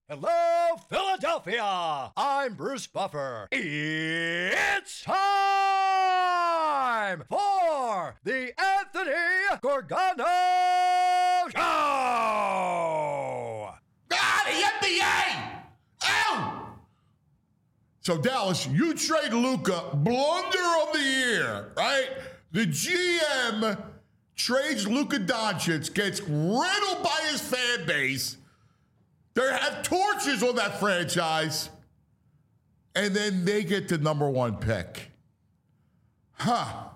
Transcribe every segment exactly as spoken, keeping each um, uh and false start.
Hello, Philadelphia! I'm Bruce Buffer. It's time for the Anthony Gargano Show! Ah, the N B A! Ow! So, Dallas, you trade Luka, blunder of the year, right? The G M trades Luka Doncic, gets riddled by his fan base. They have torches on that franchise. And then they get the number one pick. Huh.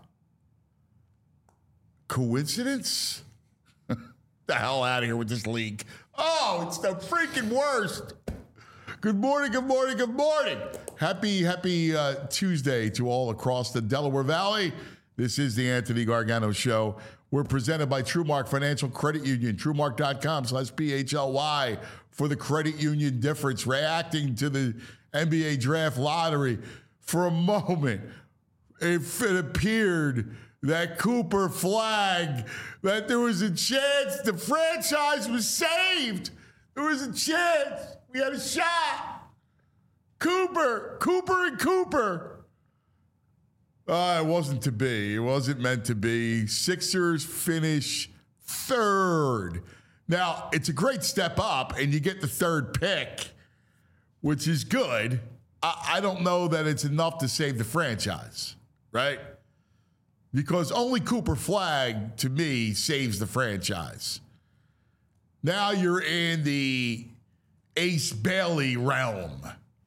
Coincidence? The hell out of here with this league. Oh, it's the freaking worst. Good morning, good morning, good morning. Happy, happy uh, Tuesday to all across the Delaware Valley. This is the Anthony Gargano Show. We're presented by TrueMark Financial Credit Union, TrueMark.com slash P H L Y for the credit union difference. Reacting to the N B A draft lottery, for a moment, if it appeared that Cooper flagged, that there was a chance the franchise was saved. There was a chance. We had a shot. Cooper, Cooper and Cooper. Uh, it wasn't to be. It wasn't meant to be. Sixers finish third. Now, it's a great step up, and you get the third pick, which is good. I, I don't know that it's enough to save the franchise, right? Because only Cooper Flag, to me, saves the franchise. Now you're in the Ace Bailey realm.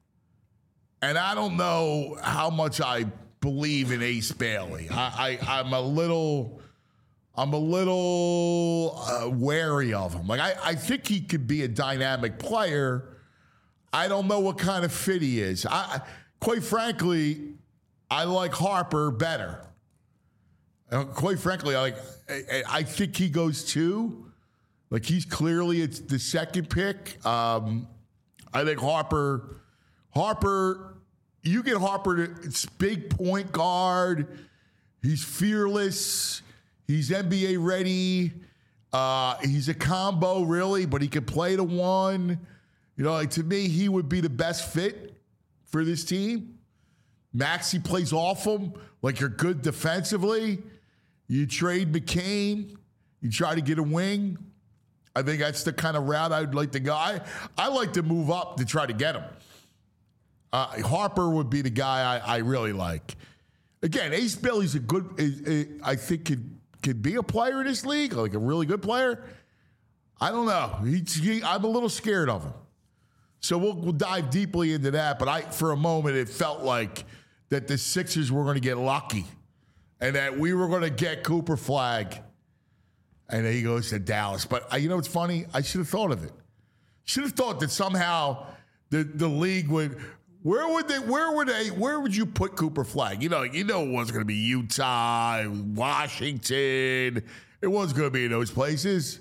And I don't know how much I believe in Ace Bailey. I, I, I'm a little, I'm a little uh, wary of him. Like I, I think he could be a dynamic player. I don't know what kind of fit he is. I, quite frankly, I like Harper better. Uh, quite frankly, I like. I, I think he goes two. Like he's clearly it's the second pick. Um, I think Harper, Harper. You get Harper to it's big point guard. He's fearless. He's N B A ready. Uh, he's a combo, really, but he can play the one. You know, like to me, he would be the best fit for this team. Maxey plays off him. Like you're good defensively. You trade McCain. You try to get a wing. I think that's the kind of route I'd like to go. I, I like to move up to try to get him. Uh, Harper would be the guy I, I really like. Again, Ace Bailey's a good, is, is, I think could could be a player in this league, like a really good player. I don't know. He, he, I'm a little scared of him. So we'll, we'll dive deeply into that. But I, for a moment, it felt like that the Sixers were going to get lucky and that we were going to get Cooper Flag. And then he goes to Dallas. But uh, you know what's funny? I should have thought of it. Should have thought that somehow the, the league would... Where would they? Where would they? Where would you put Cooper Flag? You know, you know, it wasn't going to be Utah, Washington. It wasn't going to be in those places.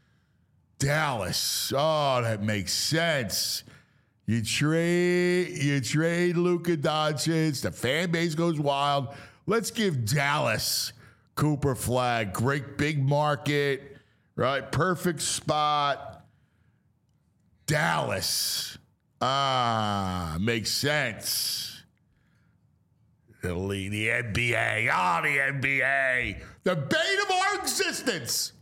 Dallas. Oh, that makes sense. You trade, you trade Luka Doncic. The fan base goes wild. Let's give Dallas Cooper Flag. Great big market, right? Perfect spot. Dallas. Ah, makes sense. The league, the N B A. Ah, oh, the N B A. The bane of our existence.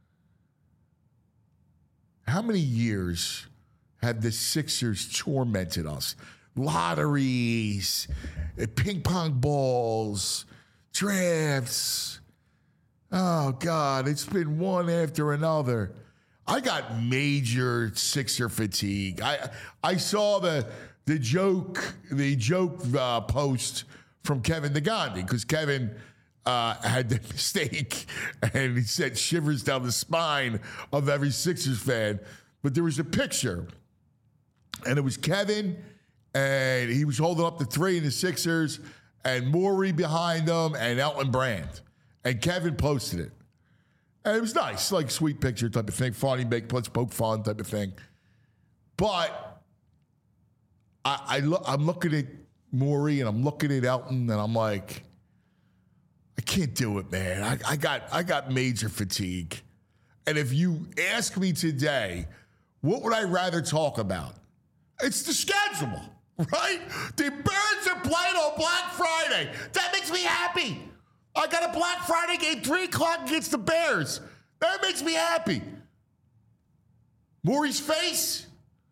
How many years have the Sixers tormented us? Lotteries, ping pong balls, drafts. Oh, God, it's been one after another. I got major Sixer fatigue. I I saw the the joke the joke uh, post from Kevin Negandhi because Kevin uh, had the mistake and he said shivers down the spine of every Sixers fan. But there was a picture and it was Kevin and he was holding up the three in the Sixers and Morey behind him and Elton Brand. And Kevin posted it. And it was nice, like sweet picture type of thing, funny, make, let's poke fun type of thing. But I, I lo- I'm looking at Morey and I'm looking at Elton and I'm like, I can't do it, man. I, I got I got major fatigue. And if you ask me today, what would I rather talk about? It's the schedule, right? The Birds are playing on Black Friday. That makes me happy. I got a Black Friday game, three o'clock against the Bears. That makes me happy. Maury's face.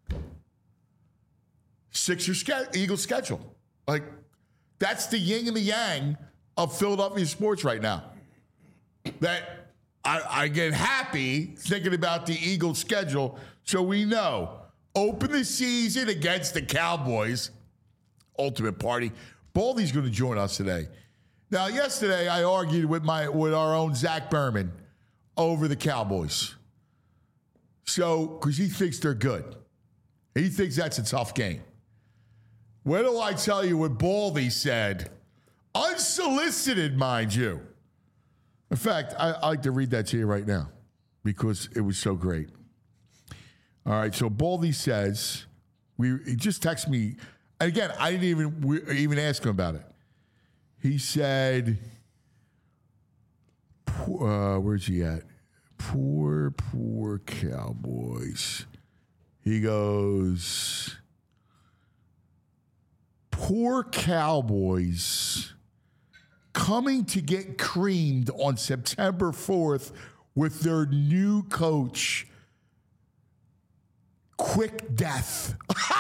Sixers ske- Eagles schedule. Like, that's the yin and the yang of Philadelphia sports right now. That I, I get happy thinking about the Eagles schedule, so we know. Open the season against the Cowboys. Ultimate party. Baldy's going to join us today. Now, yesterday I argued with my with our own Zach Berman over the Cowboys. So, because he thinks they're good. He thinks that's a tough game. Where do I tell you what Baldy said? Unsolicited, mind you. In fact, I, I like to read that to you right now because it was so great. All right, so Baldy says, we he just texted me. And again, I didn't even we, even ask him about it. He said, uh, where's he at? Poor, poor Cowboys. He goes, poor Cowboys coming to get creamed on September fourth with their new coach. Quick death.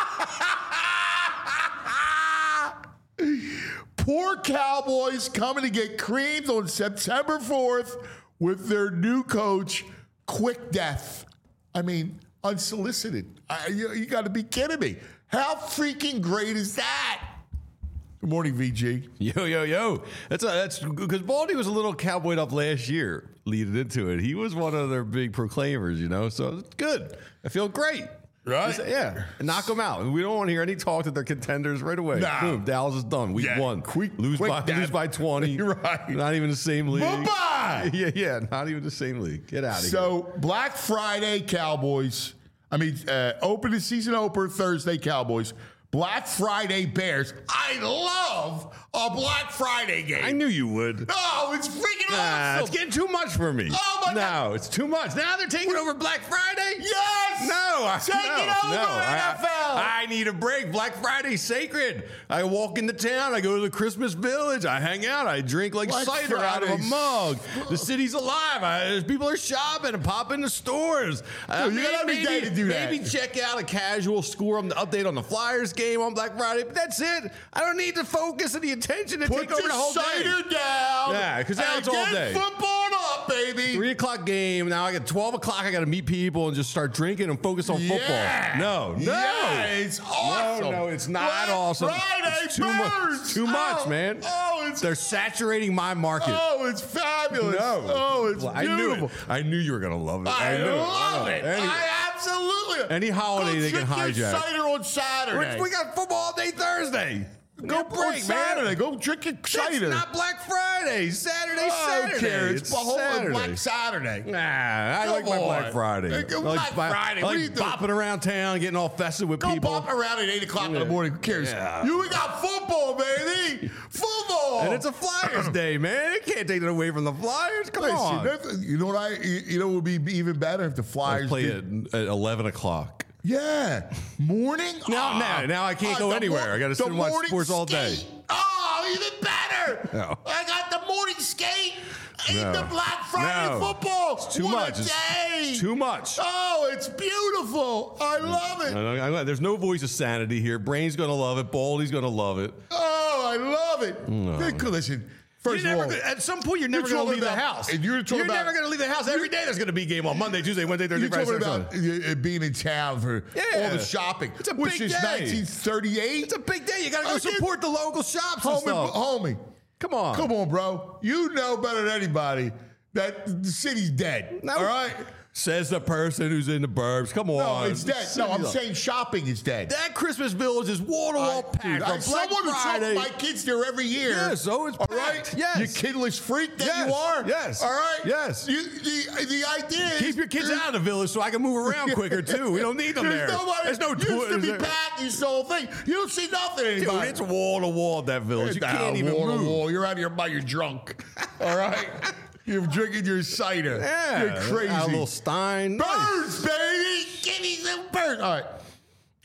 Poor Cowboys coming to get creamed on September fourth with their new coach. Quick death. I mean, unsolicited. I, you you got to be kidding me. How freaking great is that? Good morning, V G. Yo, yo, yo. That's a, that's because Baldy was a little cowboyed up last year leading into it. He was one of their big proclaimers, you know, so it's good. I feel great. Right? Just, yeah. Knock them out. We don't want to hear any talk that they're contenders right away. Nah. Boom. Dallas is done. Week Yeah. one. Quick- lose, quick by, death. lose by twenty. Right. Not even the same league. Bye-bye. Yeah, yeah. Not even the same league. Get out of here. So, Black Friday Cowboys. I mean, uh, open the season opener Thursday Cowboys. Black Friday Bears. I love a Black Friday game. I knew you would. No, it's freaking Nah, awesome. it's getting too much for me. Oh, my no, God. it's too much. Now they're taking over Black Friday? Yes! No, I, Take no, it over, no. N F L! I, I need a break. Black Friday's sacred. I walk into town. I go to the Christmas Village. I hang out. I drink like Black cider out of a Friday's- mug. The city's alive. I, people are shopping and pop into stores. Uh, Dude, you got every maybe, day to do that. Maybe check out a casual score on the update on the Flyers game on Black Friday. But that's it. I don't need the focus and the attention to Put take over the the whole cider day. down. Yeah, 'cause now and it's all get day. football up, baby. Three o'clock game. Now I get twelve o'clock. I got to meet people and just start drinking and focus on football. Yeah. No, no, Yeah, it's awesome. No, no, it's not Black awesome. Friday It's too much. Birds. It's too much, Oh, man. Oh, it's They're saturating my market. oh, it's fabulous. no, Oh, it's Well, I knew beautiful. it. I knew you were gonna love it. I, knew love I it. know. Any, I absolutely. any holiday Go they can drink your hijack. cider on Saturday. we got football all day Thursday. Go on break, Saturday. man. Go drink your It's cider. not Black Friday. Saturday, I Saturday. don't care. It's, It's the whole Saturday. Black Saturday. Nah, I Come like my on. Black Friday. Hey, I go like, Black bi- Friday. I What like are you doing? bopping around town, getting all festive with Go people. bop around at eight o'clock in the morning. Who cares? Yeah. You we got football, baby. Football. And it's a Flyers day, man. It can't take it away from the Flyers. Come Listen, on. that's- you know what I? You you know what would be even better if the Flyers Play did- it at eleven o'clock. Yeah, morning. Now, Ah. now, now I can't Ah, go the anywhere. mor- I got to the sit and watch morning sports all day. skate. Oh, even better. No. I got the morning skate. I No. need the Black Friday No. football. It's too What much. A It's day. too much. Oh, it's beautiful. I love it. I- I- I- There's no voice of sanity here. Brain's going to love it. Baldy's going to love it. Oh, I love it. Good- Listen, first You're of never all, gonna- at some point, you're never you're going to talking leave the about- house. and you're talking about- never going to leave the house. Every day there's going to be a game on Monday, Tuesday, Wednesday, Thursday, you're Friday, talking Saturday, about Sunday. uh, being in town for Yeah. all the shopping, It's a which big is day. nineteen thirty-eight. It's a big day. You got to go I get- support the local shops and Homie, stuff. homie, Come on. come on, bro. You know better than anybody that the city's dead. No. All right? Says the person who's in the burbs. Come on. No, it's dead. No, I'm City's- saying shopping is dead. That Christmas Village is wall to wall I- packed. dude, I- On Black someone who Friday. took my kids there every year. Yeah, so it's all packed. right. Yes. You kidless freak that Yes. you are. Yes. All right. Yes. You, the the idea is Keep your kids out of the village so I can move around quicker too. We don't need them There's there. nobody. There's no used to tours be there. packed. You saw the whole thing. You don't see nothing Dude, anymore. it's wall to wall that village. You can't even wall move. To wall. You're out here by your drunk. All right. You're drinking your cider. Yeah, You're crazy. A little Stein. Birds, baby. Give me some birds. All right.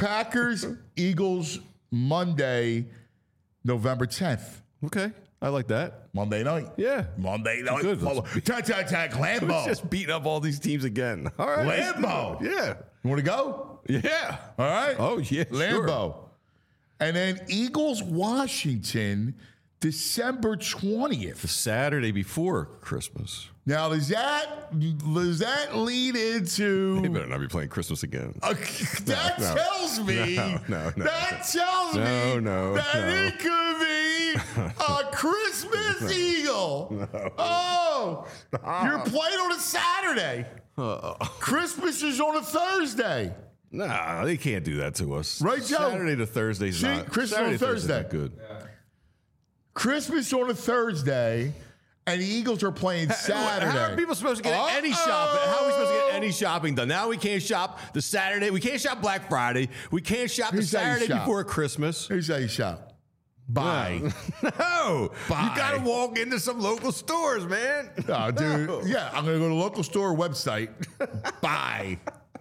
Packers, Eagles, Monday, November tenth. Okay. I like that. Monday night. Yeah. Monday night. Good. Football. Tag, tag, tag. Lambeau. Just beating up all these teams again. All right. Lambeau. Yeah. You want to go? Yeah. All right. Oh, yeah. Lambeau. Sure. And then Eagles, Washington, December twentieth. The Saturday before Christmas. Now, does that does that lead They into? better not be playing Christmas again. Uh, that no. tells me. No, no, no. That tells No, me no, that no. it could be a Christmas eagle. Oh, you're playing on a Saturday. Uh, Christmas is on a Thursday. nah, they can't do that to us. Right, Joe? Saturday to Thursday's See, not. Christmas Saturday on to Thursday's Thursday. not good. Christmas on a Thursday, and the Eagles are playing Saturday. How are people supposed to get any shopping? How are we supposed to get any shopping done? Now we can't shop the Saturday. We can't shop Black Friday. We can't shop the Here's how you Saturday shop. before Christmas. Here's how you shop. Buy. No, Buy. you got to walk into some local stores, man. Oh, dude. No. Yeah, I'm going to go to the local store website. Buy.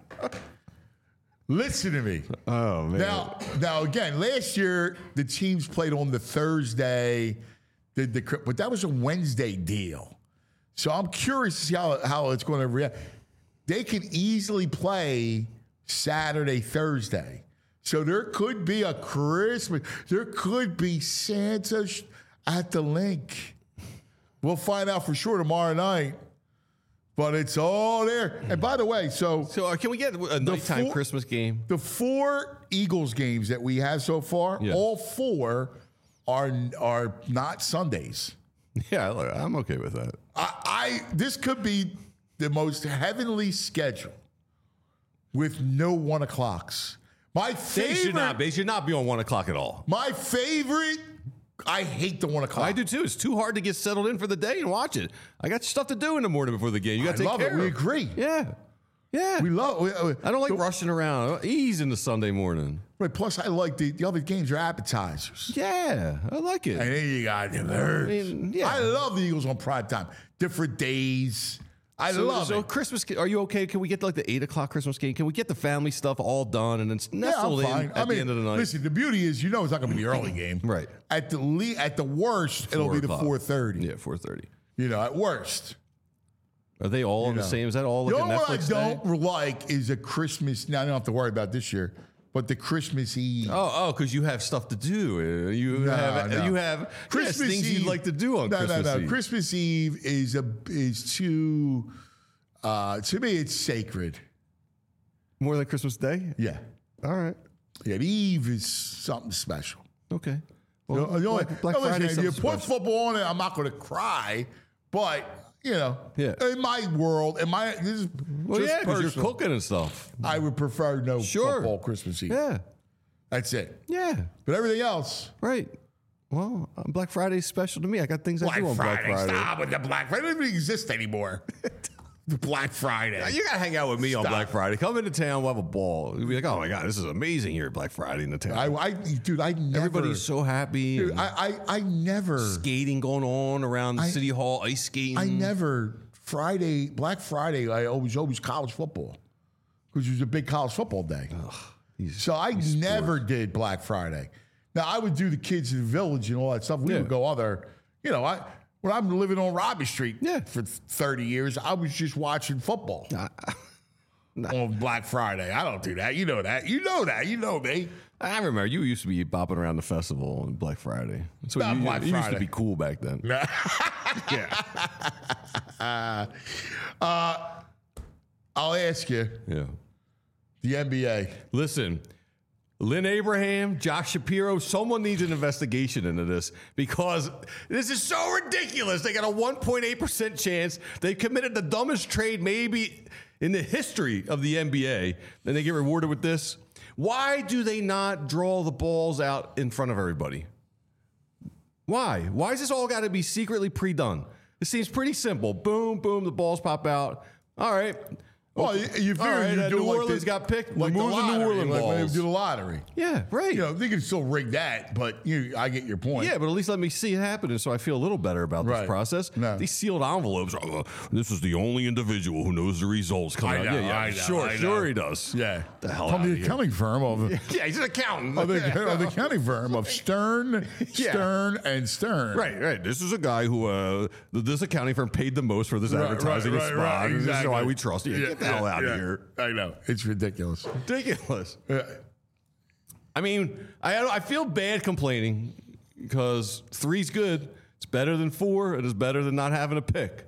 Listen to me. Oh man. Now, now again, last year the teams played on the Thursday, the, the, but that was a Wednesday deal. So I'm curious to see how, how it's going to react. They can easily play Saturday, Thursday. So there could be a Christmas. There could be Santa sh- at the link. We'll find out for sure tomorrow night. But it's all there. And by the way, so So uh, can we get a nighttime four- Christmas game? the four Eagles games that we have so far, Yeah. all four are are not Sundays. Yeah, I- I'm okay with that. I, I this could be the most heavenly schedule with no one o'clocks. My They favorite, should not. They should not be on one o'clock at all. my favorite. I hate the one o'clock. I do too. It's too hard to get settled in for the day and watch it. I got stuff to do in the morning before the game. You got to I take love care it. We of. agree. Yeah, yeah. We love. We, uh, I don't like the- rushing around. Ease in the Sunday morning. Right, plus, I like the, the other games are appetizers. Yeah, I like it. And then you got the birds. mean, yeah. I love the Eagles on prime time. Different days. I So, love so it. Christmas, are you okay? Can we get like the eight o'clock Christmas game? Can we get the family stuff all done and then Yeah, I'm nestled in fine. at I mean, the end of the night? listen, the beauty is, you know, it's not going to be the early game. Right. At the le- at the worst, it'll Four be the o'clock. four thirty. Yeah, four thirty. You know, at worst. Are they all You the know. same? Is that all like The a only one I Netflix thing? don't like is a Christmas. Now I don't have to worry about this year, but the Christmas Eve. Oh, oh, because you have stuff to do. Uh, You No, have no. you have yes, things Eve, you'd like to do on no, Christmas no, no. Eve. Christmas Eve is a is too. Uh, to me, it's sacred. More than Christmas Day. Yeah, All right. yeah. The Eve is something special. Okay. You Well, know, you know, Black, Black now listen, Friday. if you something put special. football on it, I'm not going to cry, but you know, Yeah. in my world, in my this is Well, just yeah, because you're personal, cooking and stuff. I would prefer no Sure. football Christmas Eve. Yeah. That's it. Yeah. But everything else, Right. Well, uh, Black Friday's special to me. I got things I Black do on Friday. Black Friday. Stop with the Black Friday. It doesn't even exist anymore. The Black Friday. You gotta hang out with me on Stop. Black Friday. Come into town, we'll have a ball. You'll be like, oh my god, this is amazing here at Black Friday in the town. I, I, dude, I never. Everybody's so happy. Dude, and I, I, I never. skating going on around I- City Hall, ice skating. I never Friday, Black Friday. I always, always college football because it was a big college football day. These- So I these never sports. did Black Friday. Now I would do the kids in the village and all that stuff. We Yeah. would go other, you know, I when I'm living on Robbie Street Yeah. for thirty years, I was just watching football on Black Friday. I don't do that. You know that. You know that. You know me. I remember you used to be bopping around the festival on Black Friday. So Not you, Black you used to Friday. be cool back then. Yeah. uh, I'll ask you Yeah. the N B A. Listen, Lynn Abraham, Josh Shapiro, someone needs an investigation into this because this is so ridiculous. They got a one point eight percent chance. They committed the dumbest trade maybe in the history of the N B A, and they get rewarded with this. Why do they not draw the balls out in front of everybody? Why? Why has this all got to be secretly pre-done? It seems pretty simple. Boom, boom, the balls pop out. All right. Well, you, you figure All right, you uh, do New like Orleans the, got picked. like the Remove the New lottery, Orleans like when they balls. do the lottery. Yeah, right. You know, they can still rig that, but you, I get your point. Yeah, but at least let me see it happening so I feel a little better about Right. this process. No. These sealed envelopes, oh, this is the only individual who knows the results coming I out. know, Yeah, yeah, I know, sure, I sure know. he does. Yeah. The hell From outta the here. accounting firm of Yeah, he's an accountant. of the, of the accounting firm of Stern, Yeah. Stern, and Stern. Right, right. This is a guy who uh, th- this accounting firm paid the most for this Right, advertising right, spot. right, right, and This is exactly. why we trust you. Yeah, Get the hell yeah, out yeah. of here. I know. It's ridiculous. Ridiculous. Yeah. I mean, I I feel bad complaining because three's good. It's better than four. It is better than not having a pick.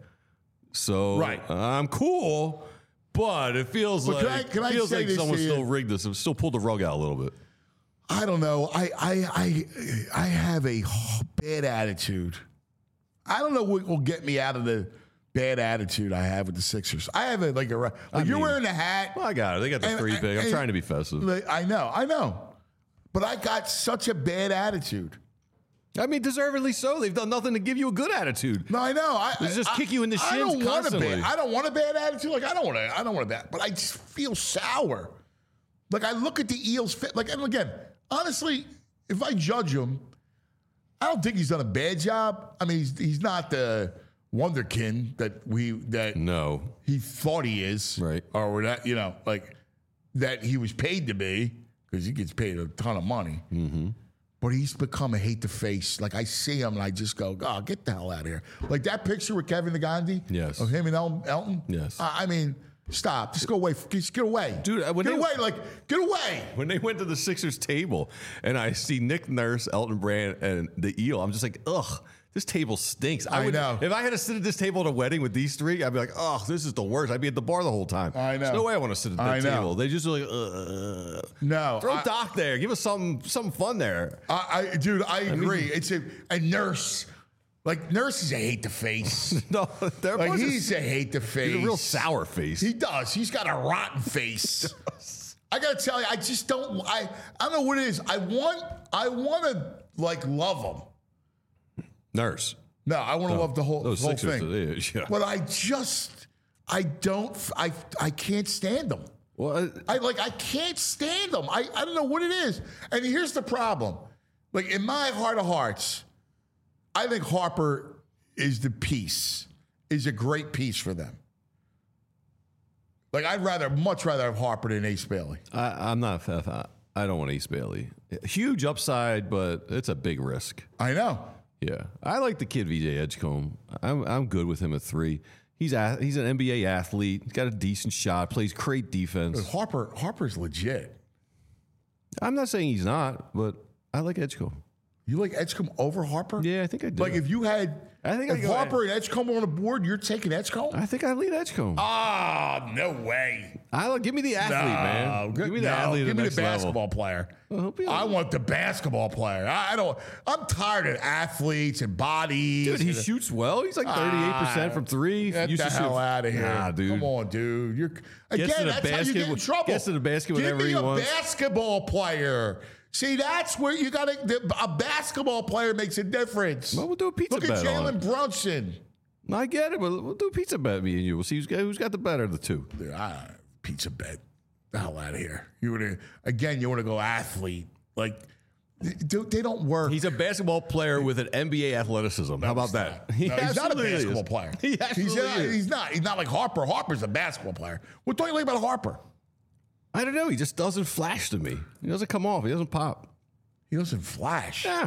So Right. I'm cool, but it feels But like can I- can I feels say like this someone to you? still rigged this. Still pulled the rug out a little bit. I don't know. I, I, I, I have a bad attitude. I don't know what will get me out of the bad attitude I have with the Sixers. I have a like a like I you're mean- wearing a hat. Well, I got it. They got the And- three pick. I'm and- trying to be festive. Like, I know, I know, but I got such a bad attitude. I mean, deservedly so. They've done nothing to give you a good attitude. No, I know. I They just I, kick you in the I shins don't want a constantly. bad. I don't want a bad attitude. Like I don't want to. I don't want a bad. But I just feel sour. Like I look at the Eels fit. Like and again, honestly, if I judge him, I don't think he's done a bad job. I mean, he's he's not the wonderkin that we that No. he thought he is, Right. Or that you know, like that he was paid to be because he gets paid a ton of money. Mm-hmm. But he's become a hate to face. Like I see him and I just go, oh, get the hell out of here. Like that picture with Kevin the Gandhi, Yes. of him and El- Elton. Yes. I I mean, stop. Just go away. Just get away, Dude, when Get they- away. Like get away. When they went to the Sixers table and I see Nick Nurse, Elton Brand, and the Eel, I'm just like, ugh, this table stinks. I would, know. If I had to sit at this table at a wedding with these three, I'd be like, oh, this is the worst. I'd be at the bar the whole time. I know. There's no way I want to sit at that I know. table. They just are like, ugh. No, Throw I- Doc there. Give us something, something fun there. I, I dude, I agree. it's a, a nurse. Like nurse is a hate to face. No, there Like was a- he's a hate to face. he's a real sour face. He does. He's got a rotten face. I gotta tell you, I just don't. I I don't know what it is. I want. I want to like love him. Nurse. No, I want to love the whole, Those whole Sixers, thing. it is, yeah. But I just. I don't. I I can't stand them. Well, I like. I can't stand them. I I don't know what it is. And here's the problem. Like in my heart of hearts, I think Harper is the piece. Is a great piece for them. Like I'd rather, much rather have Harper than Ace Bailey. I, I'm not. I, I don't want Ace Bailey. Huge upside, but it's a big risk. I know. Yeah, I like the kid V J Edgecombe. I'm I'm good with him at three. He's a, he's an N B A athlete. He's got a decent shot. Plays great defense. Harper Harper's legit. I'm not saying he's not, but I like Edgecombe. You like Edgecombe over Harper? Yeah, I think I do. Like if you had, I think I if go- Harper and Edgecombe were on the board, you're taking Edgecombe? I think I lead Edgecombe. Ah, no way. I like, give me the athlete, man. good- Give me the no, athlete. at Give me the next level. basketball player. he'll be I all- want the basketball player. I I don't. I'm tired of athletes and bodies. Dude, he and- shoots well. He's like thirty-eight percent Ah, from three. Get Used the to shoot- hell out of here. Nah, dude. Come on, dude. You're again. to the That's how you basket get in with- trouble. gets to the basket Give whenever me he a wants. basketball player. See, that's where you got to. A basketball player makes a difference. Well, we'll do a pizza Look at bet on Jalen it. Brunson. I get it, but we'll do a pizza bet, me and you. We'll see who's got, who's got the better of the two. Dude, I, pizza bet. The hell out of here. You want to again? You want to go athlete? Like, they, they don't work. He's a basketball player with an N B A athleticism. How about that? No, he's not a absolutely is. basketball player. He he's, absolutely not, is. he's not. He's not like Harper. Harper's a basketball player. What do you like about Harper? I don't know. He just doesn't flash to me. He doesn't come off. He doesn't pop. He doesn't flash. Yeah.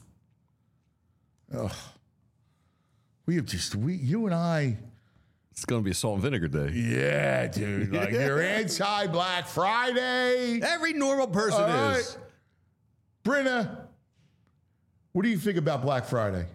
We have just we you and I. It's going to be a salt and vinegar day. Yeah, dude. Like you're anti Black Friday. Every normal person All right. is. Brenna, what do you think about Black Friday?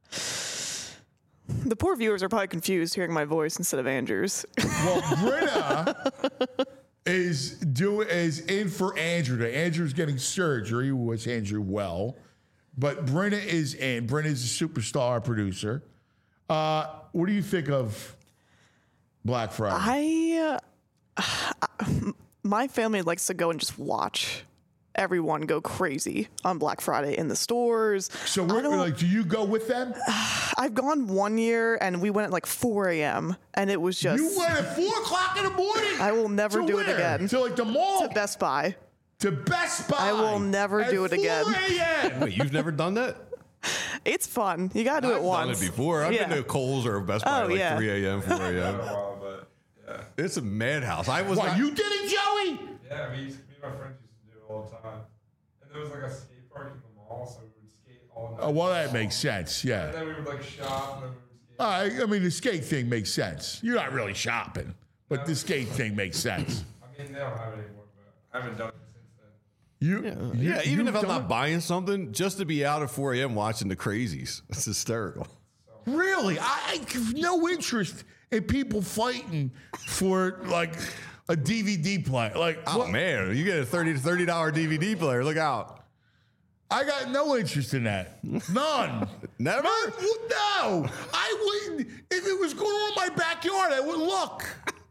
The poor viewers are probably confused hearing my voice instead of Andrew's. Well, Brenna is do is in for Andrew today. Andrew's getting surgery. Wish Andrew well, but Brenna is in. Brenna is a superstar producer. Uh, what do you think of Black Friday? I, uh, my family likes to go and just watch. everyone go crazy on Black Friday in the stores. So, I we're, don't- like, do you go with them? I've gone one year and we went at like four a.m. and it was just. You went at four o'clock in the morning. I will never To do it where? again. To like the mall. to Best Buy. To Best Buy. I will never at do it again. four a.m. Wait, you've never done that? It's fun. You gotta do it I've once. done it before. I've Yeah. been to Coles or Best Buy Oh, at like yeah. three a.m., four a.m. while, but yeah. It's a madhouse. I was What, not, you did it, Joey? Yeah, we used, me and my friends used to do it all the time. And there was like a skate park in the mall, so we would skate all night. Oh, well, that makes sense, And yeah. then we would like shop, and then we would skate. All right, I mean, the skate thing makes sense. You're not really shopping, but the skate thing makes sense. I mean, they don't have it anymore, but I haven't done it since then. You, you- yeah, even you've if I'm done not it? buying something, just to be out at four a.m. watching the crazies. It's hysterical. Really? I, I have no interest in people fighting for like a D V D player. Like, Oh, what- man, you get a thirty to thirty dollars D V D player. Look out. I got no interest in that. None. Never? None? No. I wouldn't. If it was going on in my backyard, I would look.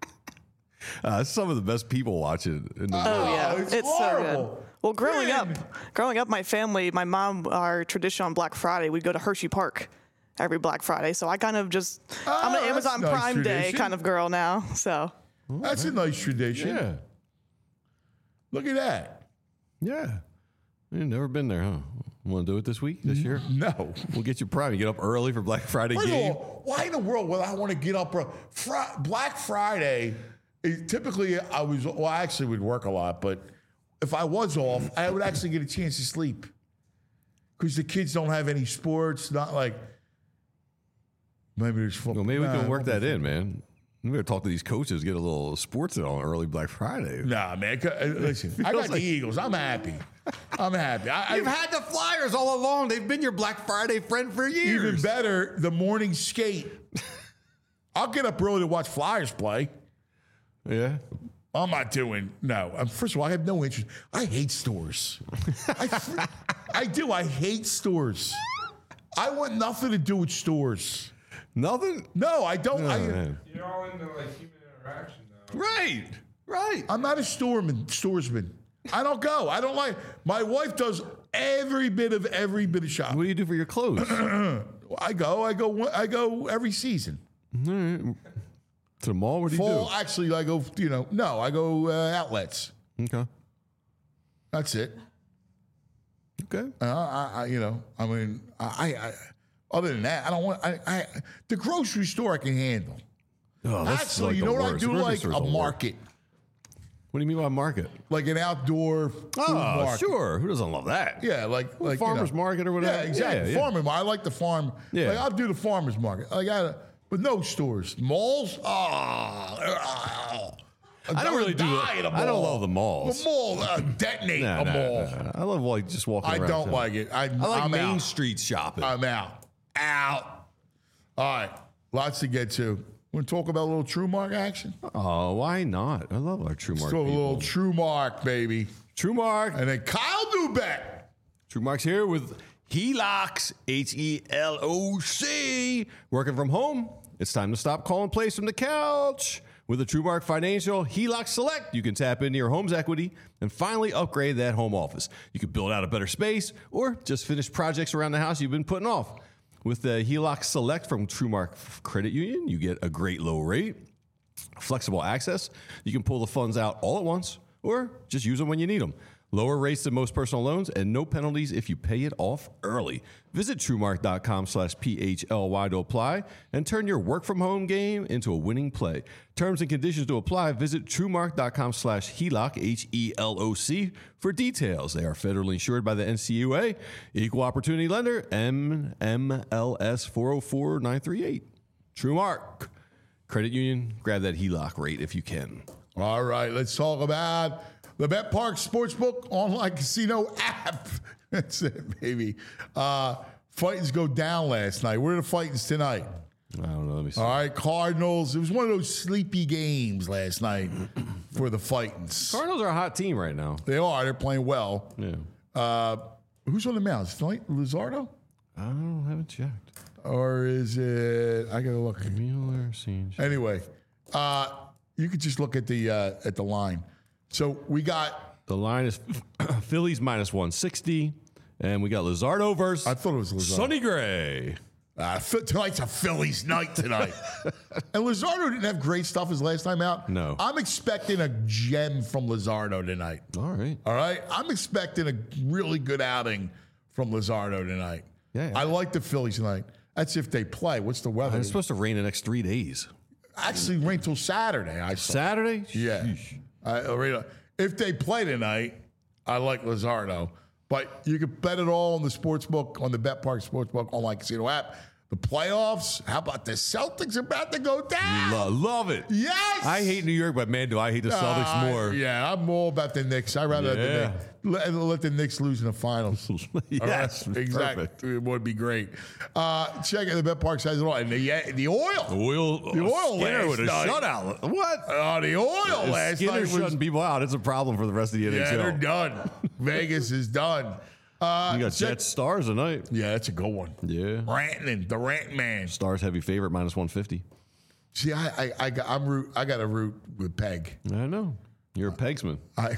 Uh, it's some of the best people watching. In the Oh yeah, it's it's, so horrible. good. Well, growing Man. up, growing up, my family, my mom, our tradition on Black Friday, we'd go to Hershey Park every Black Friday. So I kind of just, I'm Oh, an that's Amazon nice Prime Day tradition. kind of girl now. So That's a nice tradition. Yeah. Look at that. Yeah. You've never been there, huh? Want to do it this week, this year? No. We'll get you Prime. You get up early for Black Friday First of game. all, why in the world would I want to get up? Bro? Fri- Black Friday, is typically I was, well, I actually would work a lot, but if I was off, I would actually get a chance to sleep. Because the kids don't have any sports, not like, maybe there's football. Well, maybe we Nah, can work it won't that in, man. We gotta talk to these coaches, get a little sports in on early Black Friday. be- Nah, man. c- uh, Listen, I got the like- Eagles. I'm happy. I'm happy. I, You've I, had the Flyers all along. They've been your Black Friday friend for years. even better, the morning skate. I'll get up early to watch Flyers play. Yeah. I'm not doing no. Um, First of all, I have no interest. I hate stores. I, fr- I do. I hate stores. I want nothing to do with stores. Nothing? No, I don't. Oh, I, man. You're all into like human interaction though. Right. Right. I'm not a storeman. Storesman. I don't go. I don't like. My wife does every bit of every bit of shopping. What do you do for your clothes? I go. I go. one- I go every season. To the mall? What do you Fall. Actually, I go. You know, no, I go uh, outlets. do? Okay. That's it. Okay. Uh, I, I, you know, I mean, I, I, other than that, I don't want. I, I, the grocery store I can handle. Oh, that's Actually, like you the know what I worst. do Grocery like? store's A the worst. market, What do you mean by market? like an outdoor food Oh, market. sure. Who doesn't love that? Yeah, like like farmer's you know. market or whatever. Yeah, exactly. Yeah, yeah. Farmer market. I like the farm. Yeah. Like I'll do the farmer's market. Like I, but no stores, malls. Ah, I don't really do die it. at a I don't mall. love the malls. The mall, uh, detonate Nah, a nah, mall. nah. I love like just walking I around. don't town. like it. I, I like I'm Main out. Street shopping. I'm out. Out. All right. Lots to get to. Want to talk about a little True Mark action? oh, why not? I love our True Mark Let's talk a people. little True Mark, baby. True Mark. And then Kyle Newbeck. True Mark's here with Helox, H E L O C. Working from home, it's time to stop calling plays from the couch. With a True Mark Financial Helox Select, you can tap into your home's equity and finally upgrade that home office. You can build out a better space or just finish projects around the house you've been putting off. With the Helox Select from True Mark Credit Union, you get a great low rate, flexible access. You can pull the funds out all at once or just use them when you need them. Lower rates than most personal loans and no penalties if you pay it off early. Visit truemark.com slash PHLY to apply and turn your work from home game into a winning play. Terms and conditions to apply. Visit truemark.com slash HELOC, H E L O C, for details. They are federally insured by the N C U A, Equal Opportunity Lender, M M L S four oh four nine three eight. TrueMark Credit Union, grab that HELOC rate if you can. All right, let's talk about the Bet Park Sportsbook online casino app. That's it, baby. Uh, fightings go down last night. Where are the fightings tonight? I don't know. Let me see. All right, Cardinals. It was one of those sleepy games last night for the fightings. Cardinals are a hot team right now. They are. They're playing well. Yeah. Uh, who's on the mound? Is it Luzardo? I don't haven't checked. Or is it? I gotta look. Mueller, Siege. Anyway, uh, you could just look at the uh, at the line. So we got The line is Phillies minus one sixty. And we got Luzardo versus I thought it was Luzardo. Sonny Gray. Uh, tonight's a Phillies night tonight. And Luzardo didn't have great stuff his last time out. No. I'm expecting a gem from Luzardo tonight. All right. All right? I'm expecting a really good outing from Luzardo tonight. Yeah, yeah. I like the Phillies tonight. That's if they play. What's the weather? It's supposed to rain the next three days. Actually, rain till Saturday. I saw. Saturday? Yeah. I, I read- if they play tonight, I like Luzardo. But you can bet it all on the sportsbook, on the BetPark Sportsbook online casino app. The playoffs, how about the Celtics about to go down? Lo- love it. Yes! I hate New York, but man, do I hate the Celtics Uh, more. Yeah, I'm all about the Knicks. I'd rather Yeah. let, the Knicks, let, let the Knicks lose in the finals. Yes, All right? Exactly. perfect. It would be great. Uh, check it. The BetPark has it all. And the, the oil. Oil, The oil Skinner last with a night. shutout. What? Oh, the oil If last Skinner night was... shutting people out. It's a problem for the rest of the N H L. Yeah, they're done. Vegas is done. Uh, You got check- Jets Stars tonight. Yeah, that's a good one. Yeah. Rantanen, the Rant Man. Stars heavy favorite minus one fifty. See, I, I, I, got, I'm root, I got a root with Peg. I know. You're a Pegsman. I,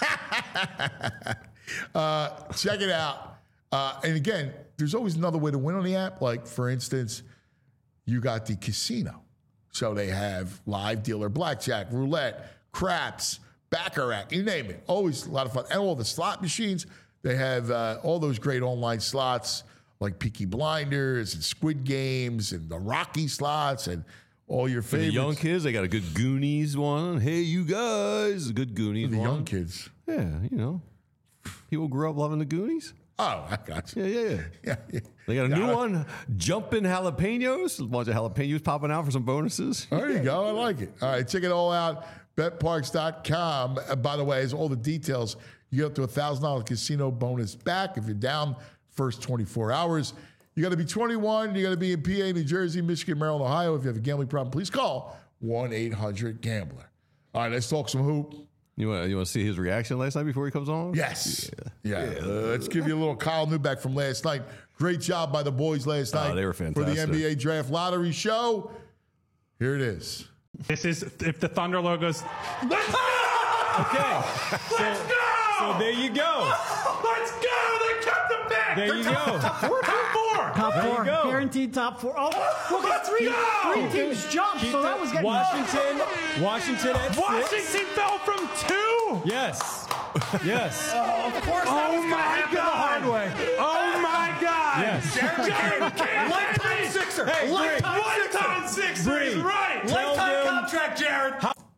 uh, check it out. Uh, and again, there's always another way to win on the app. Like, for instance, you got the casino. So they have live dealer blackjack, roulette, craps, baccarat, you name it. Always a lot of fun. And all the slot machines. They have uh, all those great online slots like Peaky Blinders and Squid Games and the Rocky slots and all your For the favorites. young kids, they got a good Goonies one. Hey, you guys. A good Goonies the one. young kids. Yeah, you know. People grew up loving the Goonies. Oh, I got you. Yeah, yeah, yeah. Yeah, yeah. They got a Yeah, new I- one, Jumpin' Jalapenos. A bunch of jalapenos popping out for some bonuses. There you go. I like it. All right, check it all out. Bet Parks dot com. Uh, by the way, has all the details. You get up to a one thousand dollars casino bonus back if you're down first twenty-four hours. You got to be twenty-one. You got to be in P A, New Jersey, Michigan, Maryland, Ohio. If you have a gambling problem, please call one eight hundred gambler. All right, let's talk some hoop. You want you want to see his reaction last night before he comes on? Yes. Yeah. Uh, let's give you a little Kyle Newbeck from last night. Great job by the boys last Oh, night. they were For the fantastic. N B A Draft Lottery Show. Here it is. This is if the Thunder logos. Let's go! Okay. So, Let's go! so there you go. Let's go! They kept them back! There They're you top, go. Top four! Top four! Top There you four, go. guaranteed top four. Oh, look at Let's three, go! three teams jumped, Keep so that the- was getting Washington. Washington at Washington six. fell from two! Yes. Yes. Of course, that Oh was gonna my happen the hard God. way. Oh my God! Yes. Jared, Jared, Jared, Lifetime sixer. Hey, Lifetime Lifetime sixer Bree. is right. Tell Lifetime them- contract, Jared.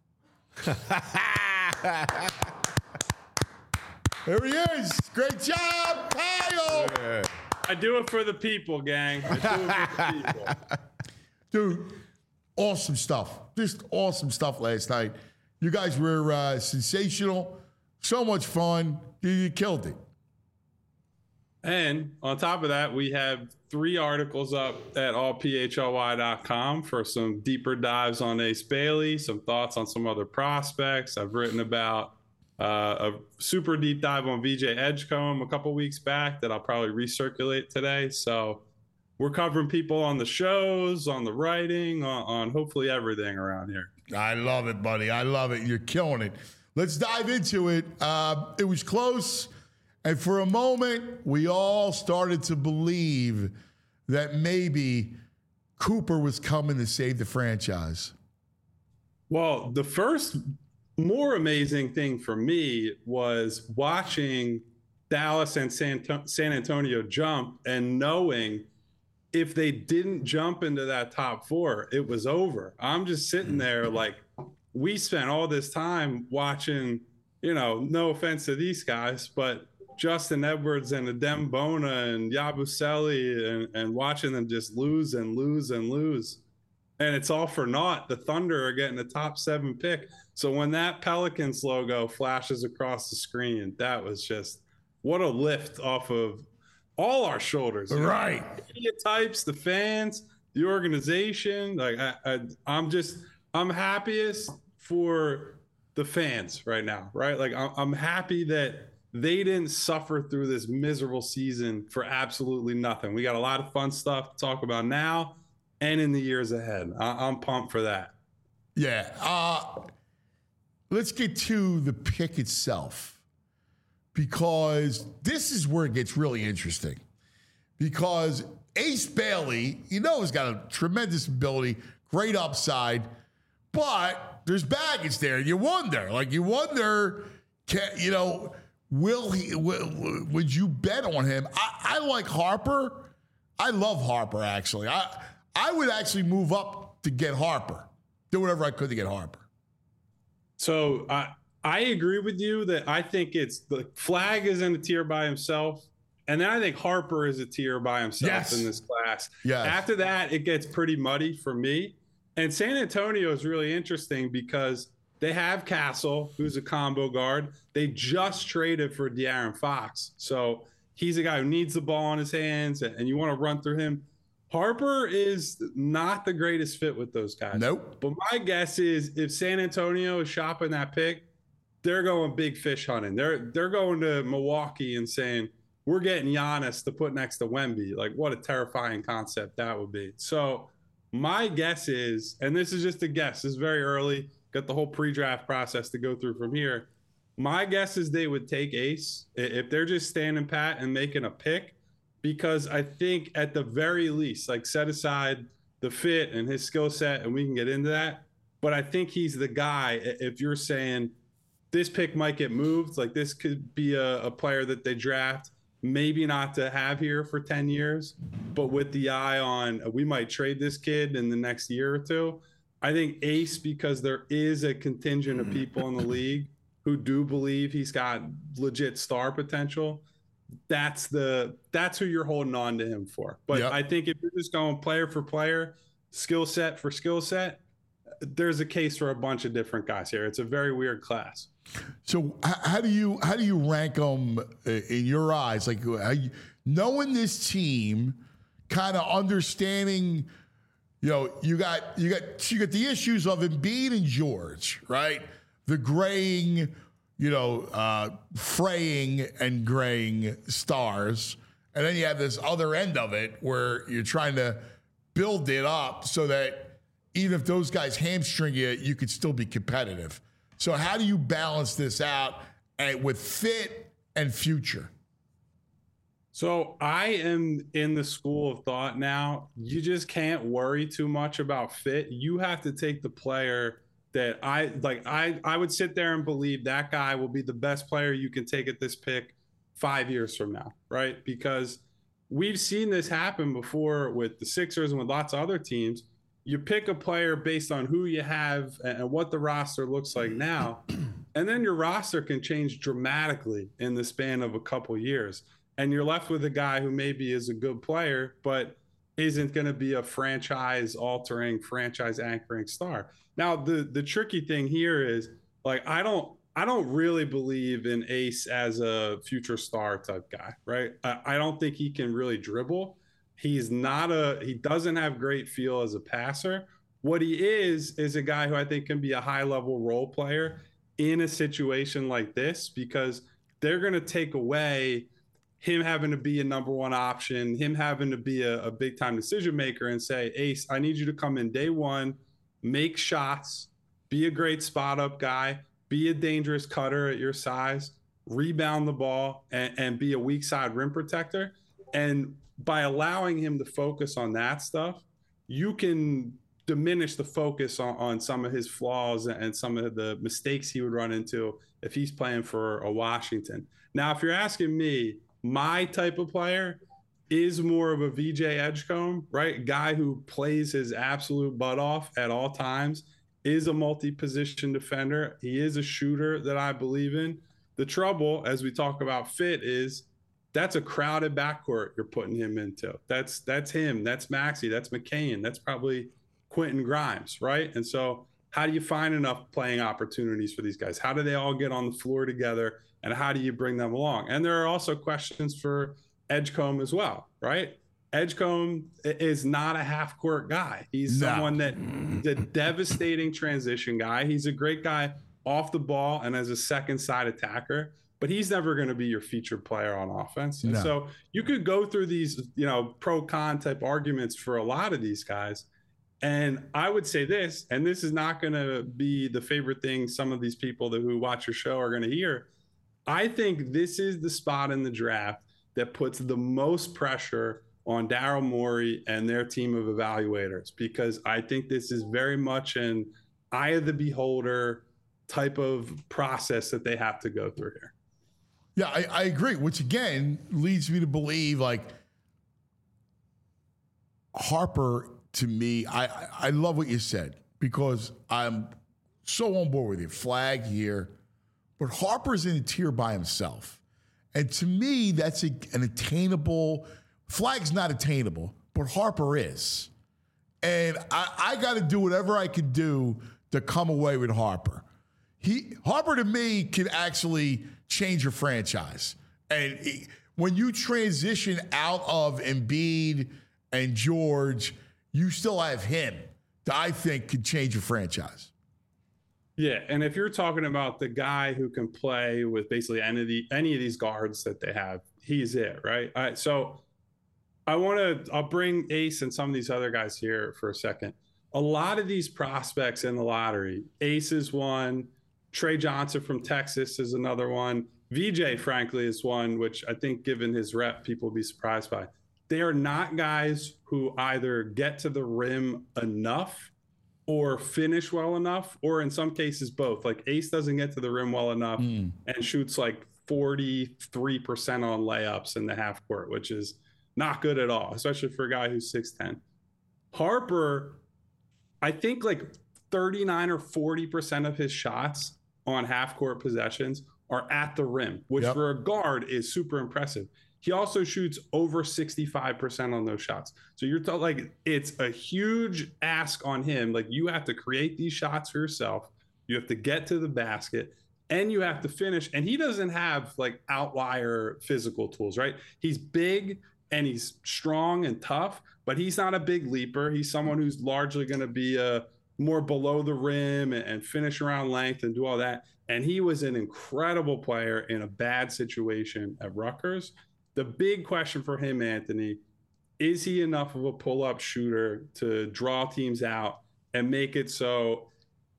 There he is. Great job, Kyle. I do it for the people, gang. I do it for the people. Dude, awesome stuff. Just awesome stuff last night. You guys were uh, sensational. So much fun. You, you killed it. And on top of that, we have three articles up at all p h l y dot com for some deeper dives on Ace Bailey, some thoughts on some other prospects. I've written about uh, a super deep dive on V J Edgecombe a couple weeks back that I'll probably recirculate today. So we're covering people on the shows, on the writing, on, on hopefully everything around here. I love it, buddy. I love it. You're killing it. Let's dive into it. Uh, it was close. And for a moment, we all started to believe that maybe Cooper was coming to save the franchise. Well, the first more amazing thing for me was watching Dallas and San, San Antonio jump and knowing if they didn't jump into that top four, it was over. I'm just sitting there like, we spent all this time watching, you know, no offense to these guys, but Justin Edwards and Adem Bona and Yabusele and, and watching them just lose and lose and lose. And it's all for naught. The Thunder are getting the top seven pick. So when that Pelicans logo flashes across the screen, that was just what a lift off of all our shoulders. Right. The media types, the fans, the organization. Like I, I, I'm just, I'm happiest for the fans right now, right? Like I'm, I'm happy that they didn't suffer through this miserable season for absolutely nothing. We got a lot of fun stuff to talk about now and in the years ahead. I, I'm pumped for that. Yeah. Uh, let's get to the pick itself. because this is where it gets really interesting. Because Ace Bailey, you know, has got a tremendous ability, great upside, but there's baggage there. You wonder, like you wonder, can, you know, will he? Will, would you bet on him? I, I like Harper. I love Harper. Actually, I I would actually move up to get Harper. Do whatever I could to get Harper. So I I agree with you that I think it's the Flag is in a tier by himself. And then I think Harper is a tier by himself Yes. in this class. Yes. After that, it gets pretty muddy for me. And San Antonio is really interesting because they have Castle, who's a combo guard. They just traded for De'Aaron Fox. So he's a guy who needs the ball in his hands, and you want to run through him. Harper is not the greatest fit with those guys. Nope. But my guess is if San Antonio is shopping that pick, they're going big fish hunting. They're they're going to Milwaukee and saying, we're getting Giannis to put next to Wemby. Like, what a terrifying concept that would be. So my guess is, and this is just a guess, this is very early, got the whole pre-draft process to go through from here. My guess is they would take Ace if they're just standing pat and making a pick, because I think at the very least, like set aside the fit and his skill set, and we can get into that. But I think he's the guy, if you're saying this pick might get moved, like this could be a, a player that they draft, maybe not to have here for ten years, but with the eye on we might trade this kid in the next year or two. I think Ace, because there is a contingent of people in the league who do believe he's got legit star potential. That's the that's who you're holding on to him for. But Yep. I think if you're just going player for player, skill set for skill set, there's a case for a bunch of different guys here. It's a very weird class. So h- how do you how do you rank them in your eyes? Like how you, knowing this team, kind of understanding, you know, you got you got you got the issues of Embiid and George, right? The graying, you know, uh, fraying and graying stars, and then you have this other end of it where you're trying to build it up so that even if those guys hamstring you, you could still be competitive. So how do you balance this out and with fit and future? So I am in the school of thought now. You just can't worry too much about fit. You have to take the player that I like. I, I would sit there and believe that guy will be the best player you can take at this pick five years from now, right? Because we've seen this happen before with the Sixers and with lots of other teams. You pick a player based on who you have and what the roster looks like now, and then your roster can change dramatically in the span of a couple years. And you're left with a guy who maybe is a good player, but isn't going to be a franchise-altering, franchise-anchoring star. Now, the the tricky thing here is, like, I don't I don't really believe in Ace as a future star type guy, right? I, I don't think he can really dribble. He's not a, he doesn't have great feel as a passer. What he is, is a guy who I think can be a high level role player in a situation like this, because they're going to take away him having to be a number one option, him having to be a, a big time decision maker and say, Ace, I need you to come in day one, make shots, be a great spot up guy, be a dangerous cutter at your size, rebound the ball, and, and be a weak side rim protector. And by allowing him to focus on that stuff, you can diminish the focus on, on some of his flaws and some of the mistakes he would run into if he's playing for a Washington. Now, if you're asking me, my type of player is more of a V J Edgecombe, right? Guy who plays his absolute butt off at all times, is a multi-position defender. He is a shooter that I believe in. The trouble, as we talk about fit, is that's a crowded backcourt you're putting him into. That's that's him. That's Maxey. That's McCain. That's probably Quentin Grimes, right? And so how do you find enough playing opportunities for these guys? How do they all get on the floor together? And how do you bring them along? And there are also questions for Edgecombe as well, right? Edgecombe is not a half-court guy. He's No. someone that is a devastating transition guy. He's a great guy off the ball and as a second side attacker, but he's never going to be your featured player on offense. And No. so you could go through these, you know, pro-con type arguments for a lot of these guys. And I would say this, and this is not going to be the favorite thing some of these people that who watch your show are going to hear. I think this is the spot in the draft that puts the most pressure on Daryl Morey and their team of evaluators, because I think this is very much an eye of the beholder type of process that they have to go through here. Yeah, I, I agree, which again leads me to believe like Harper, to me, I, I, I love what you said because I'm so on board with you. Flag here. But Harper's in a tier by himself. And to me, that's a, an attainable, Flag's not attainable, but Harper is. And I, I got to do whatever I can do to come away with Harper. He Harper, to me, can actually change your franchise. And he, when you transition out of Embiid and George, you still have him that I think could change your franchise. Yeah, and if you're talking about the guy who can play with basically any of the any of these guards that they have, he's it, right? All right, so I want to I'll bring Ace and some of these other guys here for a second. A lot of these prospects in the lottery, Ace is one, Trey Johnson from Texas is another one, V J, frankly, is one, which I think given his rep, people will be surprised by. They are not guys who either get to the rim enough or finish well enough, or in some cases both. Like Ace doesn't get to the rim well enough mm. and shoots like forty-three percent on layups in the half court, which is not good at all, especially for a guy who's six ten. Harper, I think like thirty-nine or forty percent of his shots on half court possessions are at the rim, which yep. for a guard is super impressive. He also shoots over sixty-five percent on those shots. So you're t- like, it's a huge ask on him. Like, you have to create these shots for yourself. You have to get to the basket and you have to finish. And he doesn't have like outlier physical tools, right? He's big and he's strong and tough, but he's not a big leaper. He's someone who's largely going to be a more below the rim and, and finish around length and do all that. And he was an incredible player in a bad situation at Rutgers. The big question for him, Anthony, is he enough of a pull-up shooter to draw teams out and make it so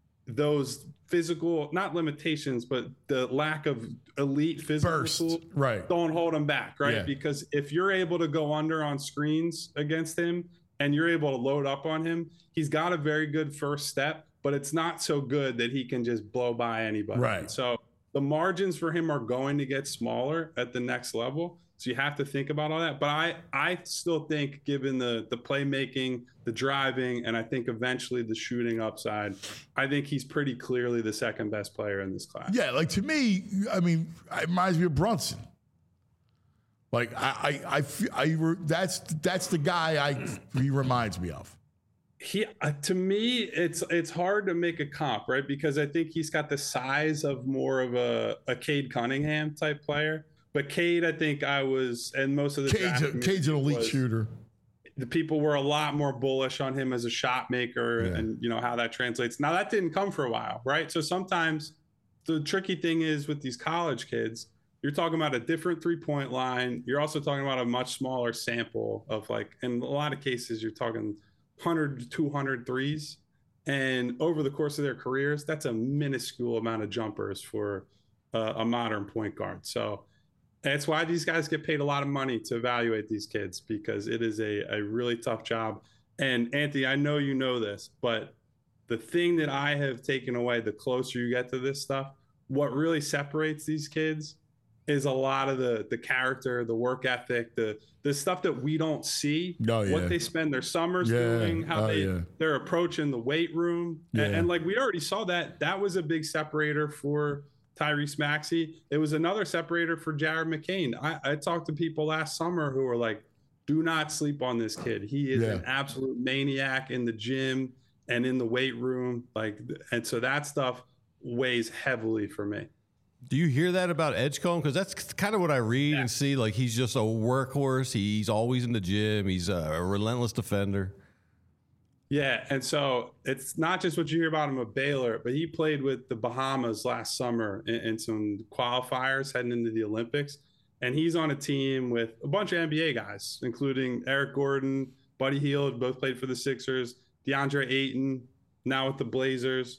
those physical, not limitations, but the lack of elite physical Burst, tools right. don't hold him back, right? Yeah. Because if you're able to go under on screens against him and you're able to load up on him, he's got a very good first step, but it's not so good that he can just blow by anybody. Right. So the margins for him are going to get smaller at the next level. So you have to think about all that. But I, I still think, given the the playmaking, the driving, and I think eventually the shooting upside, I think he's pretty clearly the second best player in this class. Yeah, like to me, I mean, it reminds me of Brunson. Like I, I, I, feel, I that's that's the guy I he reminds me of. He uh, to me, it's it's hard to make a comp, right? Because I think he's got the size of more of a, a Cade Cunningham type player. But Cade, I think I was, and most of the Cade's, a, Cade's an elite shooter. The people were a lot more bullish on him as a shot maker, yeah. and you know how that translates. Now that didn't come for a while, right? So sometimes the tricky thing is with these college kids, you're talking about a different three-point line. You're also talking about a much smaller sample of like, in a lot of cases, you're talking one hundred to two hundred threes. And over the course of their careers, that's a minuscule amount of jumpers for uh, a modern point guard. So that's why these guys get paid a lot of money to evaluate these kids, because it is a, a really tough job. And Anthony, I know you know this, but the thing that I have taken away the closer you get to this stuff, what really separates these kids is a lot of the the character, the work ethic, the the stuff that we don't see, oh, yeah. what they spend their summers yeah. doing, how oh, they, yeah. they're approaching the weight room. Yeah. And, and like we already saw that, that was a big separator for Tyrese Maxey. It was another separator for Jared McCain. I, I talked to people last summer who were like, do not sleep on this kid. He is yeah. an absolute maniac in the gym and in the weight room. Like, and so that stuff weighs heavily for me. Do you hear that about Edgecombe? Because that's kind of what I read yeah. and see. Like, he's just a workhorse. He's always in the gym. He's a relentless defender. Yeah, and so it's not just what you hear about him at Baylor, but he played with the Bahamas last summer in, in some qualifiers heading into the Olympics. And he's on a team with a bunch of N B A guys, including Eric Gordon, Buddy Hield, both played for the Sixers, DeAndre Ayton, now with the Blazers.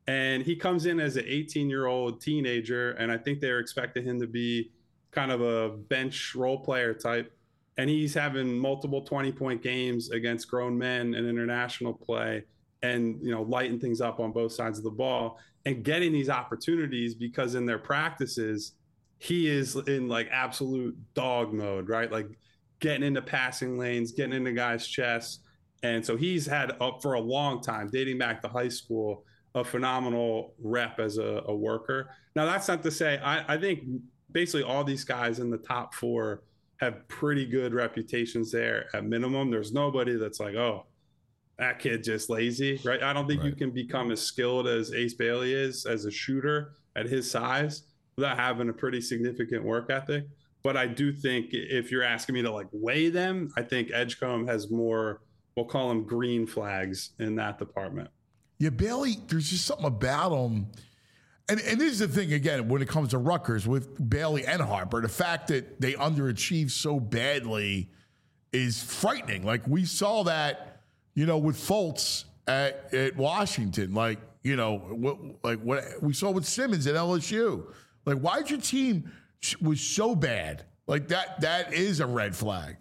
And he comes in as an eighteen-year-old teenager, and I think they're expecting him to be kind of a bench role player type. And he's having multiple twenty-point games against grown men in international play and, you know, lighting things up on both sides of the ball and getting these opportunities because in their practices, he is in like absolute dog mode, right? Like getting into passing lanes, getting into guys' chests. And so he's had up for a long time, dating back to high school, a phenomenal rep as a, a worker. Now, that's not to say, I, I think basically all these guys in the top four have pretty good reputations there at minimum. There's nobody that's like, oh, that kid just lazy, right? I don't think right. you can become as skilled as Ace Bailey is as a shooter at his size without having a pretty significant work ethic. But I do think if you're asking me to like weigh them, I think Edgecombe has more, we'll call them green flags in that department. Yeah, Bailey, there's just something about him. And, and this is the thing, again, when it comes to Rutgers with Bailey and Harper, the fact that they underachieved so badly is frightening. Like we saw that, you know, with Fultz at, at Washington. Like, you know, what, like what we saw with Simmons at L S U. Like, why'd your team was so bad? Like that, that is a red flag.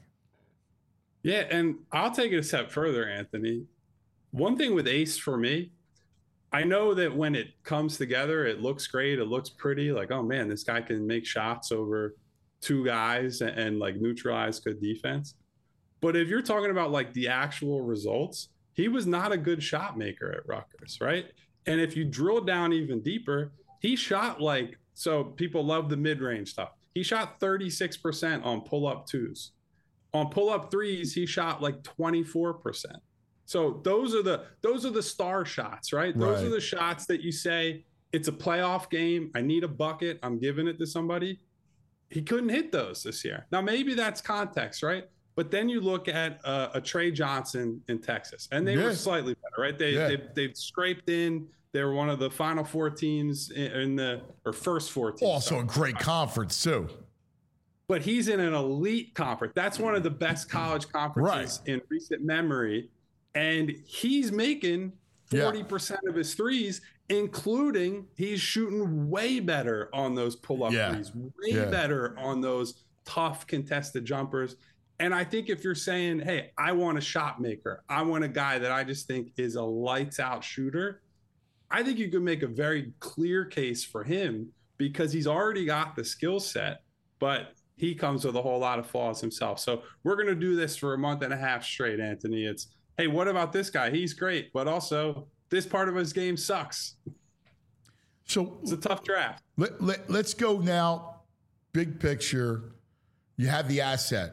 Yeah, and I'll take it a step further, Anthony. One thing with Ace for me, I know that when it comes together, it looks great. It looks pretty. Like, oh man, this guy can make shots over two guys and, and like neutralize good defense. But if you're talking about like the actual results, he was not a good shot maker at Rutgers, right? And if you drill down even deeper, he shot like, so people love the mid-range stuff. He shot thirty-six percent on pull-up twos. On pull-up threes, he shot like twenty-four percent. So those are the those are the star shots, right? Those right. are the shots that you say, it's a playoff game. I need a bucket. I'm giving it to somebody. He couldn't hit those this year. Now, maybe that's context, right? But then you look at uh, a Trey Johnson in Texas, and they yeah. were slightly better, right? They, yeah. they, they've scraped in. They were one of the final four teams in, in the or first four teams. Also sorry. a great conference, too. But he's in an elite conference. That's one of the best college conferences right. in recent memory. And he's making forty percent yeah. of his threes, including he's shooting way better on those pull-up yeah. threes, way yeah. better on those tough contested jumpers. And I think if you're saying, hey, I want a shot maker, I want a guy that I just think is a lights-out shooter, I think you could make a very clear case for him because he's already got the skill set, but he comes with a whole lot of flaws himself. So we're going to do this for a month and a half straight, Anthony. It's, hey, what about this guy? He's great, but also this part of his game sucks. So it's a tough draft. Let, let, let's go now, big picture. You have the asset.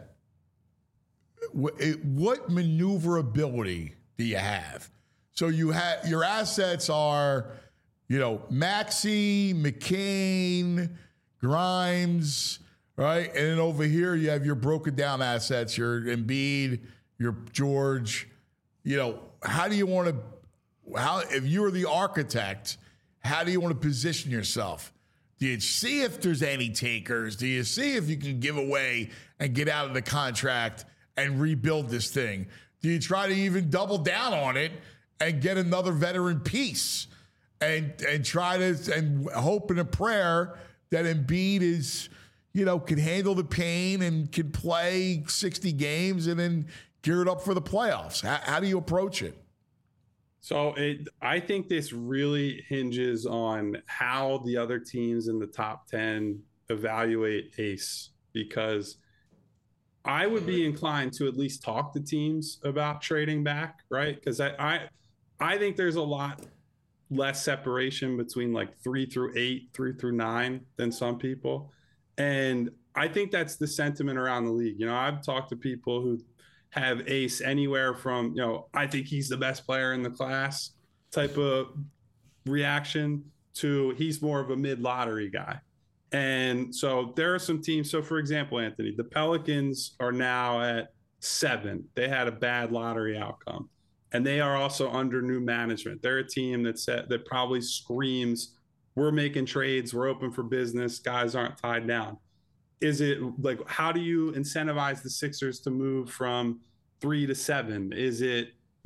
What, what maneuverability do you have? So you have your assets are, you know, Maxey, McCain, Grimes, right? And then over here you have your broken down assets, your Embiid, your George. You know, how do you want to, how, if you're the architect, how do you want to position yourself? Do you see if there's any takers? Do you see if you can give away and get out of the contract and rebuild this thing? Do you try to even double down on it and get another veteran piece and and try to, and hope in a prayer that Embiid is, you know, can handle the pain and can play sixty games and then gear it up for the playoffs? How, how do you approach it? So it, I think this really hinges on how the other teams in the top ten evaluate Ace, because I would be inclined to at least talk to teams about trading back, right? Because I, I, I think there's a lot less separation between like three through eight, three through nine than some people. And I think that's the sentiment around the league. You know, I've talked to people who have Ace anywhere from, you know, I think he's the best player in the class type of reaction to he's more of a mid-lottery guy. And so there are some teams. So, for example, Anthony, the Pelicans are now at seven. They had a bad lottery outcome, and they are also under new management. They're a team that set, that probably screams, we're making trades, we're open for business, guys aren't tied down. Is it like, how do you incentivize the Sixers to move from three to seven? Is it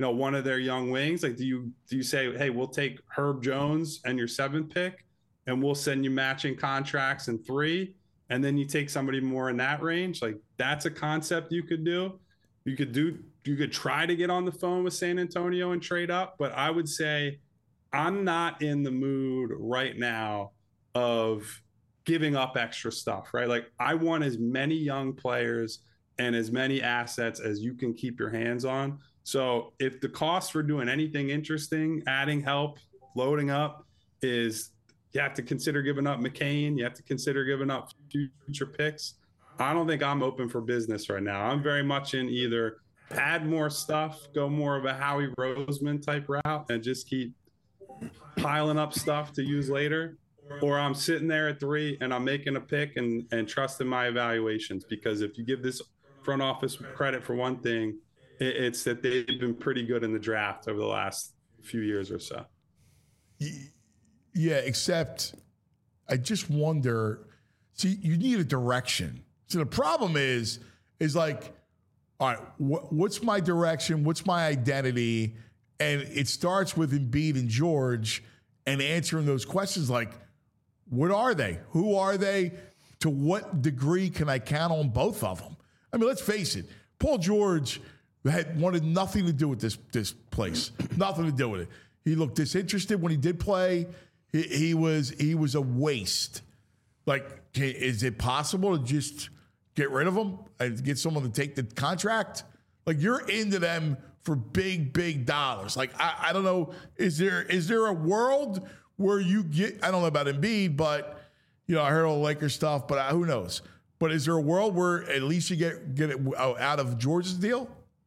you know, one of their young wings? Like, do you do you say, hey, we'll take Herb Jones and your seventh pick, and we'll send you matching contracts in three, and then you take somebody more in that range? Like, that's a concept you could do. You could do. You could try to get on the phone with San Antonio and trade up, but I would say I'm not in the mood right now of giving up extra stuff, right? Like, I want as many young players and as many assets as you can keep your hands on. So if the cost for doing anything interesting, adding help, loading up, is you have to consider giving up McCain, you have to consider giving up future picks, I don't think I'm open for business right now. I'm very much in either add more stuff, go more of a Howie Roseman type route, and just keep piling up stuff to use later, or I'm sitting there at three and I'm making a pick and, and trusting my evaluations. Because if you give this front office credit for one thing, it, it's that they've been pretty good in the draft over the last few years or so. Yeah, except I just wonder, see, you need a direction. So the problem is, is like, all right, wh- what's my direction? What's my identity? And it starts with Embiid and George, and answering those questions like, what are they? Who are they? To what degree can I count on both of them? I mean, let's face it. Paul George had wanted nothing to do with this this place. Nothing to do with it. He looked disinterested when he did play. He, he was he was a waste. Like, is it possible to just get rid of him and get someone to take the contract? Like, you're into them for big, big dollars. Like, I, I don't know. Is there is there a world where you get, I don't know about Embiid, but, you know, I heard all the Lakers stuff, but who knows? But is there a world where at least you get, get it out of George's deal?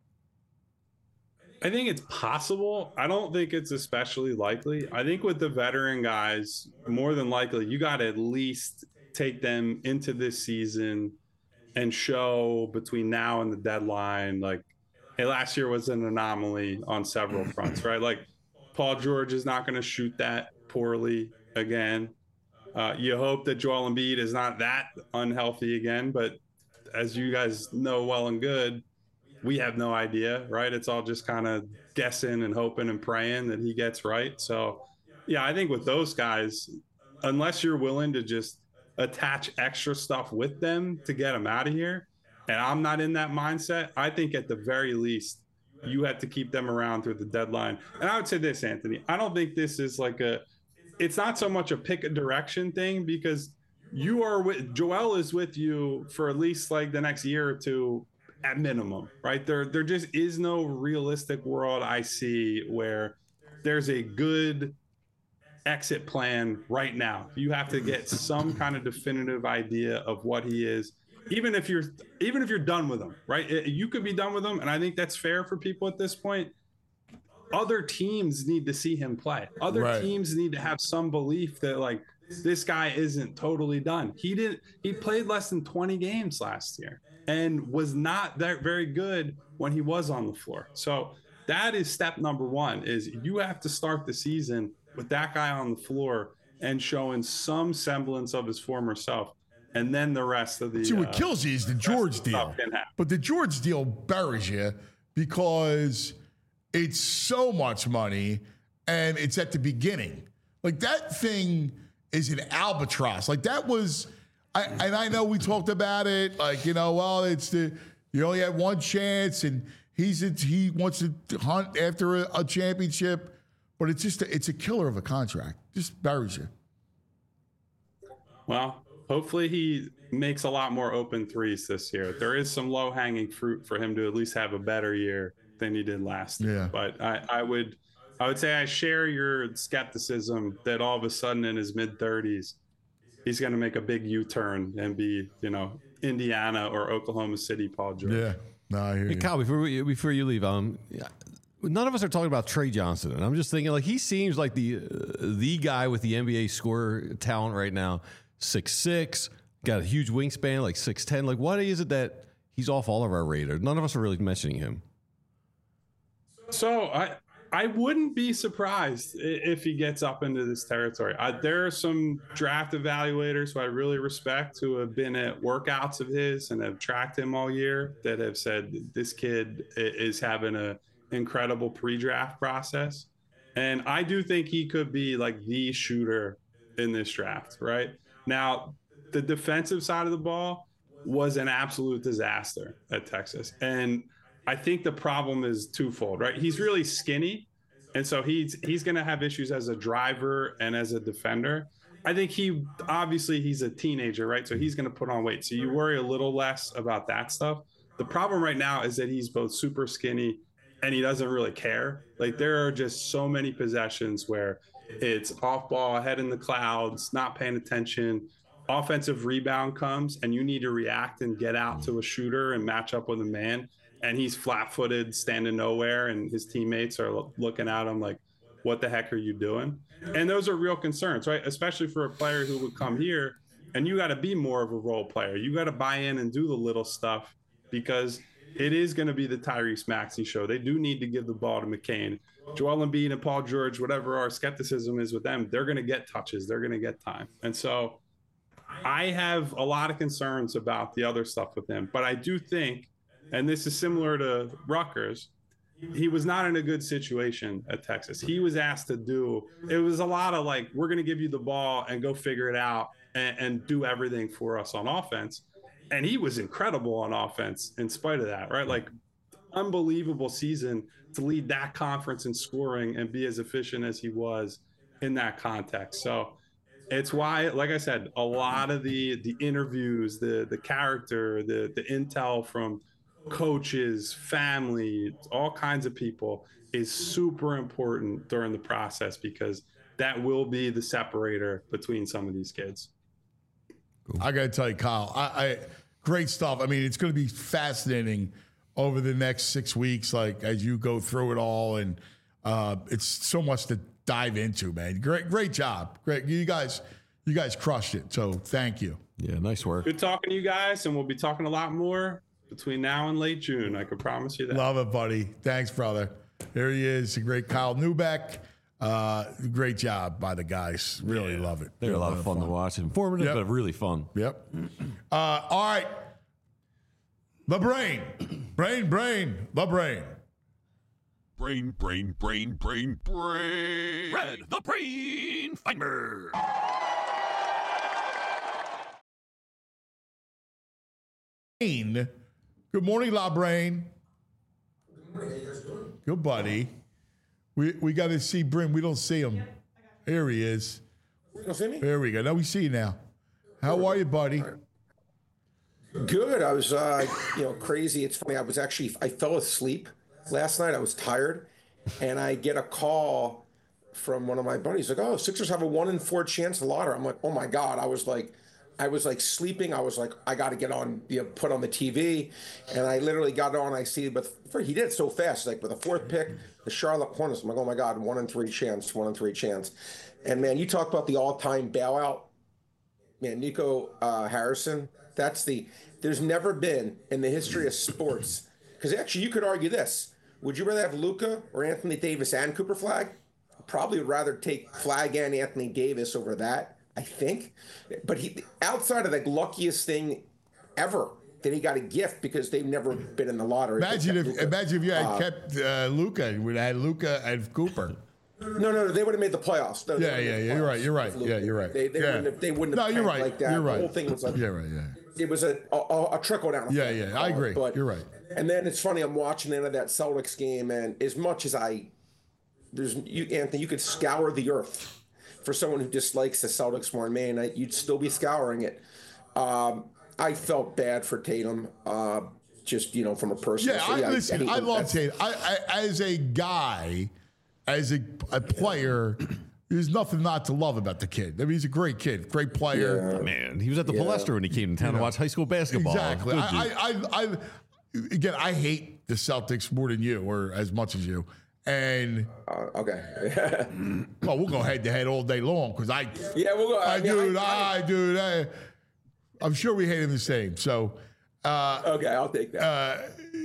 I think it's possible. I don't think it's especially likely. I think with the veteran guys, more than likely, you got to at least take them into this season and show between now and the deadline, like, hey, last year was an anomaly on several fronts, right? Like, Paul George is not going to shoot that poorly again. Uh, you hope that Joel Embiid is not that unhealthy again, but as you guys know well and good, we have no idea, right? It's all just kind of guessing and hoping and praying that he gets right. So, yeah, I think with those guys, unless you're willing to just attach extra stuff with them to get them out of here, and I'm not in that mindset, I think at the very least, you have to keep them around through the deadline. And I would say this, Anthony, I don't think this is like a, it's not so much a pick a direction thing, because you are with, Joel is with you for at least like the next year or two at minimum, right? There, there just is no realistic world I see where there's a good exit plan right now. You have to get some kind of definitive idea of what he is. Even if you're, even if you're done with him, right? You could be done with him, and I think that's fair for people at this point. Other teams need to see him play. Other right. teams need to have some belief that, like, this guy isn't totally done. He didn't. He played less than twenty games last year and was not that very good when he was on the floor. So that is step number one. Is you have to start the season with that guy on the floor and showing some semblance of his former self. And then the rest of the... See, what uh, kills you is the George deal. But the George deal buries you because it's so much money and it's at the beginning. Like, that thing is an albatross. Like, that was... I, and I know we talked about it. Like, you know, well, it's the... You only had one chance, and he's he wants to hunt after a, a championship. But it's just... A, it's a killer of a contract. Just buries you. Well... Hopefully he makes a lot more open threes this year. There is some low-hanging fruit for him to at least have a better year than he did last year. Yeah. But I, I would I would say I share your skepticism that all of a sudden in his mid-thirties, he's going to make a big U-turn and be, you know, Indiana or Oklahoma City Paul George. Yeah. No, I hear hey, you. Kyle, before, we, before you leave, um, none of us are talking about Trey Johnson. And I'm just thinking, like, he seems like the, uh, the guy with the N B A scorer talent right now. six six, got a huge wingspan, like six ten. Like, what is it that he's off all of our radar? None of us are really mentioning him. So I I wouldn't be surprised if he gets up into this territory. I, there are some draft evaluators who I really respect who have been at workouts of his and have tracked him all year that have said this kid is having a incredible pre-draft process. And I do think he could be like the shooter in this draft, right? Now, the defensive side of the ball was an absolute disaster at Texas. And I think the problem is twofold, right? He's really skinny. And so he's he's going to have issues as a driver and as a defender. I think he, obviously he's a teenager, right? So he's going to put on weight. So you worry a little less about that stuff. The problem right now is that he's both super skinny and he doesn't really care. Like there are just so many possessions where it's off ball, head in the clouds, not paying attention. Offensive rebound comes and you need to react and get out to a shooter and match up with a man. And he's flat-footed, standing nowhere, and his teammates are looking at him like, what the heck are you doing? And those are real concerns, right? Especially for a player who would come here, and you got to be more of a role player. You got to buy in and do the little stuff because it is going to be the Tyrese Maxey show. They do need to give the ball to McCain. Joel Embiid and Paul George, whatever our skepticism is with them, they're going to get touches. They're going to get time. And so I have a lot of concerns about the other stuff with him. But I do think, and this is similar to Rutgers, he was not in a good situation at Texas. He was asked to do, it was a lot of like, we're going to give you the ball and go figure it out and, and do everything for us on offense. And he was incredible on offense in spite of that, right? Like unbelievable season to lead that conference in scoring and be as efficient as he was in that context. So it's why, like I said, a lot of the the interviews, the the character, the the intel from coaches, family, all kinds of people is super important during the process because that will be the separator between some of these kids. I got to tell you, Kyle, I, I great stuff. I mean, it's going to be fascinating over the next six weeks, like as you go through it all, and uh, it's so much to dive into, man. Great, great job, great. You guys, you guys crushed it. So thank you. Yeah, nice work. Good talking to you guys, and we'll be talking a lot more between now and late June. I can promise you that. Love it, buddy. Thanks, brother. Here he is, the great Kyle Neubeck. Uh, great job by the guys. Really yeah. love it. They're a lot of fun, fun to watch. Informative, yep. but really fun. Yep. Uh, all right. The brain. Brain, brain, the brain. Brain, brain, brain, brain, brain. Red, the brain finder. Good morning, La Brain. Good morning. How you guys doing? Good, buddy. We we got to see Brim. We don't see him. Yep, Here he is. You don't see me? There we go. Now we see you now. How are you, buddy? Good. I was, uh, you know, crazy. It's funny. I was actually, I fell asleep last night. I was tired, and I get a call from one of my buddies like, "Oh, Sixers have a one in four chance to lottery." I'm like, "Oh my god!" I was like, I was like sleeping. I was like, I got to get on, you know, put on the T V, and I literally got on. I see, but he did it so fast. Like with the fourth pick, the Charlotte Hornets. I'm like, oh my god, one in three chance, one in three chance. And man, you talk about the all-time bailout. Man, Nico uh, Harrison. That's the. There's never been in the history of sports, because actually you could argue this: would you rather have Luka or Anthony Davis and Cooper Flagg? Probably would rather take Flagg and Anthony Davis over that, I think. But he, outside of the luckiest thing ever, that he got a gift because they've never been in the lottery. Imagine if, Luka. imagine if you had uh, kept uh, Luka, would have had Luka and Cooper. No, no, no. They would have made the playoffs. No, yeah, yeah, yeah. You're right. You're right. Yeah, you're right. They, they yeah. wouldn't have. They wouldn't have. No, you're right. Like that. You're right. The whole thing was like. Yeah, right. Yeah. It was a a, a trickle down. Yeah, yeah. I agree. But, you're right. And then it's funny. I'm watching the end of that Celtics game, and as much as I, there's you, Anthony, you could scour the earth for someone who dislikes the Celtics more than me, and I, you'd still be scouring it. Um, I felt bad for Tatum. Uh, just you know, from a personal. Yeah, so, I, yeah, listen. I, I love Tatum. I, I, as a guy, as a, a player. There's nothing not to love about the kid. I mean, he's a great kid, great player. Yeah. Man, he was at the yeah. Palestra when he came to town you know, to watch high school basketball. Exactly. I, I, I, I, again, I hate the Celtics more than you, or as much as you. And uh, okay, well, we'll go head to head all day long because I, yeah, we'll go. I, I mean, dude, I, I, I, dude, I, I'm sure we hate him the same. So, uh, okay, I'll take that. Uh,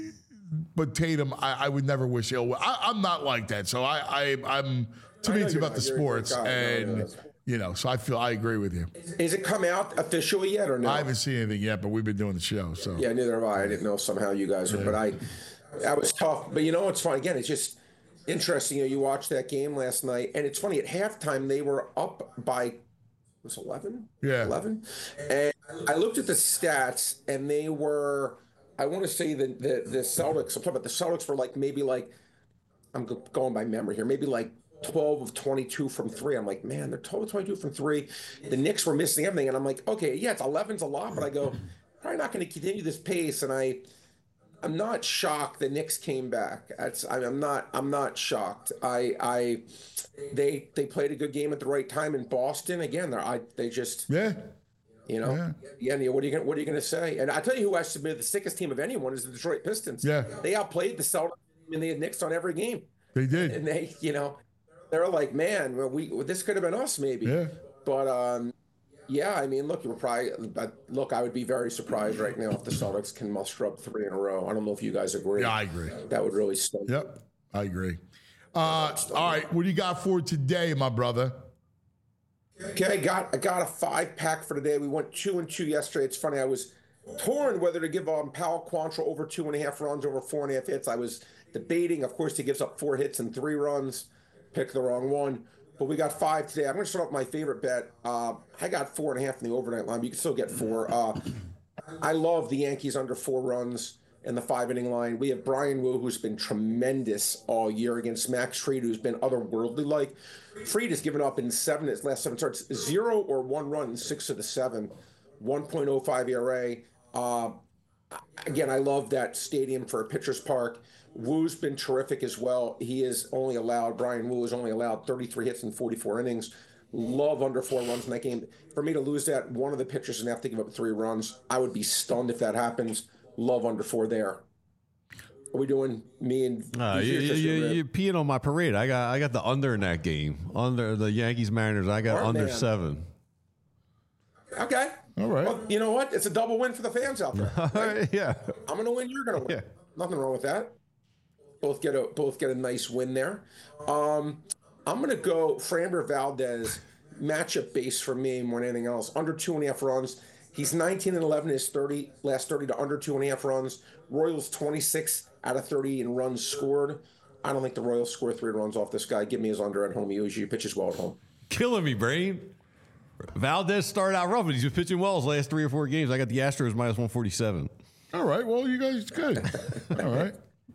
but Tatum, I, I would never wish ill. I, I'm not like that. So I, I I'm. To me, it's about the sports, and, you know, so I feel I agree with you. Is it come out officially yet or no? I haven't seen anything yet, but we've been doing the show, so. Yeah, neither have I. I didn't know somehow you guys were, yeah. but I, That was tough. But you know what's fun? Again, it's just interesting. You know, you watched that game last night, and it's funny. At halftime, they were up by was eleven. Yeah, eleven. And I looked at the stats, and they were. I want to say that the the Celtics. I'm talking about the Celtics were like maybe like I'm go- going by memory here. Maybe like twelve of twenty-two from three. I'm like, man, they're twelve of twenty-two from three. The Knicks were missing everything, and I'm like, okay, yeah, it's eleven's a lot, but I go, probably not going to continue this pace, and I. I'm not shocked the Knicks came back. That's, I'm not. I'm not shocked. I. I. They. They played a good game at the right time in Boston. Again, they're. I. They just. Yeah. You know. Yeah. Yeah. Neil, what are you gonna What are you gonna say? And I tell you who I submitted the sickest team of anyone is the Detroit Pistons. Yeah. They outplayed the Celtics and they had Knicks on every game. They did. And they. You know. They're like, man, well, we. This could have been us maybe. Yeah. But um. Yeah, I mean, look, we're probably look. I would be very surprised right now if the Celtics can muster up three in a row. I don't know if you guys agree. Yeah, I agree. That would really stun. Yep, I agree. Uh, all right, what do you got for today, my brother? Okay, I got I got a five pack for today. We went two and two yesterday. It's funny, I was torn whether to give um Powell Quantrill over two and a half runs, over four and a half hits. I was debating. Of course, he gives up four hits and three runs. Picked the wrong one. But we got five today. I'm going to start off my favorite bet. Uh, I got four and a half in the overnight line, but you can still get four. Uh, I love the Yankees under four runs in the five inning line. We have Brian Wu, who's been tremendous all year, against Max Fried, who's been otherworldly like. Fried has given up in seven his last seven starts, zero or one run in six of the seven, one point oh five E R A. Uh, again, I love that stadium for a pitcher's park. Wu's been terrific as well. He is only allowed, Brian Wu is only allowed thirty-three hits in forty-four innings. Love under four runs in that game. For me to lose that, one of the pitchers is going to have to give up three runs. I would be stunned if that happens. Love under four there. Are we doing me and uh, you, you, you, you're peeing on my parade. I got I got the under in that game. Under the Yankees Mariners, I got Smart under man. seven. Okay. All right. Well, you know what? It's a double win for the fans out there. Right? Yeah. I'm going to win. You're going to win. Yeah. Nothing wrong with that. Both get a both get a nice win there. Um, I'm going to go Framber Valdez, matchup base for me more than anything else. Under two and a half runs. He's nineteen and eleven. His thirty last thirty to under two and a half runs. Royals twenty-six out of thirty in runs scored. I don't think the Royals score three runs off this guy. Give me his under at home. He usually pitches well at home. Killing me, Brain. Valdez started out rough, but he's been pitching well his last three or four games. I got the Astros minus one forty-seven. All right. Well, you guys good. All right.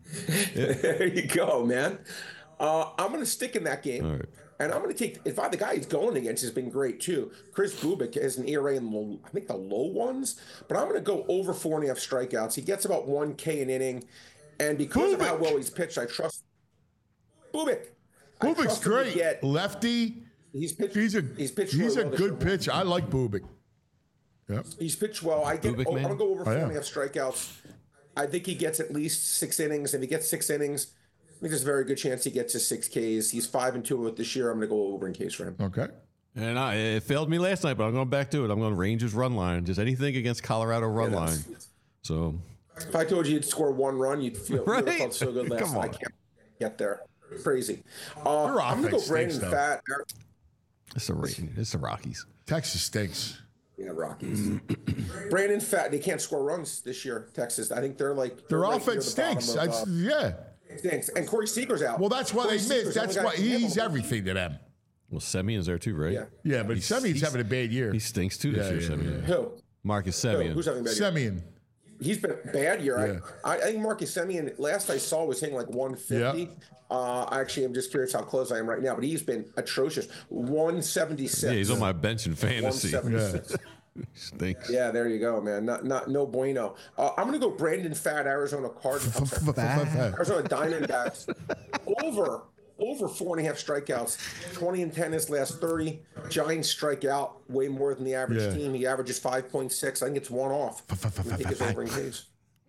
There you go, man. Uh, I'm going to stick in that game. All right. And I'm going to take, if I, the guy he's going against has been great too. Chris Bubik has an E R A in, the, I think, the low ones. But I'm going to go over four and a half strikeouts. He gets about one K an inning. And because Bubik. of how well he's pitched, I trust Bubik. Bubik's great. Get, Lefty. He's pitched. He's a, he's pitched he's really a well good pitch. I like Bubik. Yep. He's pitched well. I get. Bubik, oh, I'm going to go over four oh, yeah. and a half strikeouts. I think he gets at least six innings. If he gets six innings, I think there's a very good chance he gets his six Ks. He's five and two with this year. I'm going to go over in Ks for him. Okay. And I, it failed me last night, but I'm going back to it. I'm going Rangers run line. Just anything against Colorado run Yeah, line. So if I told you you'd score one run, you'd feel right? you would have felt so good last Come night. I on. can't get there. Crazy. Uh, Your I'm going to go offense Brandon stinks, though. Fat. it's the Ra- it's the Rockies. Texas stinks. Yeah, Rockies. Brandon Fat. They can't score runs this year. Texas. I think they're like Their they're right near offense the bottom stinks. of, That's, uh, yeah. stinks. And Corey Seager's out. Well, that's why Corey they Seager's missed. That's only why got a handle he's of- everything to them. Well, Semion's there too, right? Yeah. Yeah, but He's- Semion's he's- having a bad year. He stinks too this Yeah, year, yeah, Semyon. Who? Marcus Who? Semyon. Who's having bad? Semyon. He's been a bad year. Yeah. I, I think Marcus Semien, last I saw, was hitting like one fifty. Yeah. Uh, actually, I'm just curious how close I am right now, but he's been atrocious. one seventy-six. Yeah, he's on my bench in fantasy. one seventy-six. Stinks. Yeah, there you go, man. Not, not, no bueno. Uh, I'm going to go Brandon Fat, Arizona Cardinals. I'm sorry, Arizona Diamondbacks. Over, over four and a half strikeouts. twenty and ten his last thirty. Giants strike out way more than the average Yeah. team. He averages five point six. I think it's one off. I think it's over in case.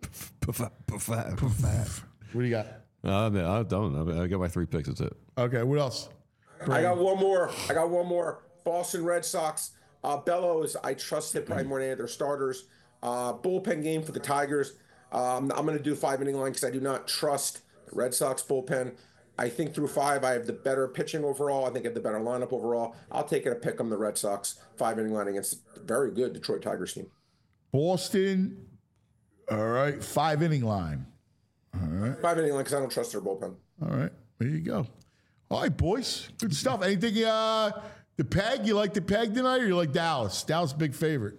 What do you got? Uh, I, mean, I don't know. I got my three picks. That's it. Okay, what else? I got one more. I got one more. Boston Red Sox. Uh, Bellows, I trust it probably more than any of their starters. Uh, bullpen game for the Tigers. Um, I'm going to do five inning line because I do not trust the Red Sox bullpen. I think through five, I have the better pitching overall. I think I have the better lineup overall. I'll take it a pick on the Red Sox five inning line against a very good Detroit Tigers team. Boston. All right, five inning line. All right. Five inning line because I don't trust their bullpen. All right. There you go. All right, boys. Good stuff. Anything, uh, the Peg? You like the Peg tonight or you like Dallas? Dallas, big favorite.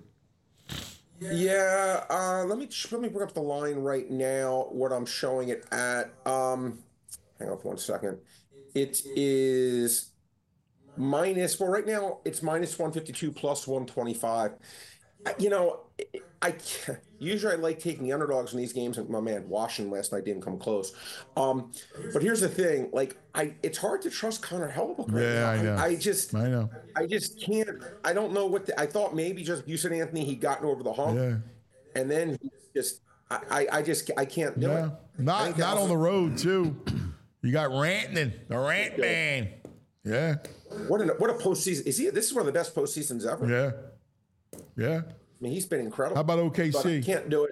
Yeah, uh, let me let me bring up the line right now. What I'm showing it at. Um, hang on for one second. It is minus. Well, right now it's minus one fifty-two plus one twenty-five. You know, I, I usually I like taking the underdogs in these games, and my man Washington last night didn't come close. Um, but here's the thing: like, I it's hard to trust Connor Hellebuyck right Yeah, now. I know. I, I just, I know. I just can't. I don't know what the, I thought. Maybe just you said Anthony, he gotten over the hump, Yeah. and then he just, I, I, I just, I can't do Yeah. it. I Not think not that on was- the road, too. You got Rantanen, the Rant Man. Yeah. What a what a postseason is he? This is one of the best postseasons ever. Yeah. Yeah. I mean, he's been incredible. How about O K But I C? can't do it.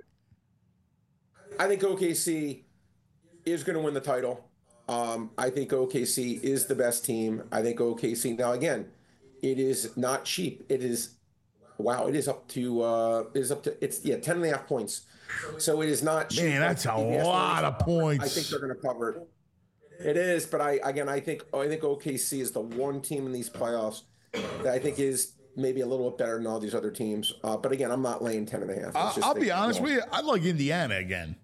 I think O K C is going to win the title. Um, I think O K C is the best team. I think O K C, now again, it is not cheap. It is, wow, it is up to, uh, it is up to, it's, yeah, ten and a half points. So it is not cheap. Man, that's a If you ask me, lot of points. I think they're going to cover it. It is, but I, again, I think, I think O K C is the one team in these playoffs that I think is maybe a little bit better than all these other teams. Uh, but again, I'm not laying ten and a half. It's I'll, just I'll think, be honest you know, with you. I like Indiana again.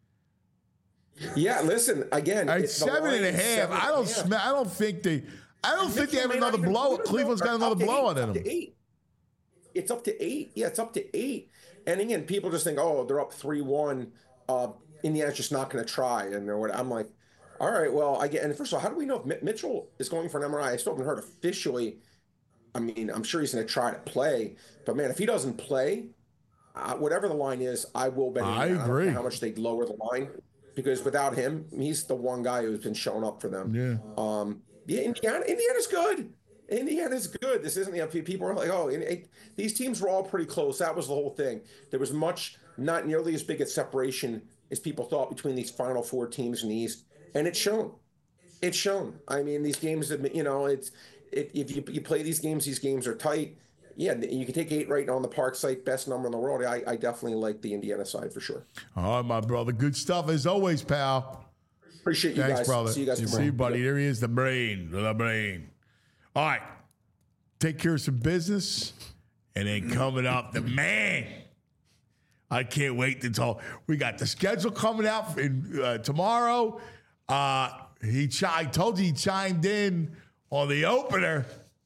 Yeah, listen, again, At it's the seven and a line is half. seven I and a don't. half. Sm- I don't think they. I don't think they Mitchell have may not another even blow. put it Cleveland's over. got another Up to blowout eight, in up them. to eight. It's up to eight. Yeah, it's up to eight. And again, people just think, oh, they're up three one. Uh, Indiana's just not going to try. And they're what I'm like, all right, well, I get. And first of all, how do we know if Mi- Mitchell is going for an M R I? I still haven't heard officially. I mean, I'm sure he's going to try to play, but man, if he doesn't play, uh, whatever the line is, I will bet. I Indiana. agree. don't care how much they lower the line, because without him, he's the one guy who's been showing up for them. Yeah. Um. Yeah, Indiana. Indiana's good. Indiana's good. This isn't. You know, people are like, oh, it, it, these teams were all pretty close. That was the whole thing. There was much, not nearly as big a separation as people thought between these Final Four teams in the East, and it's shown. It's shown. I mean, these games, you know, it's it, if you, you play these games, these games are tight. Yeah, you can take eight right on the Park site, best number in the world. I, I definitely like the Indiana side for sure. All right, my brother. Good stuff as always, pal. Appreciate you Thanks, guys. brother. See you guys tomorrow. See you, buddy. There he is, the brain, the brain. All right. Take care of some business. And then coming up, the man. I can't wait to talk. We got the schedule coming out in, uh, tomorrow. Uh, he ch- I told you he chimed in on the opener.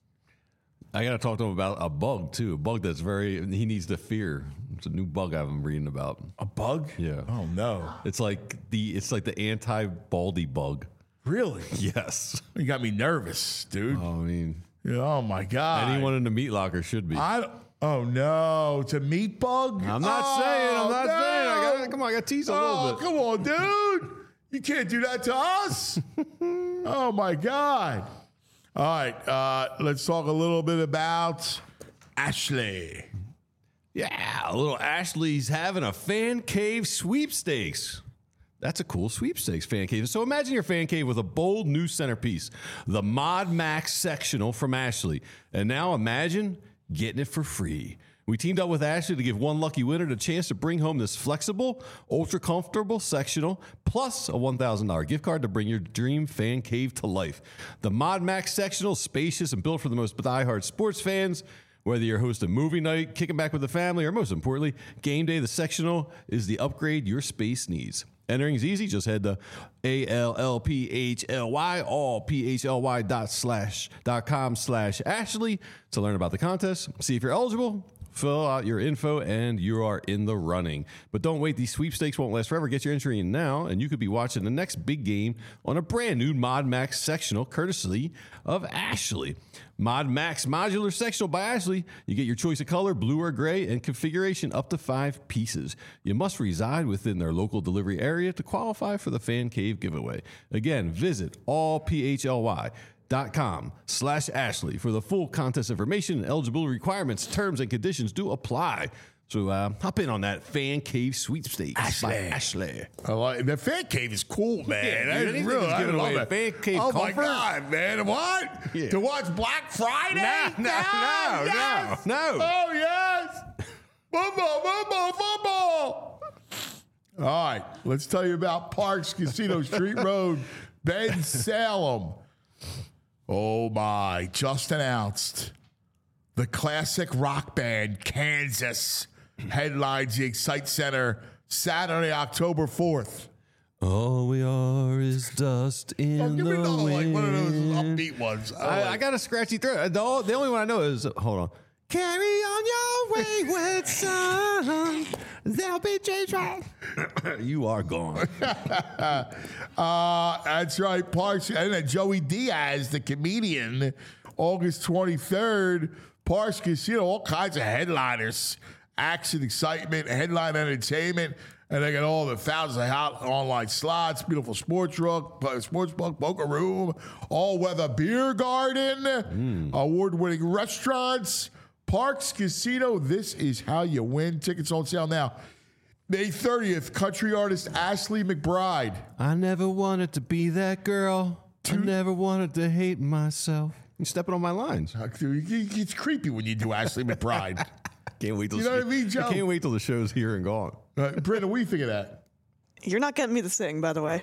I got to talk to him about a bug, too. A bug that's very, he needs to fear. It's a new bug I've been reading about. A bug? Yeah. Oh, no. It's like the it's like the anti-baldy bug. Really? Yes. You got me nervous, dude. Oh, I mean, Oh, my God. anyone in the meat locker should be. I don't- Oh no, it's a meat bug? I'm not Oh, saying. I'm not no. saying. I got come on. I got to tease a Oh, little bit. come on, dude. You can't do that to us. Oh, my God. All right. Uh, let's talk a little bit about Ashley. Yeah, a little Ashley's having a fan cave sweepstakes. That's a cool sweepstakes fan cave. So imagine your fan cave with a bold new centerpiece, the Mod Max sectional from Ashley. And now imagine getting it for free. We teamed up with Ashley to give one lucky winner the chance to bring home this flexible, ultra comfortable sectional, plus a one thousand dollars gift card to bring your dream fan cave to life. The Mod Max sectional is spacious and built for the most diehard sports fans. Whether you're hosting movie night, kicking back with the family, or most importantly, game day, the sectional is the upgrade your space needs. Entering is easy. Just head to A L L P H L Y, all P H L Y dot slash dot com slash Ashley to learn about the contest. See if you're eligible. Fill out your info and you are in the running. But don't wait. These sweepstakes won't last forever. Get your entry in now and you could be watching the next big game on a brand new Mod Max sectional courtesy of Ashley. Mod Max Modular Sectional by Ashley. You get your choice of color, blue or gray, and configuration up to five pieces. You must reside within their local delivery area to qualify for the Fan Cave giveaway. Again, visit all P H L Y dot com slash Ashley for the full contest information and eligibility requirements. Terms and conditions do apply. So uh, hop in on that Fan Cave sweepstakes by Ashley. I like the fan cave is cool, man. Yeah, That's dude, anything really, that's I giving love away it. fan cave oh comfort. my God, man! What? Yeah. To watch Black Friday? No, no, no, yes. no, no. Oh yes! Football, football, football. All right, let's tell you about Parks Casino Street Road, Ben Salem. Oh my, just announced. The classic rock band Kansas headlines the Excite Center Saturday, October fourth. All we are is dust in Oh, give the me another, like, wind. one of those upbeat ones. I, I got a scratchy throat. The, all- the only one I know is, hold on. Carry on your wayward son. There'll be change. You are gone. uh, that's right, Parks. And then Joey Diaz, the comedian, August twenty-third, Parks Casino, all kinds of headliners. Action, excitement, headline entertainment. And they got all the thousands of hot online slots, beautiful sports book, sports book, poker room, all-weather beer garden, mm. award-winning restaurants. Parks Casino, this is how you win. Tickets on sale now. May thirtieth, country artist Ashley McBride. I never wanted to be that girl. I never wanted to hate myself. You're stepping on my lines. It's creepy when you do Ashley McBride. Can't wait till you know what I mean, Joe? I can't wait till the show's here and gone. Uh, Brenda, what do you think of that? You're not getting me to sing, by the way.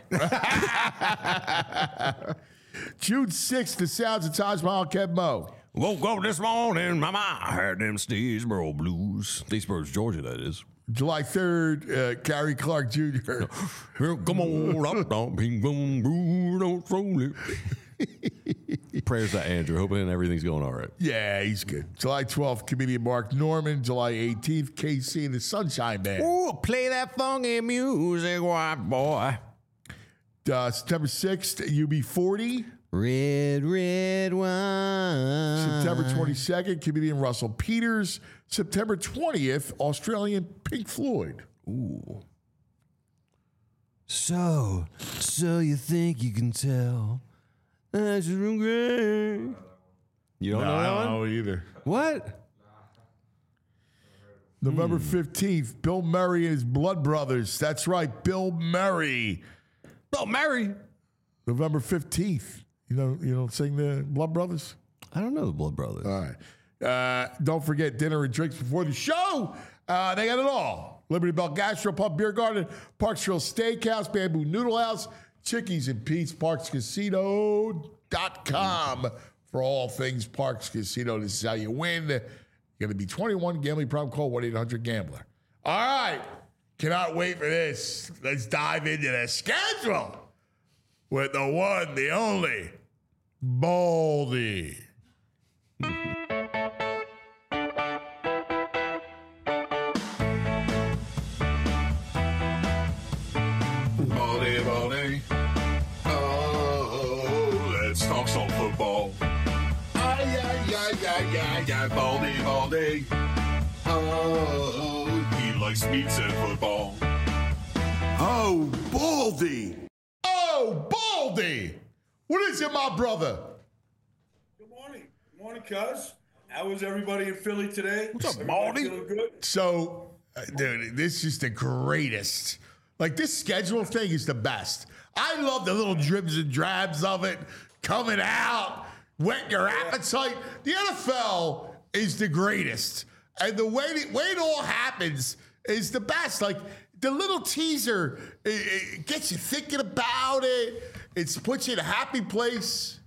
June sixth, the sounds of Taj Mahal, Kev Mo. Woke up this morning, mama, I heard them Statesboro blues. Statesboro, Georgia, that is. July third, uh, Gary Clark Junior Come on, up, don't ping, boom, boom, don't throw it. Prayers to Andrew. Hoping everything's going all right. Yeah, he's good. July twelfth, comedian Mark Norman. July eighteenth, K C and the Sunshine Band. Ooh, play that funky music, white boy. Uh, September sixth, U B forty. Red, red wine. September twenty-second, comedian Russell Peters. September twentieth, Australian Pink Floyd. Ooh. So, so you think you can tell? That's great. You don't no, know I that don't one? know either. What? November fifteenth, Bill Murray and his Blood Brothers. That's right, Bill Murray. Bill Murray. November fifteenth. You know, you don't sing the Blood Brothers? I don't know the Blood Brothers. All right. Uh, don't forget dinner and drinks before the show. Uh, they got it all. Liberty Bell Gastro Pub Beer Garden, Parksville Steakhouse, Bamboo Noodle House, Chickies and Pete's, parks casino dot com for all things Parks Casino. This is how you win. You're going to be twenty-one. Gambling problem, call one eight hundred gambler. All right. Cannot wait for this. Let's dive into the schedule with the one, the only, Baldy. Baldy, Baldy. Oh, let's talk some football. Ay, ay, ay, ay, ay, ay, Baldy, Baldy. Oh, he likes meats and football. Oh, Baldy. Oh, Baldy. What is it, my brother? Good morning. Good morning, cuz. How was everybody in Philly today? What's up, Everybody Baldy? feeling good? So, uh, dude, this is the greatest. Like, this schedule thing is the best. I love the little dribs and drabs of it coming out, whet your appetite. The N F L is the greatest. And the way it, way it all happens is the best. Like, the little teaser, it, it gets you thinking about it. It puts you in a happy place.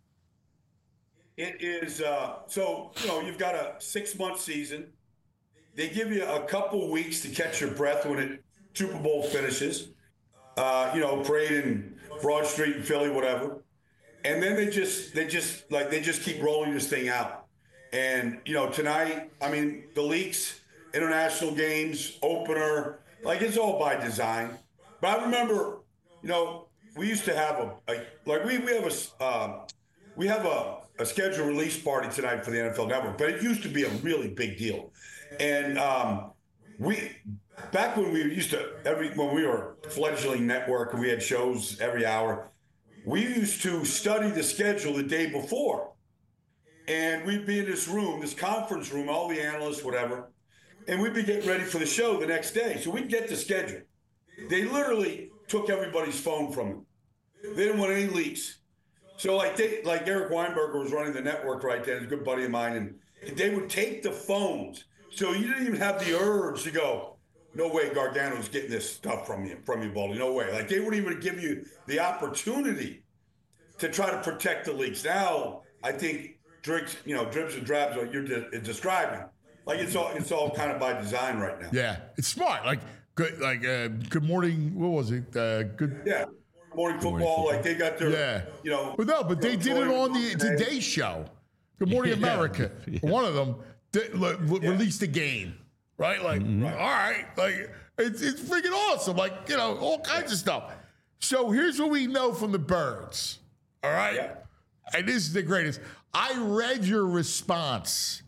It is, uh, so, you know, you've got a six-month season. They give you a couple weeks to catch your breath when it Super Bowl finishes. Uh, you know, parade in Broad Street in Philly, whatever. And then they just, they just, like, they just keep rolling this thing out. And, you know, tonight, I mean, the leaks, international games, opener, like, it's all by design. But I remember, you know, we used to have a, a like, we, we have a, uh, we have a, a scheduled release party tonight for the N F L Network, but it used to be a really big deal. And um, we, back when we used to, every when we were a fledgling network and we had shows every hour, we used to study the schedule the day before. And we'd be in this room, this conference room, all the analysts, whatever, and we'd be getting ready for the show the next day. So we'd get the schedule. They literally took everybody's phone from them. They didn't want any leaks. So like they, like Eric Weinberger was running the network right then, he's a good buddy of mine, and they would take the phones. So you didn't even have the urge to go, no way Gargano's getting this stuff from you, from you, Baldy. No way. Like, they wouldn't even give you the opportunity to try to protect the leaks. Now, I think drinks, you know, drips and drabs, what you're de- describing. Like, it's all it's all kind of by design right now. Yeah, it's smart. Like, good, like, uh, good morning. What was it? Uh, good. Yeah. Morning football, like they got their, Yeah. you know. But no, but they did it on the Today Show. Good Morning Yeah. America. Yeah. One of them did, like, w- released a game, right? Like, Mm-hmm. all right, like it's it's freaking awesome. Like, you know, all kinds of stuff. So here's what we know from the Birds. All right, Yeah. and this is the greatest. I read your response.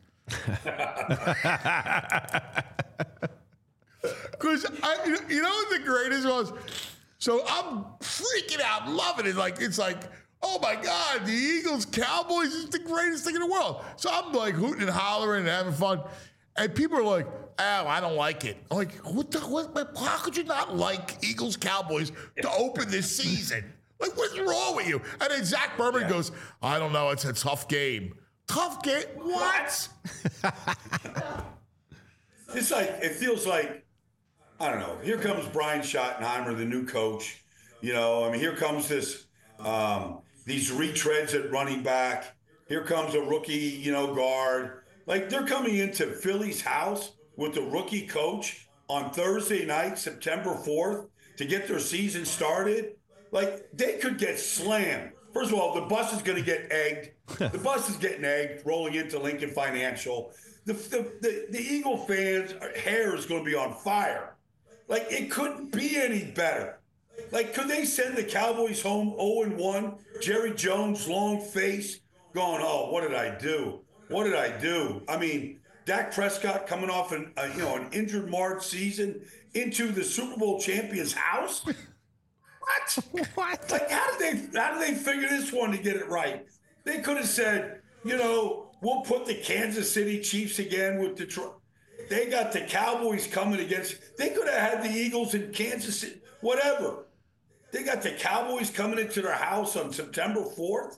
Because I, you know what the greatest was? So I'm freaking out, loving it. Like, it's like, oh my God, the Eagles, Cowboys is the greatest thing in the world. So I'm like hooting and hollering and having fun. And people are like, oh, I don't like it. I'm like, what the, what, how could you not like Eagles, Cowboys to open this season? Like, what's wrong with you? And then Zach Berman Yeah. goes, I don't know, it's a tough game. Tough game? What? It's like, it feels like, I don't know, here comes Brian Schottenheimer, the new coach. You know, I mean, here comes this, um, these retreads at running back. Here comes a rookie, you know, guard. Like, they're coming into Philly's house with the rookie coach on Thursday night, September fourth, to get their season started. Like, they could get slammed. First of all, the bus is going to get egged. The bus is getting egged, rolling into Lincoln Financial. The, the, the, the Eagle fans' hair is going to be on fire. Like, it couldn't be any better. Like, could they send the Cowboys home oh and one? Jerry Jones, long face, going, oh, what did I do? What did I do? I mean, Dak Prescott coming off an, uh, you know, an injured March season into the Super Bowl champion's house? What? What? Like, how did they how did they figure this one to get it right? They could have said, you know, we'll put the Kansas City Chiefs again with Detroit. They got the Cowboys coming against. They could have had the Eagles in Kansas City, whatever. They got the Cowboys coming into their house on September fourth.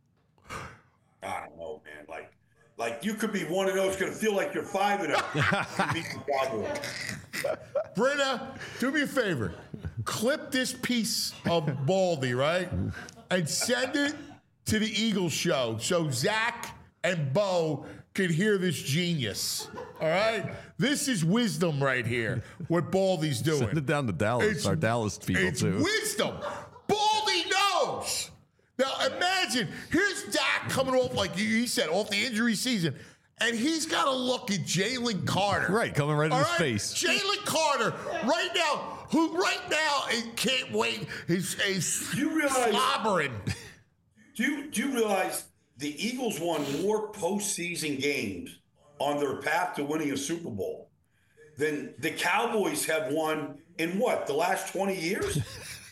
I don't know, man. Like, like you could be one of those. Going to feel like you're five and oh. Beat the Cowboys. Britta, do me a favor. Clip this piece of Baldy, right? And send it to the Eagles show so Zach and Bo can hear this genius. All right? This is wisdom right here, what Baldy's doing. Send it down to Dallas, It's- our Dallas people, it's too. wisdom. Baldy knows. Now, imagine, here's Dak coming off, like he said, off the injury season, and he's got to look at Jalen Carter. Right, coming right in All his face. Jalen Carter, right now, who right now it can't wait, is, is You realize- slobbering. Do you, do you realize the Eagles won more postseason games on their path to winning a Super Bowl than the Cowboys have won in what, the last twenty years?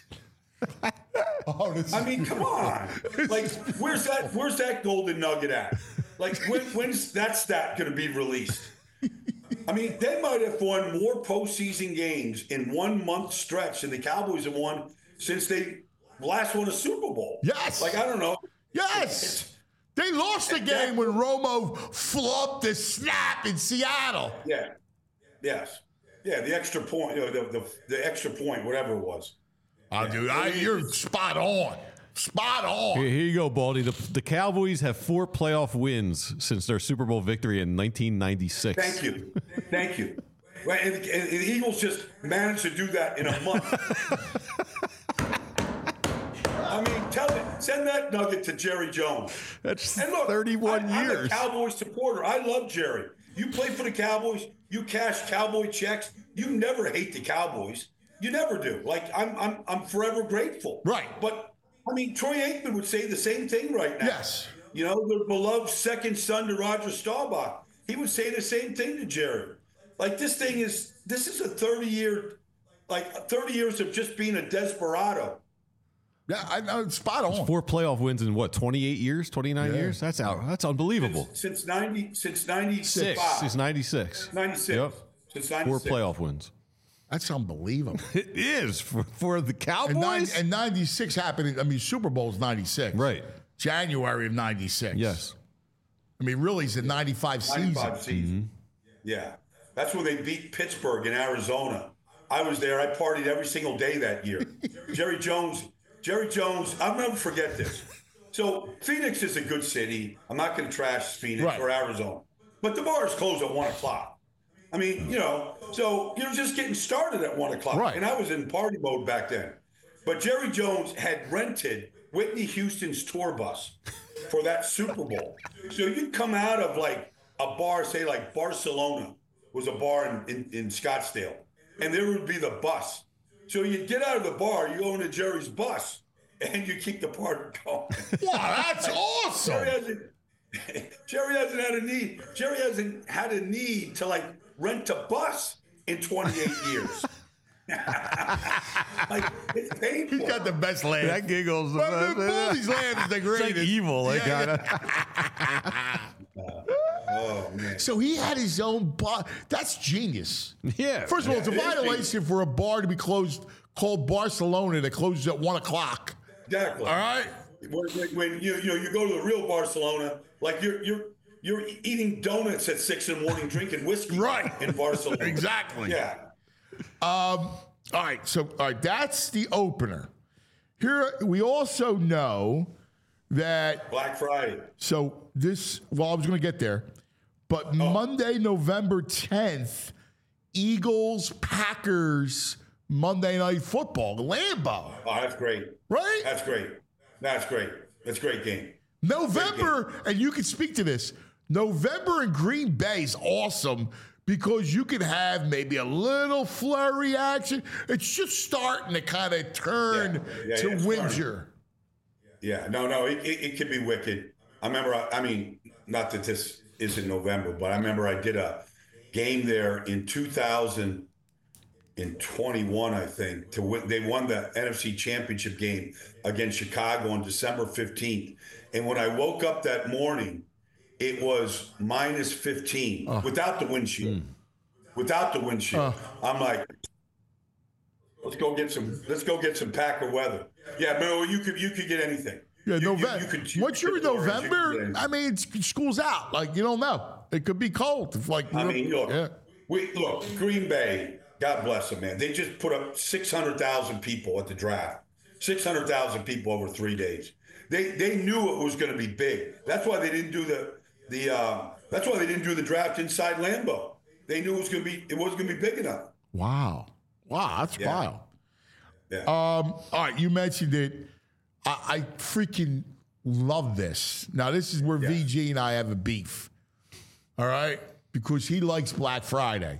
Oh, this I mean, come on. Like, where's that where's that golden nugget at? Like, when, when's that stat going to be released? I mean, they might have won more postseason games in one month stretch than the Cowboys have won since they last won a Super Bowl. Yes. Like, I don't know. Yes. They lost the game when Romo flubbed the snap in Seattle. Yeah. Yes. Yeah, the extra point, you know, the, the, the extra point, whatever it was. Oh, dude, I, you're spot on. Spot on. Here, here you go, Baldy. The, the Cowboys have four playoff wins since their Super Bowl victory in nineteen ninety-six. Thank you. Thank you. Right, and, and the Eagles just managed to do that in a month. I mean, tell it. Send that nugget to Jerry Jones. That's And look, thirty-one I, years. I'm a Cowboys supporter. I love Jerry. You play for the Cowboys. You cash Cowboy checks. You never hate the Cowboys. You never do. Like, I'm, I'm, I'm forever grateful. Right. But I mean, Troy Aikman would say the same thing right now. Yes. You know, the beloved second son to Roger Staubach. He would say the same thing to Jerry. Like, this thing is, this is a thirty year, like thirty years of just being a desperado. Yeah, I know. Spot on. Four playoff wins in what, twenty-eight years, twenty-nine Yeah. years? That's out. That's unbelievable. Since, since ninety, since ninety-five. Six. Since ninety-six. ninety-six. Yep. Since Four ninety-six. playoff wins. That's unbelievable. It is for, for the And, Cowboys. nine, and ninety-six happened. in- I mean, Super Bowl's ninety-six. Right. January of ninety-six. Yes. I mean, really, it's a ninety-five season. ninety-five season. Yeah. That's when they beat Pittsburgh in Arizona. I was there. I partied every single day that year. Jerry Jones, Jerry Jones, I'll never forget this. So Phoenix is a good city. I'm not going to trash Phoenix Right. or Arizona. But the bars close at one o'clock. I mean, you know, so you're just getting started at one o'clock. Right. And I was in party mode back then. But Jerry Jones had rented Whitney Houston's tour bus for that Super Bowl. So you'd come out of like a bar, say like Barcelona was a bar in, in, in Scottsdale, and there would be the bus. So you'd get out of the bar, you go into Jerry's bus, and you keep the party going. Wow, that's awesome. Jerry hasn't, Jerry hasn't had a need. Jerry hasn't had a need to like rent a bus in twenty-eight years. Like, it's painful. He's got the best laugh. That giggles. But the Bully's laugh is the It's greatest. like evil, like Yeah, kind Oh man. So he had his own bar. That's genius. Yeah. First of all, it's a Yeah, it is violation for a bar to be closed called Barcelona that closes at one o'clock. Exactly. All right. When, when, when you you know you go to the real Barcelona, like you're you're you're eating donuts at six in the morning, drinking whiskey, Right. in Barcelona. Exactly. Yeah. Um, all right, so all right, that's the opener. Here we also know that Black Friday. so this well, I was gonna get there, but Monday, November tenth, Eagles, Packers, Monday Night Football, Lambeau. Oh, that's great. Right? That's great. That's great. That's a great game. November, and you can speak to this. November in Green Bay is awesome because you can have maybe a little flurry action. It's just starting to kind of turn Yeah, yeah, to yeah, it's winter. Yeah. No, no, it, it, it could be wicked. I remember, I, I mean, not that this is in November, but I remember I did a game there in two thousand twenty-one, I think. To win, they won the N F C Championship game against Chicago on December fifteenth. And when I woke up that morning, it was minus fifteen Oh. without the windshield. Without the windshield. I'm like, let's go get some. Let's go get some Packer weather. Yeah, no, you could you could get anything. Yeah, You- you- November. you could- you Once could you're in get orange, you could get November, anything. I mean, it's, school's out. Like you don't know. It could be cold. If like I mean, look, yeah. we look Green Bay. God bless them, man. They just put up six hundred thousand people at the draft. Six hundred thousand people over three days. They they knew it was going to be big. That's why they didn't do the the. Uh, that's why they didn't do the draft inside Lambeau. They knew it was going to be it wasn't going to be big enough. Wow, wow, that's Yeah. wild. Yeah. Um, all right, you mentioned it. I, I freaking love this. Now, this is where V G and I have a beef. All right, because he likes Black Friday.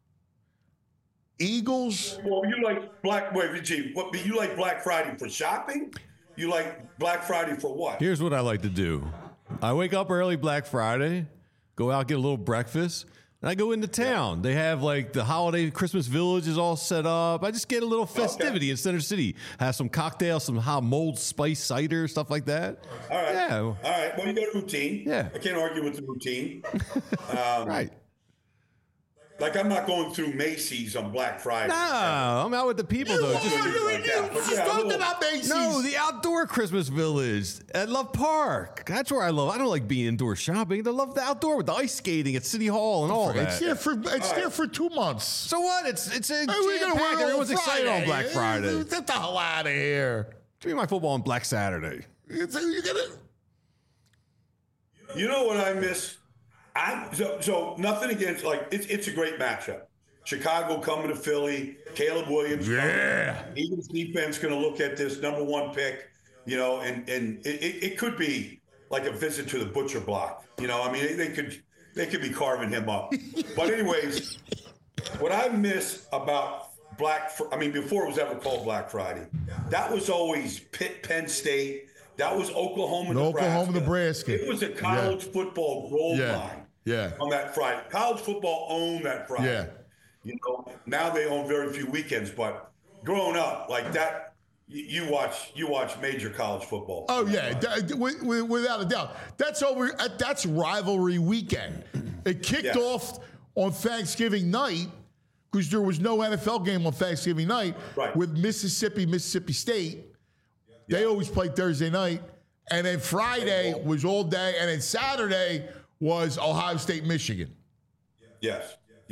Eagles. Well, you like Black. Wait, V G. What? You like Black Friday for shopping? You like Black Friday for what? Here's what I like to do. I wake up early Black Friday, go out, get a little breakfast, and I go into town. They have like the holiday Christmas village is all set up. I just get a little festivity in Center City. Have some cocktails, some hot mulled spice cider, stuff like that. All right. Yeah. All right. Well, you got a routine. Yeah. I can't argue with the routine. Um, Right. Like I'm not going through Macy's on Black Friday. No, I'm out with the people though. Just- Like that. But yeah, talking little- about Macy's. No, the outdoor Christmas village at Love Park. That's where I love. I don't like being indoor shopping. I love the outdoor with the ice skating at City Hall and all It's that. there for it's there for two months. So what? It's it's a Hey, we jam gonna packed. wear it Everyone's on excited on Friday. Black Friday. Get the hell out of here. Give me my football on Black Saturday. It's, you gotta, You know what I miss? I so, so nothing against like it's it's a great matchup. Chicago coming to Philly, Caleb Williams. Yeah. Eagles defense going to look at this number one pick, you know, and and it, it, it could be like a visit to the butcher block. You know, I mean, they, they could they could be carving him up. But anyways, what I miss about Black, Fr- I mean, before it was ever called Black Friday, that was always Pitt, Penn State. That was Oklahoma, Nebraska. Oklahoma, Nebraska. It was a college Yeah. football gold Yeah. mine Yeah. on that Friday. College football owned that Friday. Yeah. You know, now they own very few weekends, but growing up like that, you, you watch you watch major college football. Oh yeah, that- wi- wi- without a doubt. That's over. uh, That's rivalry weekend. It kicked Yeah. off on Thanksgiving night because there was no N F L game on Thanksgiving night Right. with Mississippi, Mississippi State. They always played Thursday night, and then Friday was all day, and then Saturday was Ohio State, Michigan. Yes,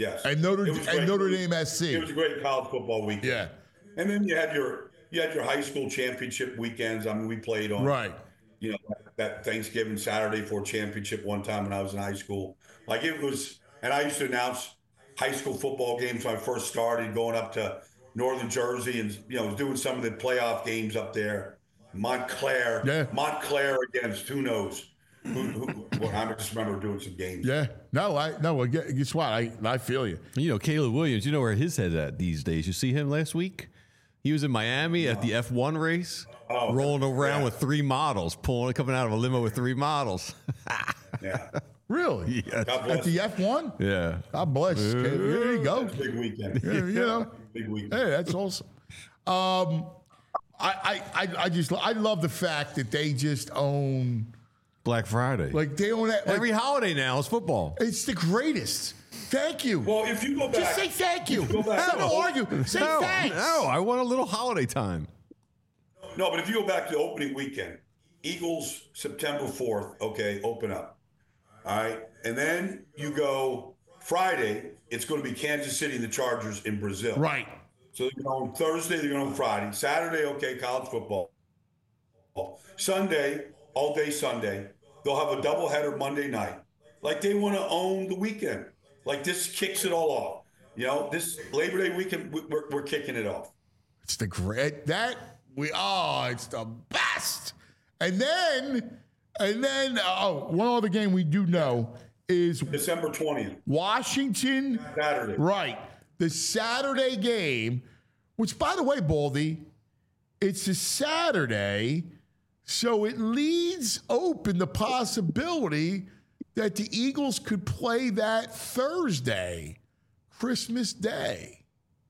Yes. And Notre It was and great. Notre Dame S C. It was a great college football weekend. Yeah. And then you had your you had your high school championship weekends. I mean, we played on Right. you know, that Thanksgiving Saturday for a championship one time when I was in high school. Like it was, and I used to announce high school football games when I first started, going up to Northern Jersey and, you know, doing some of the playoff games up there. Montclair, Yeah. Montclair against who knows. Who, who, well, I just remember doing some games. Yeah. No, I no. Guess what? I I feel you. You know, Caleb Williams, you know where his head's at these days. You see him last week? He was in Miami at the F one race, Oh, rolling around yeah. with three models, pulling, coming out of a limo with three models. Yeah. Really? Yeah. God bless. At the F one? Yeah. God bless. Okay, there you go. Big weekend. Yeah, you know. Big weekend. Hey, that's awesome. Um, I, I, I, I just, I love the fact that they just own, Black Friday. like they own that. Like, Every holiday now is football. it's the greatest. Thank you. Well, if you go back, just say thank you. go back Stop to the- argue. Say no, thanks. no, I want a little holiday time. No, but if you go back to the opening weekend, Eagles September fourth, okay, open up. All right. And then you go Friday, it's going to be Kansas City and the Chargers in Brazil. Right. So they're going on Thursday, they're going on Friday. Saturday, okay, college football. Sunday, all day Sunday. They'll have a doubleheader Monday night. Like they want to own the weekend. Like this kicks it all off. You know, this Labor Day weekend, we- we're, we're kicking it off. It's the great that we oh, it's the best. And then and then oh, one other game we do know is December twentieth, Washington. Saturday. Right. The Saturday game, which by the way, Baldy, it's a Saturday, so it leaves open the possibility that the Eagles could play that Thursday, Christmas Day.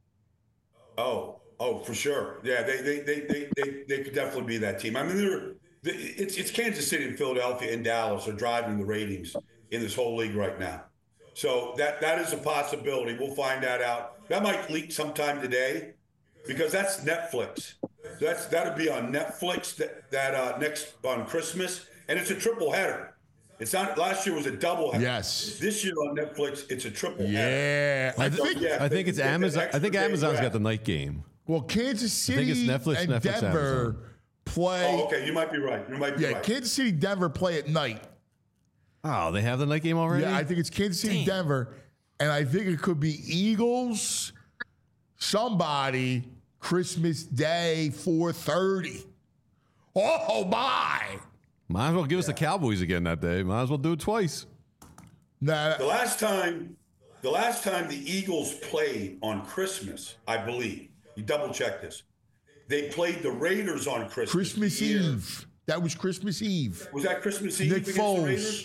Oh, oh, for sure. Yeah, they they they they they, they could definitely be that team. I mean, they're they, it's it's Kansas City and Philadelphia and Dallas are driving the ratings in this whole league right now. So that that is a possibility. We'll find that out. That might leak sometime today, because that's Netflix. That's that'll be on Netflix that that uh, next on Christmas, and it's a triple header. It's not. Last year was a double header. Yes. This year on Netflix, it's a triple header. Yeah. I So, think yeah, I think they- it's they get Amazon. I extra think day Amazon's grab. got the night game. Well, Kansas City think it's Netflix, and Netflix, Denver Amazon. play. Oh, okay. You might be right. You might be Yeah, right. Kansas City, Denver play at night. Oh, they have the night game already? Yeah, I think it's Kansas City, Denver, and I think it could be Eagles, somebody, Christmas Day, four thirty. Oh, my. Might as well give us the Cowboys again that day. Might as well do it twice. Nah, The last time, the last time the Eagles played on Christmas, I believe, you double check this. They played the Raiders on Christmas. Christmas the year- Eve. That was Christmas Eve. Was that Christmas Eve Nick against the Foles. Raiders?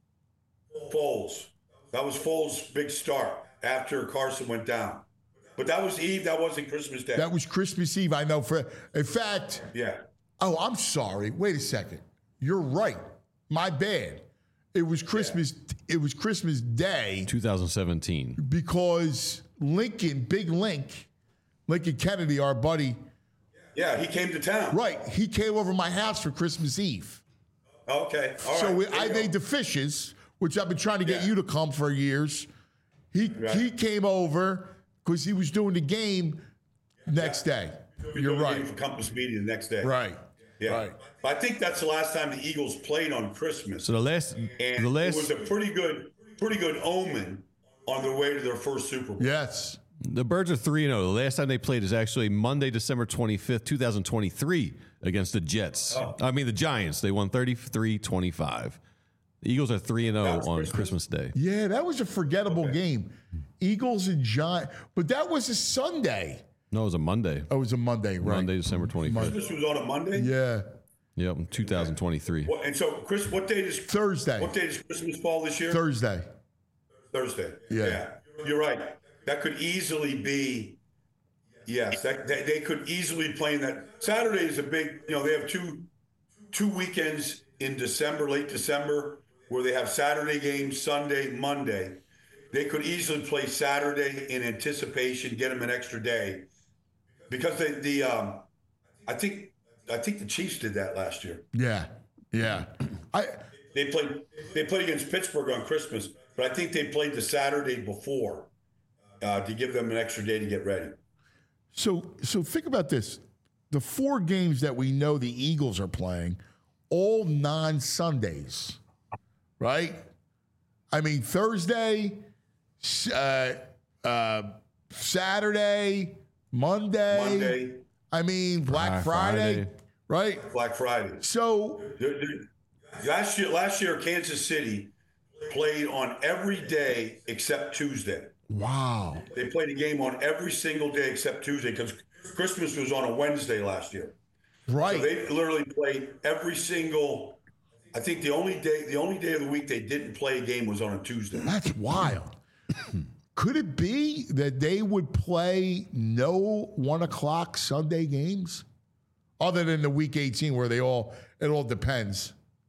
Foles. That was Foles' big start after Carson went down. But that was Eve. That wasn't Christmas Day. That was Christmas Eve. I know for in fact. yeah. Oh, I'm sorry. Wait a second. You're right. My bad. It was Christmas. It was Christmas Day twenty seventeen. because Lincoln, Big Link, Lincoln Kennedy, our buddy. Yeah, he came to town. Right. He came over my house for Christmas Eve. Okay. All so right. we, There I you go. made the fishes, which I've been trying to get Yeah. you to come for years. He Right. he came over because he was doing the game next day. We You're did a right. game for Compass Media the next day. Right. Yeah. Right. But I think that's the last time the Eagles played on Christmas. So the last, and the it last, was a pretty good, pretty good omen on their way to their first Super Bowl. Yes. the Birds are three and zero. The last time they played is actually Monday, December twenty fifth, two thousand twenty three, against the Jets. Oh. I mean the Giants. They won thirty three twenty five. The Eagles are three and That zero was on Christmas? Christmas Day. Yeah, that was a forgettable game. Eagles and Giants. But that was a Sunday. No, it was a Monday. Oh, it was a Monday, right? Monday, December twenty fifth. Christmas was on a Monday. Yeah. Yep, two thousand twenty three. What, and so, Chris, what day does Thursday. What day does Christmas fall this year? Thursday. Thursday. Yeah. You're right. That could easily be. Yes, that, that they could easily play in that. Saturday is a big. You know, they have two two weekends in December, late December, where they have Saturday games, Sunday, Monday. They could easily play Saturday in anticipation, get them an extra day, because they, the um, I think I think the Chiefs did that last year. Yeah. Yeah. I They played they played against Pittsburgh on Christmas, but I think they played the Saturday before uh, to give them an extra day to get ready. So, so think about this: the four games that we know the Eagles are playing, all non-Sundays, right? I mean, Thursday, uh, uh, Saturday, Monday. Monday. I mean, Black Black Friday, Friday. right? Black Friday. So They're- they're- Last year, last year, Kansas City played on every day except Tuesday. wow, They played a game on every single day except Tuesday because Christmas was on a Wednesday last year. right? So they literally played every single. I think the only day, the only day of the week they didn't play a game was on a Tuesday. That's wild. Could it be that they would play no one o'clock Sunday games, other than the week eighteen where they all it all depends.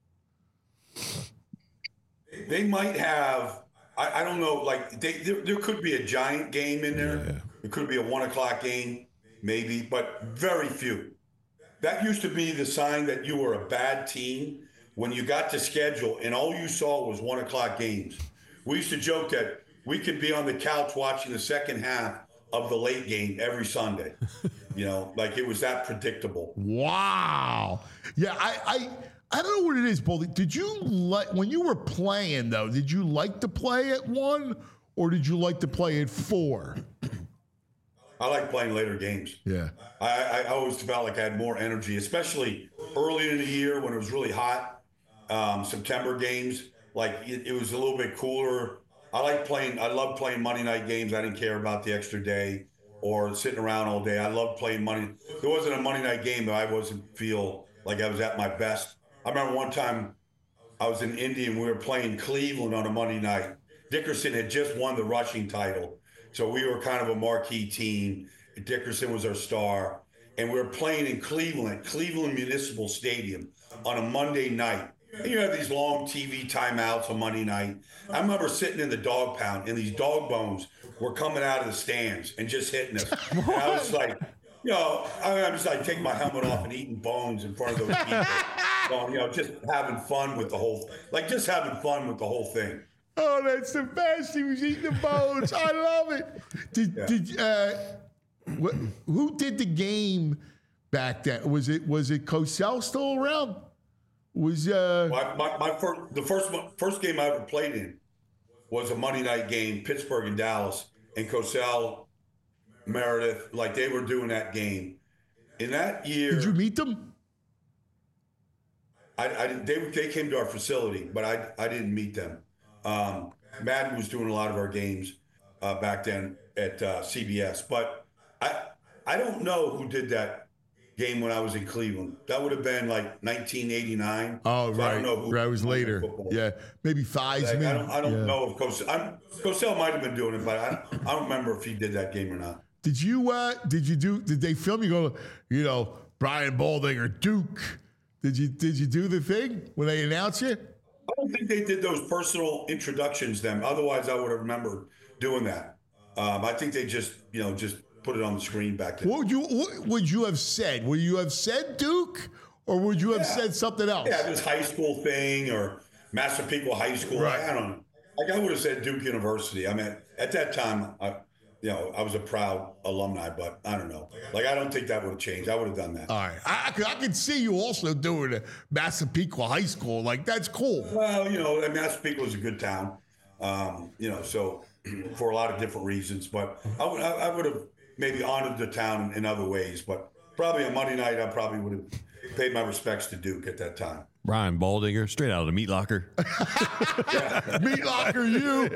They might have. I, I don't know. Like they, there, there could be a giant game in there. Yeah. It could be a one o'clock game, maybe, but very few. That used to be the sign that you were a bad team when you got to schedule and all you saw was one o'clock games. We used to joke that we could be on the couch watching the second half of the late game every Sunday. You know, like it was that predictable. Wow. Yeah, I I, I don't know what it is, Boldy. Did you like when you were playing though? Did you like to play at one, or did you like to play at four? I like playing later games. Yeah. I, I always felt like I had more energy, especially early in the year when it was really hot. Um, September games, like it, it was a little bit cooler. I like playing. I love playing Monday night games. I didn't care about the extra day or sitting around all day. I love playing Monday. There wasn't a Monday night game that I wasn't feel like I was at my best. I remember one time I was in Indy and we were playing Cleveland on a Monday night. Dickerson had just won the rushing title. So we were kind of a marquee team. Dickerson was our star. And we were playing in Cleveland, Cleveland Municipal Stadium on a Monday night. And you have these long T V timeouts on Monday night. I remember sitting in the dog pound and these dog bones were coming out of the stands and just hitting us. And I was like, you know, I was like taking my helmet off and eating bones in front of those people. So, you know, just having fun with the whole, like just having fun with the whole thing. Oh, that's the best. He was eating the bones. I love it. Did Yeah. did uh, what, who did the game back then? Was it was it Cosell still around? Was uh My, my, my first, the first one, first game I ever played in was a Monday night game, Pittsburgh and Dallas, and Cosell, Meredith, like they were doing that game. In that year, did you meet them? I, I they they came to our facility, but I I didn't meet them. Um, Madden was doing a lot of our games uh, back then at uh, C B S, but I I don't know who did that game when I was in Cleveland. That would have been like nineteen eighty-nine. Oh, So I right. don't know who Right, it was later. football. Yeah, maybe Theismann. Like, I don't, I don't Yeah. know if Cosell, I'm, Cosell might have been doing it, but I, I don't remember if he did that game or not. Did you uh did you do did they film you go, you know, Brian Balding or Duke? Did you did you do the thing when they announced you? I don't think they did those personal introductions then. Otherwise, I would have remembered doing that. Um, I think they just, you know, just put it on the screen back then. What would you what would you have said? Would you have said Duke, or would you have Yeah. said something else? Yeah, this high school thing or Massapequa High School. Right. I don't know. Like I would have said Duke University. I mean, at that time, I, you know, I was a proud alumni, but I don't know. Like I don't think that would have changed. I would have done that. All right, I, I, could, I could see you also doing a Massapequa High School. Like that's cool. Well, you know, Massapequa was a good town. Um, you know, so for a lot of different reasons, but I would I, I would have maybe honored the town in other ways. But probably on Monday night, I probably would have paid my respects to Duke at that time. Ryan Baldinger, straight out of the meat locker. Meat locker, you.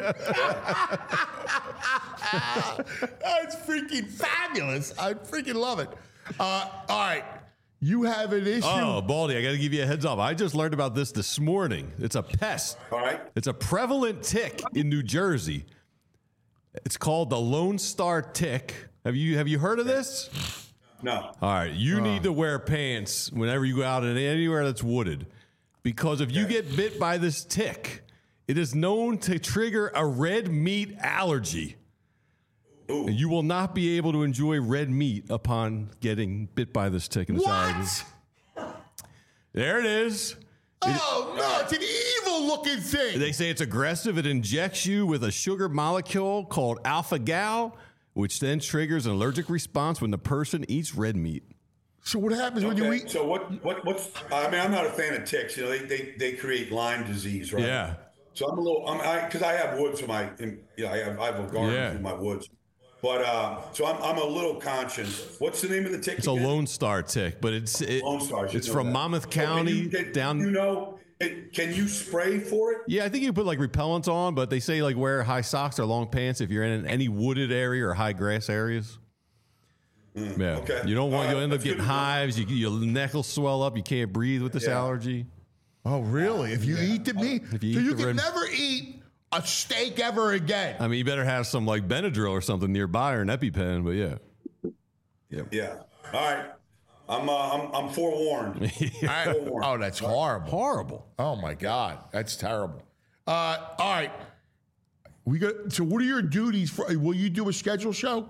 That's freaking fabulous. I freaking love it. Uh, all right, you have an issue. Oh, Baldy, I got to give you a heads up. I just learned about this this morning. It's a pest. All right. It's a prevalent tick in New Jersey. It's called the Lone Star tick. Have you have you heard of this? No. All right, you Uh. need to wear pants whenever you go out in anywhere that's wooded, because if you get bit by this tick, it is known to trigger a red meat allergy. Ooh. And you will not be able to enjoy red meat upon getting bit by this tick. And this allergy. What? There it is. Oh no, it's an evil looking thing. They say it's aggressive. It injects you with a sugar molecule called alpha-gal, which then triggers an allergic response when the person eats red meat. So what happens Okay, when you eat? So what? What? What's? I mean, I'm not a fan of ticks. You know, they they, they create Lyme disease, right? Yeah. So I'm a little. I'm I because I have woods in my. In, you know, I have I have a garden Yeah. in my woods. But uh, so I'm I'm a little conscious. What's the name of the tick? It's a again? Lone Star tick, but it's it, Lone Star. I should it's know from that. Monmouth So can County you, can, down. You know, it, can you spray for it? Yeah, I think you put like repellents on, but they say like wear high socks or long pants if you're in any wooded area or high grass areas. Mm, Yeah, okay. you don't want All you'll right, end up that's getting good to know. hives. You, your neck will swell up. You can't breathe with this Yeah. allergy. Oh, really? If you eat the meat, If you so eat you the can red- never eat a steak ever again. I mean, you better have some like Benadryl or something nearby or an EpiPen. But yeah, Yeah. All right. I'm uh, I'm I'm forewarned. I- Forewarned. oh, that's horrible. horrible. Oh my God, that's terrible. Uh, all right, we got. So, what are your duties for? Will you do a schedule show?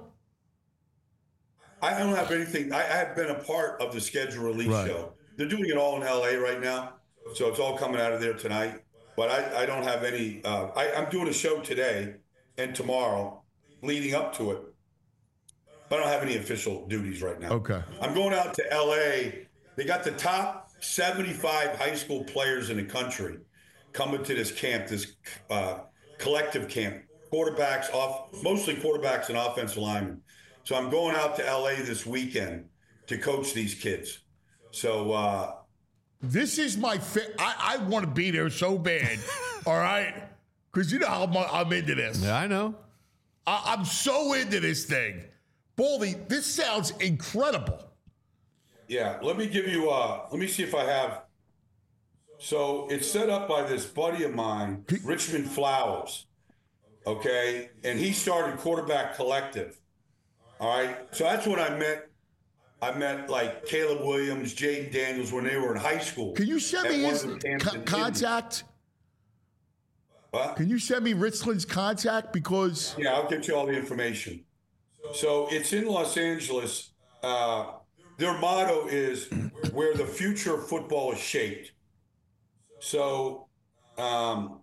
I don't have anything. I, I have been a part of the schedule release Right. show. They're doing it all in L A right now, so it's all coming out of there tonight. But I, I don't have any. Uh, I, I'm doing a show today and tomorrow, leading up to it. But I don't have any official duties right now. Okay. I'm going out to L A. They got the top seventy-five high school players in the country coming to this camp, this uh, collective camp. Quarterbacks, off mostly quarterbacks and offensive linemen. So I'm going out to L A this weekend to coach these kids. So uh, This is my. Fa- I, I want to be there so bad. All right, because you know how mu- I'm into this. yeah, I know. I, I'm so into this thing. Baldy, this sounds incredible. yeah, let me give you. Uh, let me see if I have. So it's set up by this buddy of mine, Richmond Flowers. Okay, and he started Quarterback Collective. All right, so that's when I met. I met like Caleb Williams, Jaden Daniels when they were in high school. Can you send at me one his of the camps co- in Indy. contact? What? Can you send me Richland's contact? Because Yeah, I'll get you all the information. So it's in Los Angeles. Uh, their motto is where the future of football is shaped. So, um,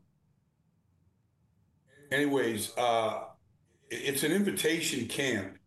anyways, uh, it- it's an invitation camp.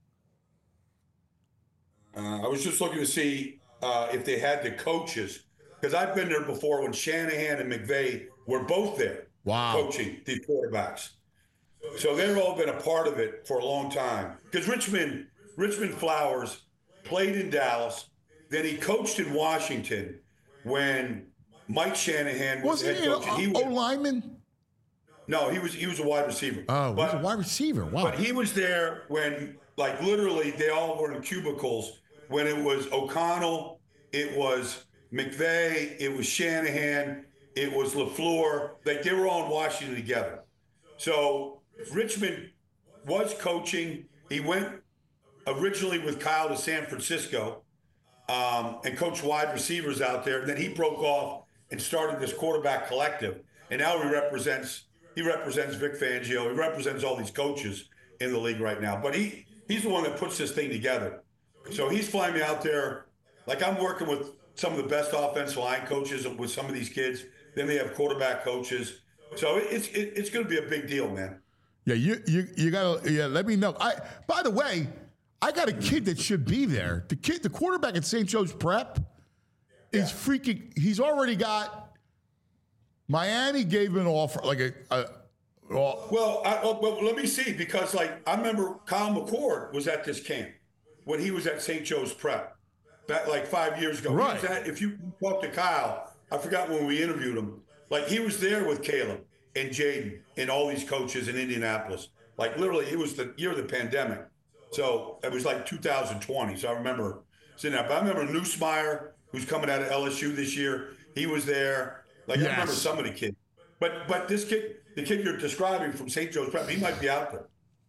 Uh, I was just looking to see uh, if they had the coaches, because I've been there before when Shanahan and McVay were both there Wow. coaching the quarterbacks. So they've all been a part of it for a long time. Because Richmond, Richmond Flowers played in Dallas, then he coached in Washington when Mike Shanahan was wasn't head he coach. and he an was, O lineman? no, he was he was a wide receiver. Oh, but, he's a wide receiver. Wow. but he was there when, like, literally they all were in cubicles when it was O'Connell, it was McVay, it was Shanahan, it was LaFleur. Like, they were all in Washington together. So Richmond was coaching. He went originally with Kyle to San Francisco um, and coached wide receivers out there. And then he broke off and started this quarterback collective. And now he represents he represents Vic Fangio. He represents all these coaches in the league right now. But he he's the one that puts this thing together. So he's flying me out there. Like, I'm working with some of the best offensive line coaches with some of these kids. Then they have quarterback coaches. So it's it, it's going to be a big deal, man. Yeah, you you you gotta yeah. Let me know. I by the way, I got a kid that should be there. The kid, the quarterback at Saint Joe's Prep, is freaking. He's already got. Miami gave him an offer, like a. a well, Well, I, oh, well, let me see, because like I remember Kyle McCord was at this camp when he was at Saint Joe's Prep, back like five years ago. He Right. was at, if you talk to Kyle, I forgot when we interviewed him. Like, he was there with Caleb and Jaden and all these coaches in Indianapolis. Like, literally, it was the year of the pandemic, so it was like two thousand twenty. So I remember seeing that. But I remember Nussmeier, who's coming out of L S U this year. He was there. Like, I remember Yes. some of the kids. But but this kid, the kid you're describing from Saint Joe's Prep, he might be out there.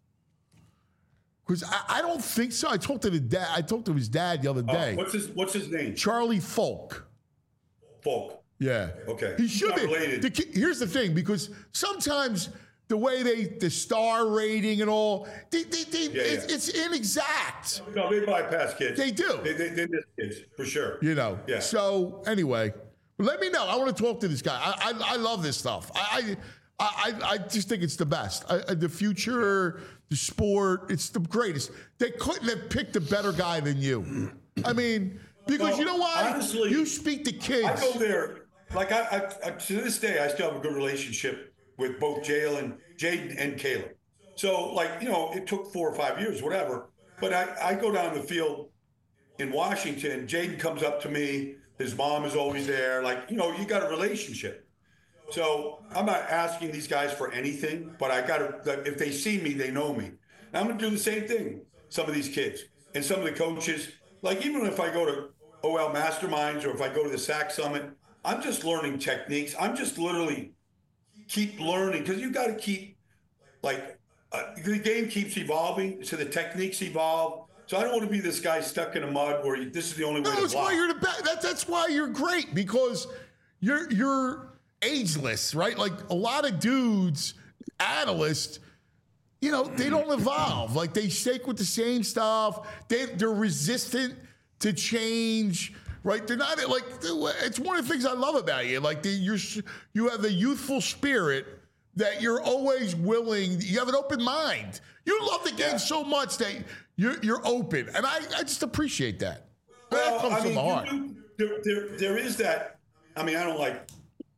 because I, I don't think so. I talked to the dad. I talked to his dad the other Uh, day. what's his What's his name? Charlie Folk. Folk. Yeah. Okay. He should Not be. related. The ki- here's the thing, because sometimes the way they, the star rating and all, they, they, they, Yeah, it's, yeah. it's inexact. No, they bypass kids. They do. They, they, they miss kids for sure. You know. Yeah. So anyway, Let me know. I want to talk to this guy. I I, I love this stuff. I, I I I just think it's the best. I, the future, the sport, it's the greatest. They couldn't have picked a better guy than you. I mean, because well, you know what? Honestly, you speak to kids. I go there. Like I, I, I to this day, I still have a good relationship with both Jalen, Jaden, and Caleb. So, like, you know, it took four or five years, whatever. But I, I go down the field in Washington. Jaden comes up to me. His mom is always there. Like, you know, you got a relationship. So I'm not asking these guys for anything, but I got to, if they see me, they know me. And I'm going to do the same thing. Some of these kids and some of the coaches, like even if I go to O L Masterminds or if I go to the S A C Summit, I'm just learning techniques. I'm just literally keep learning because you got to keep, like, uh, the game keeps evolving, so the techniques evolve. So I don't want to be this guy stuck in a mud where you, this is the only way no, to that's block. why you're the best. That, that's why you're great because you're you're ageless, right? Like a lot of dudes, analysts, you know, they don't evolve. Like they stick with the same stuff. They they're resistant to change. Right, they're not like. It's one of the things I love about you. Like the, you're, you have the youthful spirit that you're always willing. You have an open mind. You love the game yeah. so much that you're you're open, and I, I just appreciate that. Well, that comes I from mean, the heart. Do, there, there, there is that. I mean, I don't like.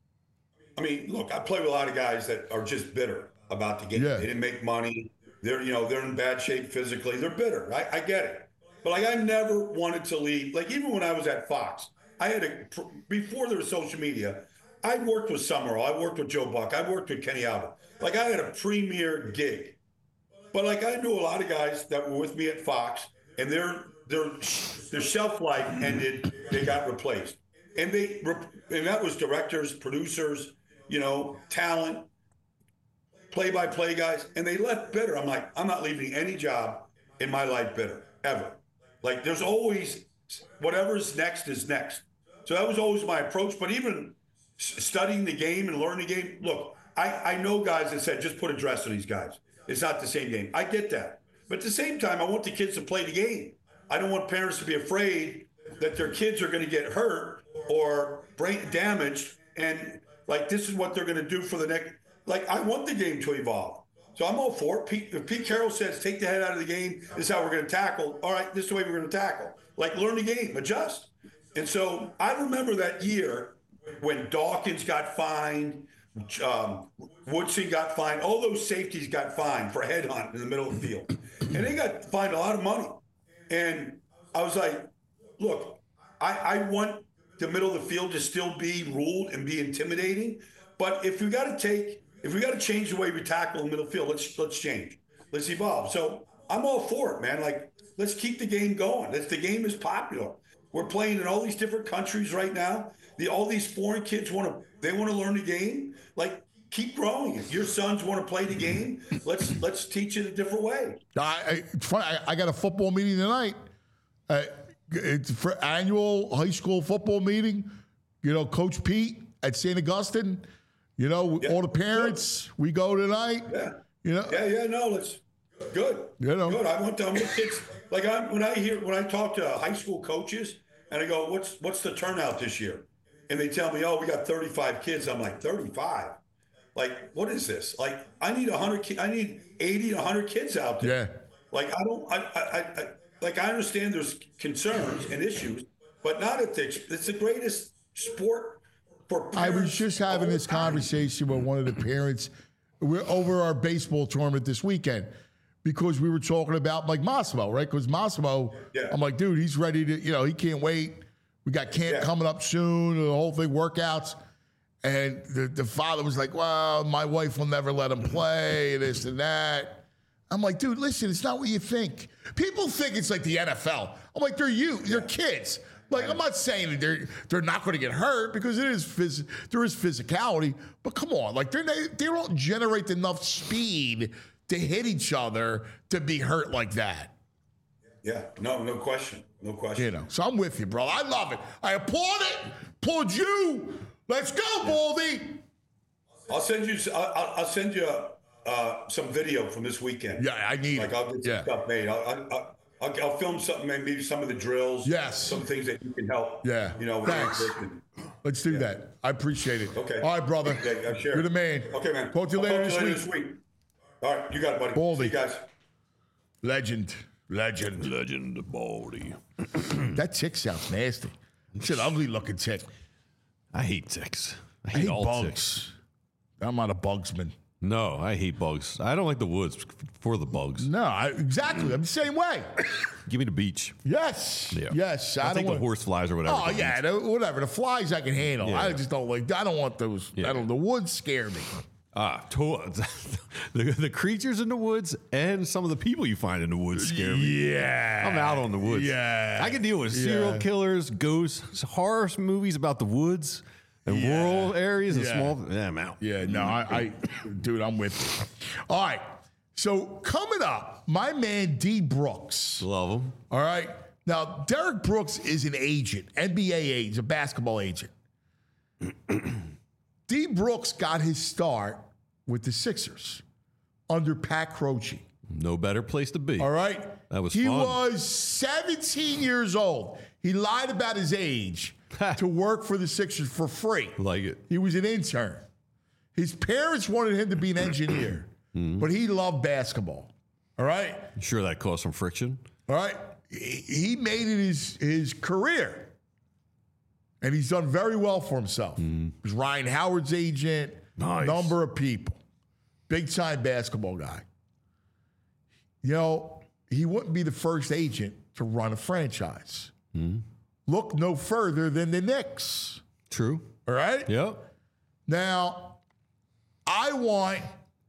I mean, look, I play with a lot of guys that are just bitter about the game. Yeah. They didn't make money. They're you know they're in bad shape physically. They're bitter. I, I get it. But, like, I never wanted to leave. Like, even when I was at Fox, I had a – before there was social media, I worked with Summerall. I worked with Joe Buck. I worked with Kenny Albert. Like, I had a premier gig. But, like, I knew a lot of guys that were with me at Fox, and their their their shelf life ended. They got replaced. And they and that was directors, producers, you know, talent, play-by-play guys. And they left bitter. I'm like, I'm not leaving any job in my life bitter, ever. Like, there's always whatever's next is next. So that was always my approach. But even studying the game and learning the game, look, I, I know guys that said, just put a dress on these guys. It's not the same game. I get that. But at the same time, I want the kids to play the game. I don't want parents to be afraid that their kids are going to get hurt or brain damaged. And, like, this is what they're going to do for the next. Like, I want the game to evolve. So I'm all for it. Pete, if Pete Carroll says, take the head out of the game, this is how we're going to tackle. All right, this is the way we're going to tackle. Like, learn the game, adjust. And so I remember that year when Dawkins got fined, um, Woodson got fined, all those safeties got fined for headhunt in the middle of the field. And they got fined a lot of money. And I was like, look, I, I want the middle of the field to still be ruled and be intimidating. But if we got to take... If we got to change the way we tackle the middle field, let's let's change. Let's evolve. So I'm all for it, man. Like, let's keep the game going. That's, the game is popular. We're playing in all these different countries right now. The all these foreign kids want to they want to learn the game. Like, keep growing it. Your sons want to play the game. Let's let's teach it a different way. I, I, it's funny. I, I got a football meeting tonight. Uh, it's for annual high school football meeting. You know, Coach Pete at Saint Augustine. You know, yeah. all the parents, we go tonight. Yeah. You know. Yeah, yeah, no, it's good. You know. Good. I want them with kids. Like I when I hear when I talk to high school coaches and I go, What's what's the turnout this year? And they tell me, Oh, we got thirty-five kids. I'm like, thirty-five? Like, what is this? Like, I need a hundred kids, I need eighty to hundred kids out there. Yeah. Like I don't I, I I like I understand there's concerns and issues, but not at the it's the greatest sport. I was just having this conversation with one of the parents. We're over our baseball tournament this weekend because we were talking about like Massimo, right? Because Massimo, yeah. I'm like, dude, he's ready to, you know, he can't wait. We got camp yeah. coming up soon, the whole thing, workouts. And the, the father was like, well, my wife will never let him play, this and that. I'm like, dude, listen, it's not what you think. People think it's like the N F L. I'm like, they're you, they're kids. Like, I'm not saying that they're they're not going to get hurt because it is phys- there is physicality, but come on, like they're they don't generate enough speed to hit each other to be hurt like that. Yeah, no, no question, no question. You know, so I'm with you, bro. I love it. I applaud it. Applaud you. Let's go, Baldy. I'll send you. I'll, I'll send you uh, some video from this weekend. Yeah, I need. Like, I'll get some yeah. stuff made. I'll, I'll, I'll, I'll film something, maybe some of the drills. Yes. Some things that you can help. Yeah. You know. Thanks. Let's do that. I appreciate it. Okay. All right, brother. Okay, uh, sure. You're the man. Okay, man. Talk to you I'll later, talk to you this, later week. this week. All right, you got it, buddy. Baldy. See you guys. Legend. Legend. Legend Baldy. That tick sounds nasty. It's an ugly looking tick. I hate ticks. I I hate, hate all bugs. ticks. I'm not a bugsman. No, I hate bugs. I don't like the woods for the bugs. No, I, exactly. I'm the same way. Give me the beach. Yes. Yeah. Yes. I'll I don't take the want, horse flies or whatever. Oh the yeah, beach. the, whatever. The flies I can handle. Yeah. I just don't like. I don't want those. Yeah. I don't. The woods scare me. Ah, to- the, the creatures in the woods and some of the people you find in the woods scare me. Yeah. I'm out on the woods. Yeah. I can deal with serial Yeah. killers, ghosts, horror movies about the woods and Yeah. rural areas and Yeah. small. Yeah, I'm out. Yeah. No, I, I, dude, I'm with you. All right. So coming up, my man D Brooks. Love them. All right. Now, Derek Brooks is an agent, N B A agent, he's a basketball agent. D Brooks got his start with the Sixers under Pat Croce. No better place to be. All right. That was he fun. was seventeen years old. He lied about his age to work for the Sixers for free. Like it. He was an intern. His parents wanted him to be an engineer, Mm-hmm. but he loved basketball. All right. Sure, that caused some friction. All right. He he made it his, his career. And he's done very well for himself. He was Ryan Howard's agent, Nice. number of people. Big time basketball guy. You know, he wouldn't be the first agent to run a franchise. Look no further than the Knicks. True. All right? Yep. Now, I want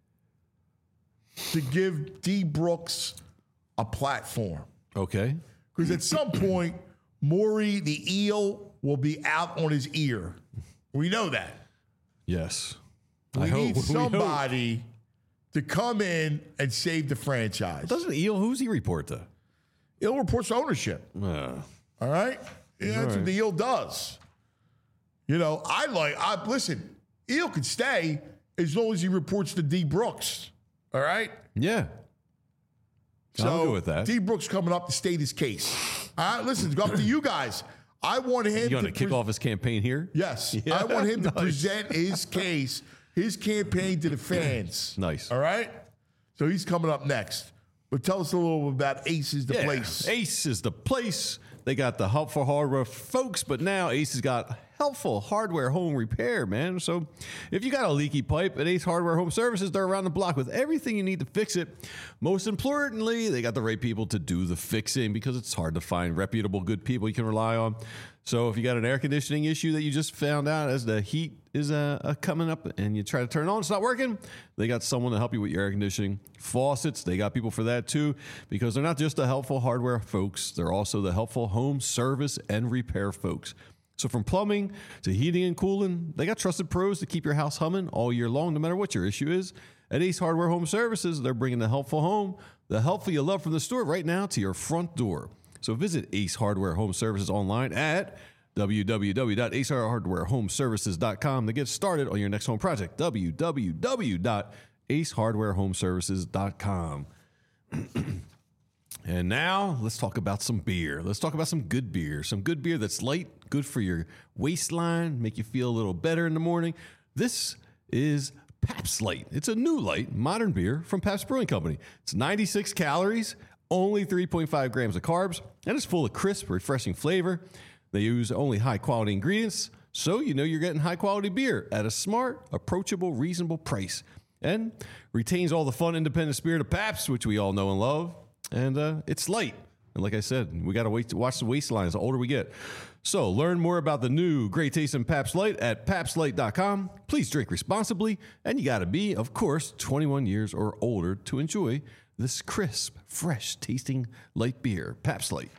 to give D Brooks a platform. Okay. Because at some point, Maury the eel will be out on his ear. We know that. Yes. We I need hope. We hope. somebody to come in and save the franchise. Doesn't Eel, who's he report to? Eel reports ownership. Uh, All right? Yeah, that's All what right. the Eel does. You know, I like, I listen, Eel could stay as long as he reports to D Brooks. All right? yeah. So I'll go with that. D Brooks coming up to state his case. All right, listen, it's up to you guys. I want him You going to to kick pre- off his campaign here? Yes. Yeah, I want him to nice. present his case, his campaign to the fans. Nice. All right? So he's coming up next. But tell us a little about Ace is the Yeah, place. Ace is the place. They got the helpful hardware folks, but now Ace has got helpful hardware home repair, man. So if you got a leaky pipe at Ace Hardware Home Services, they're around the block with everything you need to fix it. Most importantly, they got the right people to do the fixing because it's hard to find reputable, good people you can rely on. So if you got an air conditioning issue that you just found out as the heat is uh, uh, coming up and you try to turn it on, it's not working, they got someone to help you with your air conditioning. Faucets, they got people for that too because they're not just the helpful hardware folks, they're also the helpful home service and repair folks. So from plumbing to heating and cooling, they got trusted pros to keep your house humming all year long, no matter what your issue is. At Ace Hardware Home Services, they're bringing the helpful home, the helpful you love from the store right now to your front door. So visit Ace Hardware Home Services online at w w w dot ace hardware home services dot com to get started on your next home project. w w w dot ace hardware home services dot com. And now let's talk about some beer. Let's talk about some good beer. Some good beer that's light, good for your waistline, make you feel a little better in the morning. This is Pabst Light. It's a new light, modern beer from Pabst Brewing Company. It's ninety-six calories, only three point five grams of carbs, and it's full of crisp, refreshing flavor. They use only high-quality ingredients, so you know you're getting high-quality beer at a smart, approachable, reasonable price. And retains all the fun, independent spirit of Pabst, which we all know and love. And uh, it's light. And like I said, we got to wait to watch the waistlines the older we get. So learn more about the new great tasting Pabst Light at pabst light dot com. Please drink responsibly. And you got to be, of course, twenty-one years or older to enjoy this crisp, fresh tasting light beer. Pabst Light.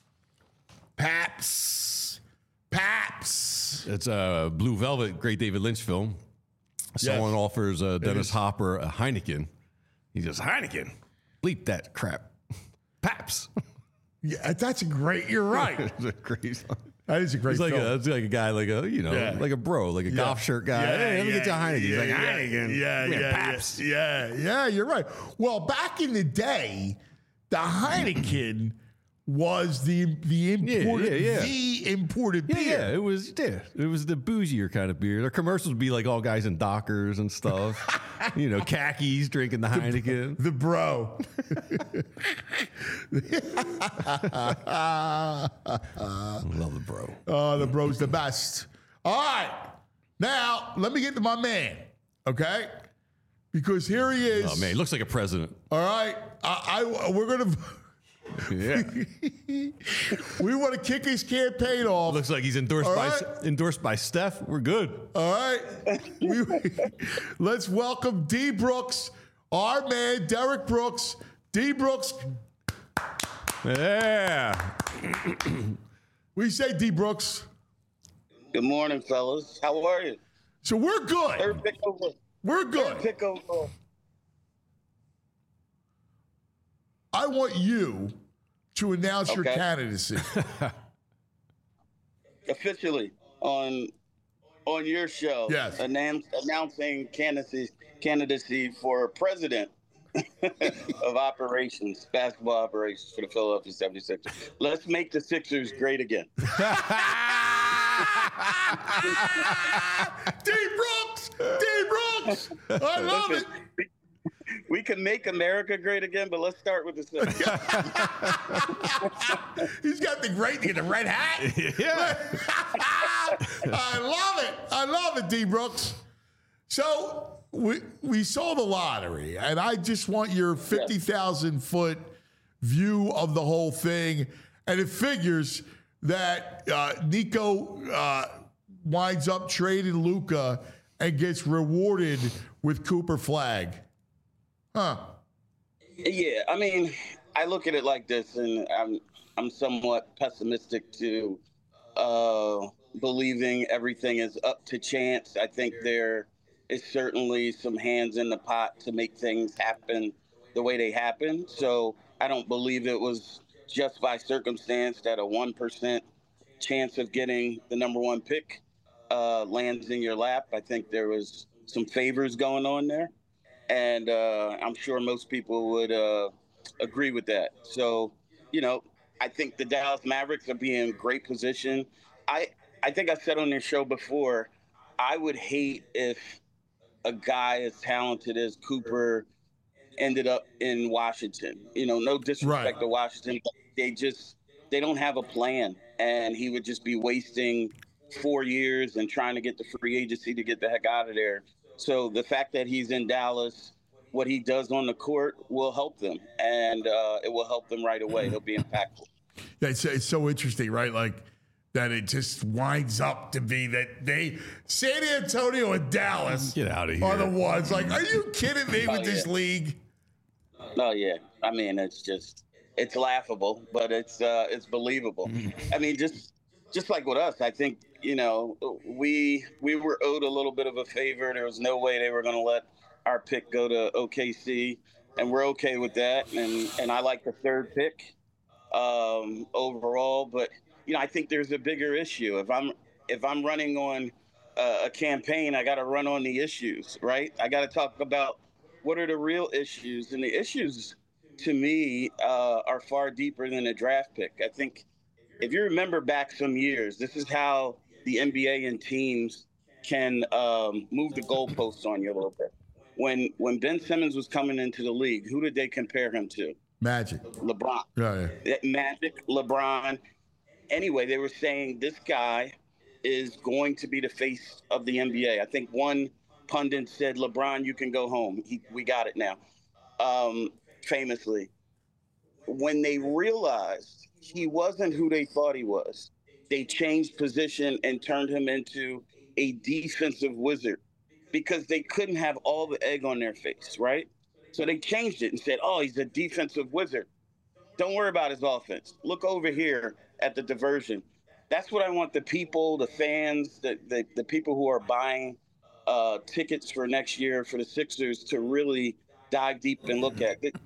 Paps. Paps. It's a Blue Velvet, great David Lynch film. Someone offers uh, Dennis is. Hopper a Heineken. He goes, Heineken? Bleep that crap. Paps. Yeah, that's a great, you're right. It's a great song. That is a great He's like film. a, it's like a guy, like a you know, Yeah. like a bro, like a Yeah. golf shirt guy. Yeah, hey, let me yeah, get you a Heineken. He's yeah, like yeah, Heineken. Yeah, We have yeah, Pabst. yeah, yeah, yeah. You're right. Well, back in the day, the Heineken was the the imported yeah, yeah. the imported Yeah, beer. yeah, it was yeah, it was the bougier kind of beer. Their commercials would be like all guys in Dockers and stuff, you know, khakis drinking the Heineken. The bro. Love the bro. Oh, the bro's the best. All right, now let me get to my man. Okay, because here he is. Oh man, he looks like a president. All right, I, I we're gonna. Yeah, we want to kick his campaign off. looks like he's endorsed All by right. endorsed by Steph. We're good. All right, we, let's welcome D Brooks, our man Derek Brooks. D Brooks. Yeah. We say D Brooks. Good morning, fellas. How are you? So we're good. Third pick over. We're good. Third pick over. I want you to announce your Okay. candidacy. Officially on on your show. Yes. Announce, announcing candidacy candidacy for president of operations, basketball operations for the Philadelphia seventy-sixers. Let's make the Sixers great again. D Brooks! D Brooks! I love it. We can make America great again, but let's start with the Sixers. He's got the great, the red hat. Yeah. I love it. I love it, D Brooks. So we we saw the lottery, and I just want your fifty thousand foot view of the whole thing. And it figures that uh, Nico uh, winds up trading Luka and gets rewarded with Cooper Flag. Huh. Yeah, I mean, I look at it like this, and I'm I'm somewhat pessimistic to uh, believing everything is up to chance. I think there is certainly some hands in the pot to make things happen the way they happen. So I don't believe it was just by circumstance that a one percent chance of getting the number one pick uh, lands in your lap. I think there was some favors going on there. And uh, I'm sure most people would uh, agree with that. So, you know, I think the Dallas Mavericks are being in great position. I, I think I said on this show before, I would hate if a guy as talented as Cooper ended up in Washington. You know, no disrespect Right. to Washington, but they just, they don't have a plan. And he would just be wasting four years and trying to get the free agency to get the heck out of there. So the fact that he's in Dallas, what he does on the court will help them, and uh, it will help them right away. He'll be impactful. Yeah, it's, it's so interesting, right? Like that it just winds up to be that they, San Antonio and Dallas Get out of here. are the ones. Like, are you kidding me Oh, with this yeah. league? Oh yeah, I mean it's just it's laughable, but it's uh, it's believable. I mean, just just like with us, I think you know we we were owed a little bit of a favor. There was no way they were going to let our pick go to O K C, and we're okay with that. And and I like the third pick um, overall, but you know I think there's a bigger issue. If I'm if I'm running on uh, a campaign, I got to run on the issues, right? I got to talk about what are the real issues, and the issues to me uh, are far deeper than a draft pick. I think if you remember back some years, this is how the N B A and teams can um, move the goalposts on you a little bit. When when Ben Simmons was coming into the league, who did they compare him to? Magic. LeBron. Yeah, yeah. Magic, LeBron. Anyway, they were saying this guy is going to be the face of the N B A. I think one pundit said, LeBron, you can go home. He, we got it now. Um, famously. When they realized he wasn't who they thought he was, they changed position and turned him into a defensive wizard because they couldn't have all the egg on their face, right? So they changed it and said, oh, he's a defensive wizard. Don't worry about his offense. Look over here at the diversion. That's what I want the people, the fans, the, the, the people who are buying uh, tickets for next year for the Sixers to really dive deep and look at. The,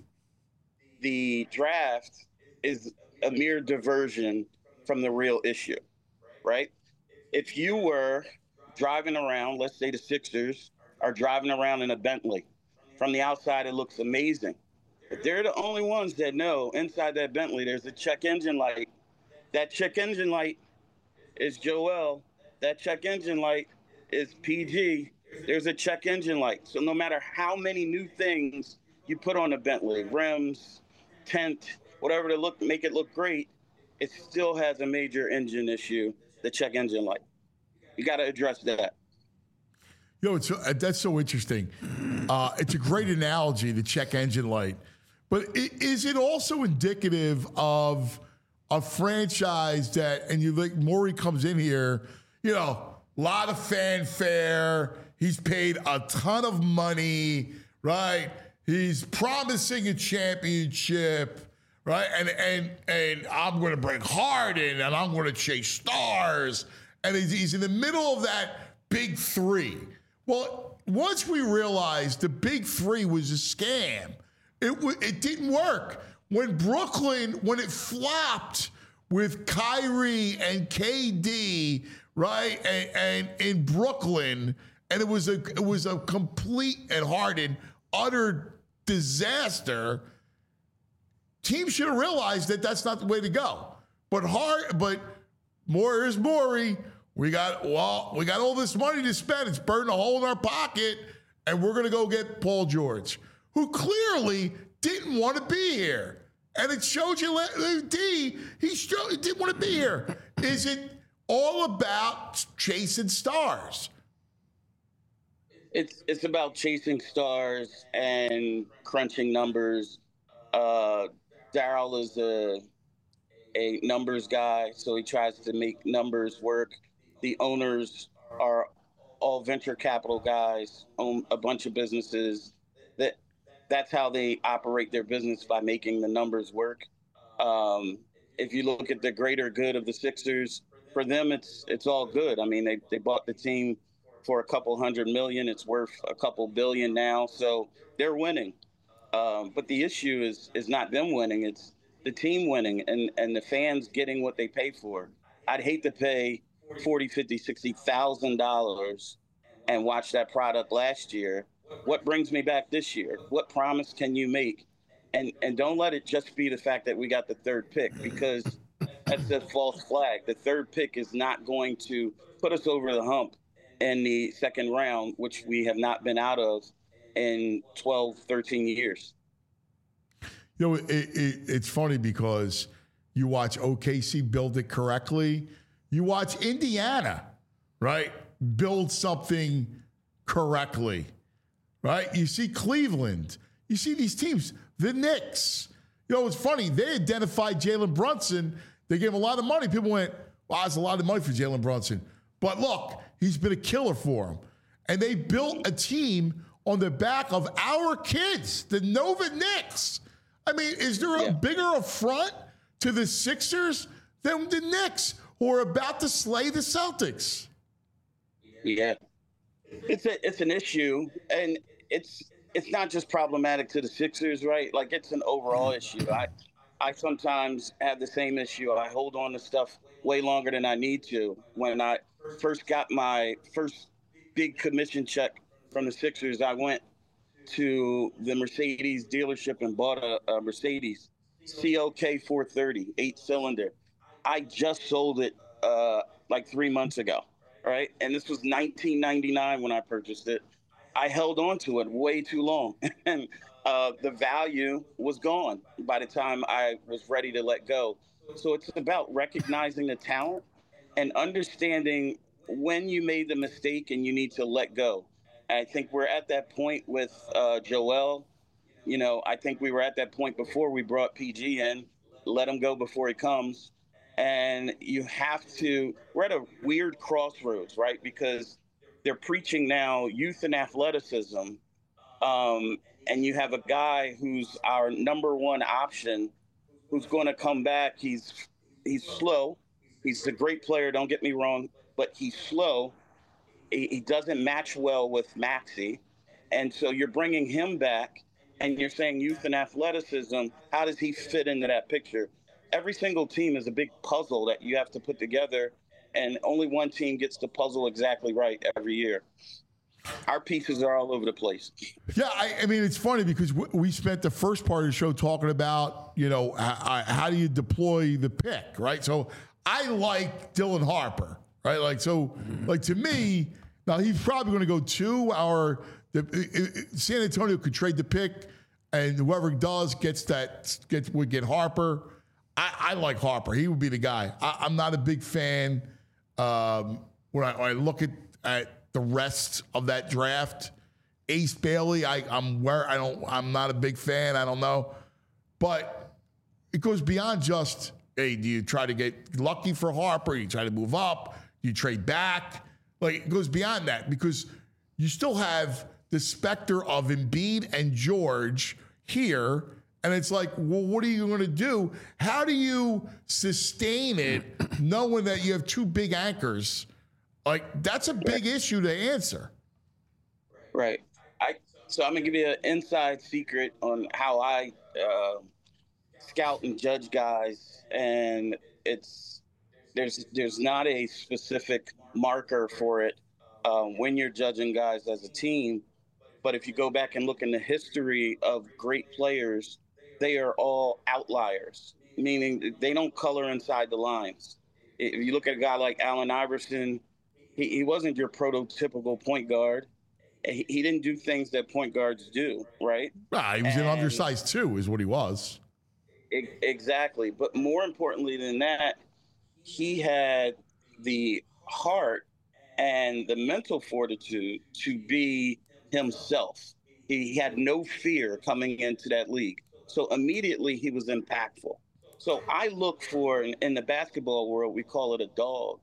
the draft is a mere diversion from the real issue, right? If you were driving around, let's say the Sixers are driving around in a Bentley. From the outside, it looks amazing. But they're the only ones that know inside that Bentley there's a check engine light. That check engine light is Joel. That check engine light is P G. There's a check engine light. So no matter how many new things you put on a Bentley, rims, tint, whatever to look make it look great, it still has a major engine issue, the check engine light. You got to address that. Yo, it's, uh, that's so interesting. Uh, it's a great analogy, the check engine light. But i- is it also indicative of a franchise that, and you like, Morey comes in here, you know, a lot of fanfare. He's paid a ton of money, right? He's promising a championship, right? And and and I'm going to bring Harden, and I'm going to chase stars. And he's, he's in the middle of that big three. Well, once we realized the big three was a scam, it w- it didn't work. When Brooklyn, when it flopped with Kyrie and K D, right, and, and in Brooklyn, and it was a it was a complete and Harden utter disaster. Teams should have realized that that's not the way to go. But hard, but more is Morey. We got well, we got all this money to spend. It's burning a hole in our pocket, and we're gonna go get Paul George, who clearly didn't want to be here. And it showed you, D, he, showed, he didn't want to be here. Is it all about chasing stars? It's it's about chasing stars and crunching numbers. Uh, Daryl is a a numbers guy, so he tries to make numbers work. The owners are all venture capital guys, own a bunch of businesses. That that's how they operate their business, by making the numbers work. Um, if you look at the greater good of the Sixers, for them it's it's all good. I mean, they they bought the team for a couple hundred million. It's worth a couple billion now, so they're winning. Um, but the issue is is not them winning; it's the team winning and and the fans getting what they pay for. I'd hate to pay forty, fifty, sixty thousand dollars and watch that product last year. What brings me back this year? What promise can you make? And and don't let it just be the fact that we got the third pick, because that's a false flag. The third pick is not going to put us over the hump in the second round, which we have not been out of in twelve, thirteen years. You know, it, it, it's funny because you watch O K C build it correctly. You watch Indiana, right, build something correctly, right? You see Cleveland. You see these teams, the Knicks. You know, it's funny. They identified Jalen Brunson. They gave him a lot of money. People went, wow, that's a lot of money for Jalen Brunson. But look, he's been a killer for them. And they built a team on the back of our kids, the Nova Knicks. I mean, is there a yeah. bigger affront to the Sixers than the Knicks, who are about to slay the Celtics? Yeah, it's a, it's an issue, and it's it's not just problematic to the Sixers, right? Like, it's an overall issue. I I sometimes have the same issue. I hold on to stuff way longer than I need to. When I first got my first big commission check from the Sixers, I went to the Mercedes dealership and bought a, a Mercedes C L K four thirty, eight cylinder. I just sold it uh, like three months ago, right? And this was nineteen ninety-nine when I purchased it. I held on to it way too long, and uh, the value was gone by the time I was ready to let go. So it's about recognizing the talent and understanding when you made the mistake and you need to let go. I think we're at that point with uh, Joel. You know, I think we were at that point before we brought P G in. Let him go before he comes. And you have to, we're at a weird crossroads, right? Because they're preaching now youth and athleticism. Um, and you have a guy who's our number one option, who's going to come back. He's he's slow. He's a great player, don't get me wrong, but he's slow. He, he doesn't match well with Maxey. And so you're bringing him back, and you're saying youth and athleticism. How does he fit into that picture? Every single team is a big puzzle that you have to put together, and only one team gets the puzzle exactly right every year. our pieces are all over the place. Yeah, I, I mean, it's funny because w- we spent the first part of the show talking about, you know, h- how do you deploy the pick, right? So I like Dylan Harper, right? Like, so, like to me, now he's probably going to go two. Our the, it, it, San Antonio could trade the pick, and whoever does gets that gets would get Harper. I, I like Harper. He would be the guy. I, I'm not a big fan um, when, I, when I look at, at the rest of that draft. Ace Bailey, I, I'm where I don't. I'm not a big fan. I don't know, but it goes beyond just, hey, do you try to get lucky for Harper? You try to move up. You trade back. Like it goes beyond that because you still have the specter of Embiid and George here. And it's like, well, what are you going to do? How do you sustain it knowing that you have two big anchors? Like, that's a big issue to answer. Right. I So I'm going to give you an inside secret on how I uh, scout and judge guys. And it's there's there's not a specific marker for it um, when you're judging guys as a team. But if you go back and look in the history of great players, they are all outliers, meaning they don't color inside the lines. If you look at a guy like Allen Iverson, he, he wasn't your prototypical point guard. He, he didn't do things that point guards do, right? Ah, he was an undersized too, is what he was. E- exactly. But more importantly than that, he had the heart and the mental fortitude to be himself. He had no fear coming into that league. So immediately he was impactful. So I look for, in, in the basketball world, we call it a dog.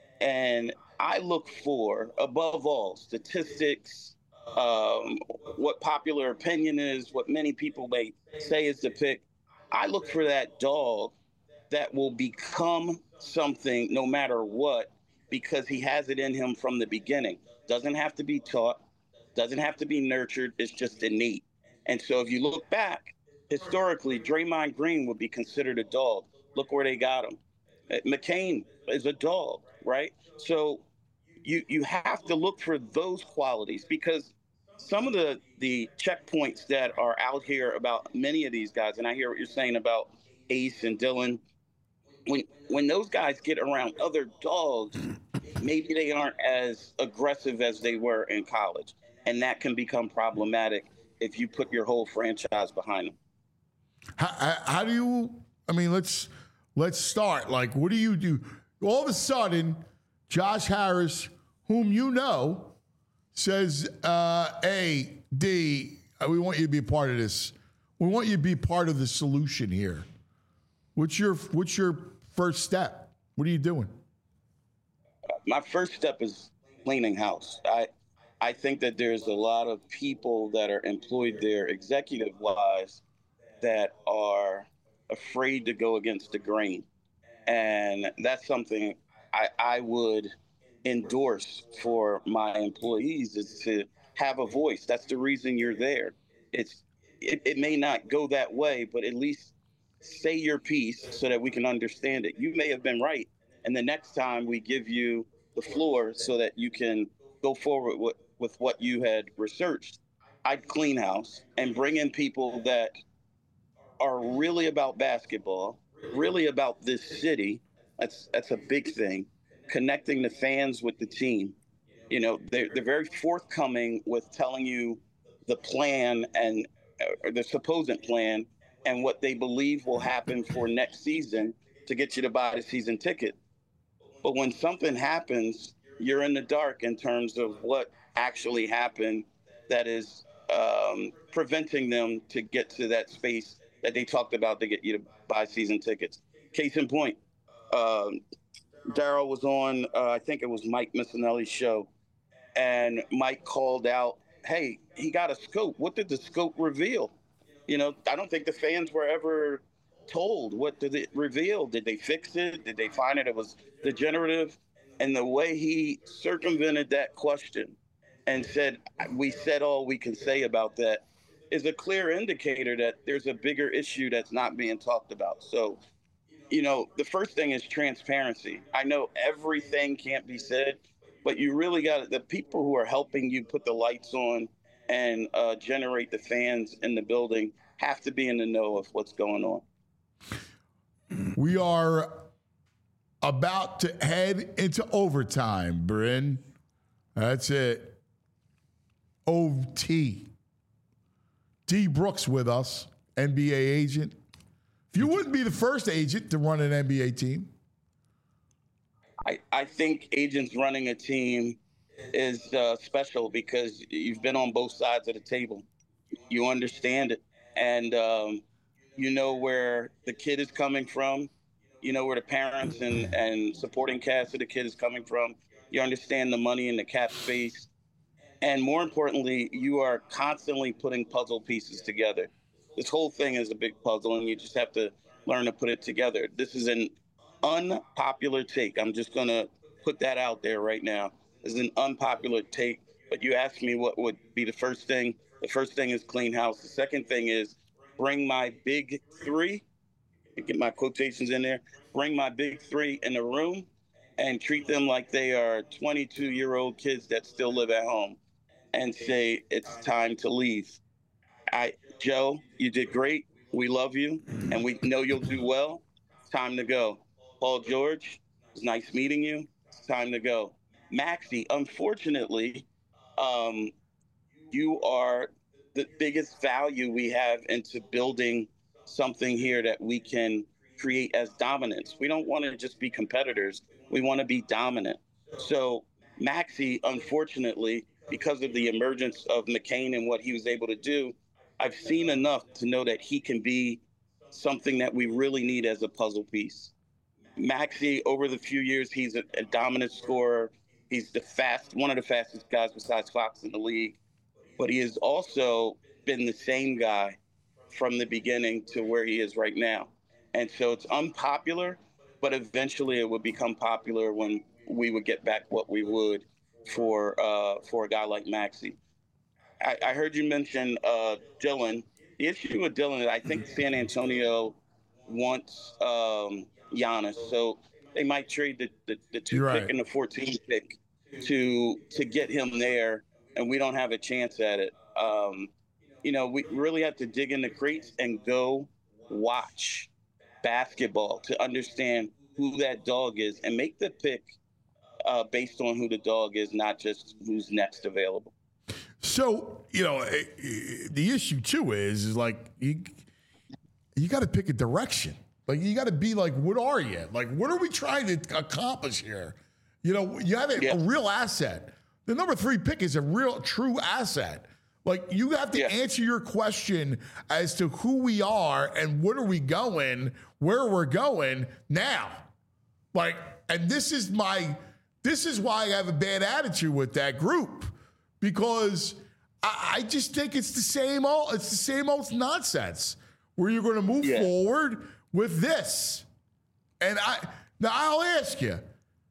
And I look for, above all, statistics, um, what popular opinion is, what many people may say is the pick. I look for that dog that will become something no matter what, because he has it in him from the beginning. Doesn't have to be taught, doesn't have to be nurtured. It's just innate. And so if you look back, historically, Draymond Green would be considered a dog. Look where they got him. McCain is a dog, right? So you you have to look for those qualities because some of the, the checkpoints that are out here about many of these guys, and I hear what you're saying about Ace and Dylan, when when those guys get around other dogs, maybe they aren't as aggressive as they were in college. And that can become problematic if you put your whole franchise behind them. How, how, how do you, I mean, let's let's start. Like, what do you do? All of a sudden, Josh Harris, whom you know, says, uh, A, D, we want you to be a part of this. We want you to be part of the solution here. What's your what's your first step? What are you doing? My first step is cleaning house. I I think that there's a lot of people that are employed there executive-wise that are afraid to go against the grain. And that's something I, I would endorse for my employees is to have a voice. That's the reason you're there. It's it, it may not go that way, but at least say your piece so that we can understand it. You may have been right. And the next time we give you the floor so that you can go forward with, with what you had researched. I'd clean house and bring in people that are really about basketball, really about this city. That's that's a big thing. Connecting the fans with the team. You know, they're, they're very forthcoming with telling you the plan and uh, the supposed plan and what they believe will happen for next season to get you to buy the season ticket. But when something happens, you're in the dark in terms of what actually happened that is um, preventing them to get to that space that they talked about to get you to buy season tickets. Case in point, um, Daryl was on, uh, I think it was Mike Missinelli's show, and Mike called out, hey, he got a scope. What did the scope reveal? You know, I don't think the fans were ever told what did it reveal. Did they fix it? Did they find it? It was degenerative. And the way he circumvented that question and said, we said all we can say about that is a clear indicator that there's a bigger issue that's not being talked about. So, you know, the first thing is transparency. I know everything can't be said, but you really got the people who are helping you put the lights on and uh, generate the fans in the building have to be in the know of what's going on. We are about to head into overtime, Bryn. That's it. O T. D. Brooks with us, N B A agent. If you wouldn't be the first agent to run an N B A team. I, I think agents running a team is uh, special because you've been on both sides of the table. You understand it. And um, you know where the kid is coming from. You know where the parents and, and supporting cast of the kid is coming from. You understand the money in the cap space. And more importantly, you are constantly putting puzzle pieces together. This whole thing is a big puzzle, and you just have to learn to put it together. This is an unpopular take. I'm just going to put that out there right now. This is an unpopular take, but you asked me what would be the first thing. The first thing is clean house. The second thing is bring my big three, get my quotations in there, bring my big three in the room and treat them like they are twenty-two-year-old kids that still live at home and say, it's time to leave. I, Joe, you did great. We love you, and we know you'll do well. It's time to go. Paul George, it's nice meeting you. It's time to go. Maxey, unfortunately, um, you are the biggest value we have into building something here that we can create as dominance. We don't want to just be competitors. We want to be dominant. So Maxey, unfortunately, because of the emergence of McCain and what he was able to do, I've seen enough to know that he can be something that we really need as a puzzle piece. Maxey, over the few years, he's a, a dominant scorer. He's the fast, one of the fastest guys besides Fox in the league. But he has also been the same guy from the beginning to where he is right now. And so it's unpopular, but eventually it would become popular when we would get back what we would for uh, for a guy like Maxey. I, I heard you mention uh, Dillon. The issue with Dillon is I think San Antonio wants um, Giannis, so they might trade the, the, the two You're pick right. and the fourteen pick to to get him there, and we don't have a chance at it. Um, you know, we really have to dig in the crates and go watch basketball to understand who that dog is and make the pick uh, based on who the dog is, not just who's next available. So, you know, eh, eh, the issue too is, is like, you, you got to pick a direction. Like, you got to be like, what are you? Like, what are we trying to accomplish here? You know, you have a, Yeah. a real asset. The number three pick is a real, true asset. Like, you have to Yeah. answer your question as to who we are and what are we going, where we're going now. Like, and this is my, this is why I have a bad attitude with that group, because I, I just think it's the same old, it's the same old nonsense where you're going to move Yeah. forward with this. And I, now I'll ask you,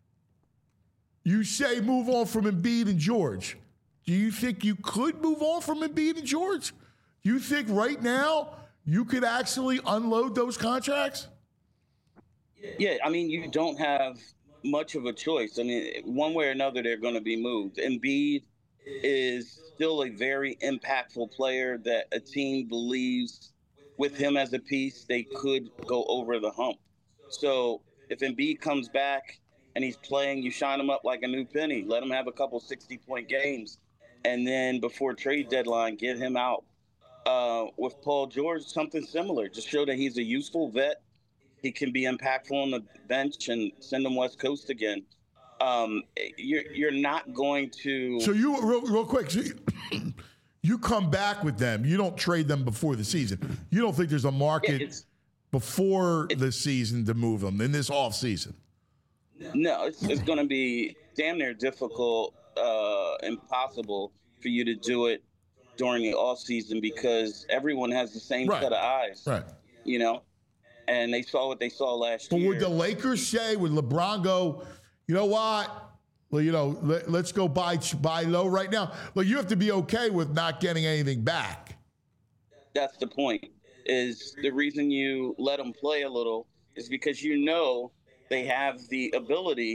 you say move on from Embiid and George. Do you think you could move on from Embiid and George? Do you think right now you could actually unload those contracts? Yeah, I mean, you don't have much of a choice. I mean, one way or another, they're going to be moved. Embiid is still a very impactful player that a team believes with him as a piece, they could go over the hump. So if Embiid comes back and he's playing, you shine him up like a new penny. Let him have a couple sixty-point games. And then before trade deadline, get him out. Uh, with Paul George, something similar. Just show that he's a useful vet. He can be impactful on the bench and send him West Coast again. Um, you're you're not going to. So you real, real quick, so you, you come back with them. You don't trade them before the season. You don't think there's a market It's- before the season to move them in this off season? No, it's, it's going to be damn near difficult, uh, impossible for you to do it during the off season because everyone has the same Right. set of eyes, Right. you know, and they saw what they saw last But year. would the Lakers say, would LeBron go, you know what? Well, you know, let, let's go buy buy low right now. Like, you have to be okay with not getting anything back. That's the point. Is the reason you let them play a little is because you know they have the ability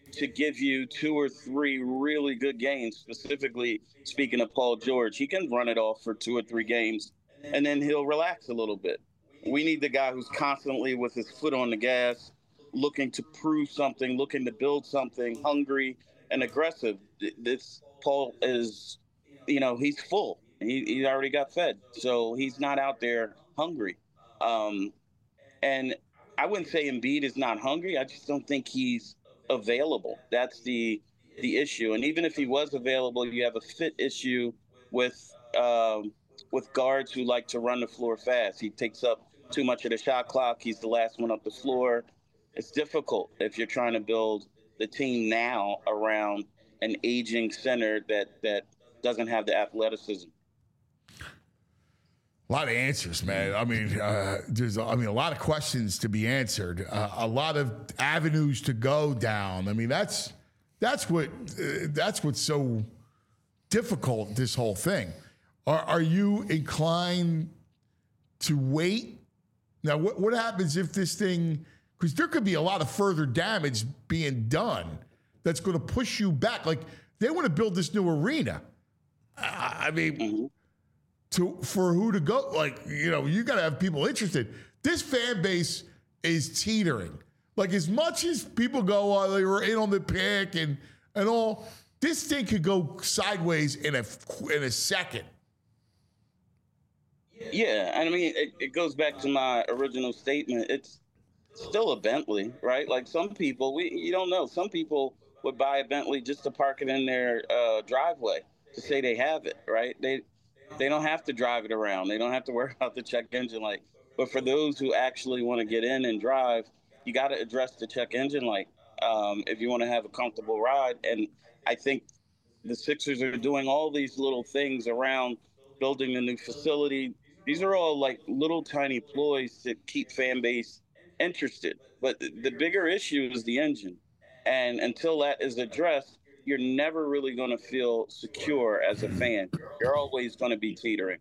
to give you two or three really good games. Specifically, speaking of Paul George, he can run it off for two or three games, and then he'll relax a little bit. We need the guy who's constantly with his foot on the gas, looking to prove something, looking to build something, hungry and aggressive. This Paul is, you know, he's full. He, he already got fed, so he's not out there hungry. Um, and I wouldn't say Embiid is not hungry. I just don't think he's available. That's the the issue. And even if he was available, you have a fit issue with um, with guards who like to run the floor fast. He takes up too much of the shot clock. He's the last one up the floor. It's difficult if you're trying to build the team now around an aging center that that doesn't have the athleticism. A lot of answers, man. I mean, uh, there's, I mean, a lot of questions to be answered. Uh, a lot of avenues to go down. I mean, that's that's what uh, that's what's so difficult. This whole thing. Are are you inclined to wait? Now, what what happens if this thing? Because there could be a lot of further damage being done that's going to push you back. Like they want to build this new arena. I, I mean. Mm-hmm. To for who to go, like, you know, you got to have people interested. This fan base is teetering. Like, as much as people go, oh, they were in on the pick and and all, this thing could go sideways in a in a second. Yeah, and I mean, it, it goes back to my original statement. It's still a Bentley, right? Like some people, we you don't know. Some people would buy a Bentley just to park it in their uh, driveway to say they have it, right? They They don't have to drive it around. They don't have to worry about the check engine light. But for those who actually want to get in and drive, you got to address the check engine light um, if you want to have a comfortable ride. And I think the Sixers are doing all these little things around building a new facility. These are all like little tiny ploys to keep fan base interested. But the bigger issue is the engine. And until that is addressed, you're never really going to feel secure as a fan. You're always going to be teetering.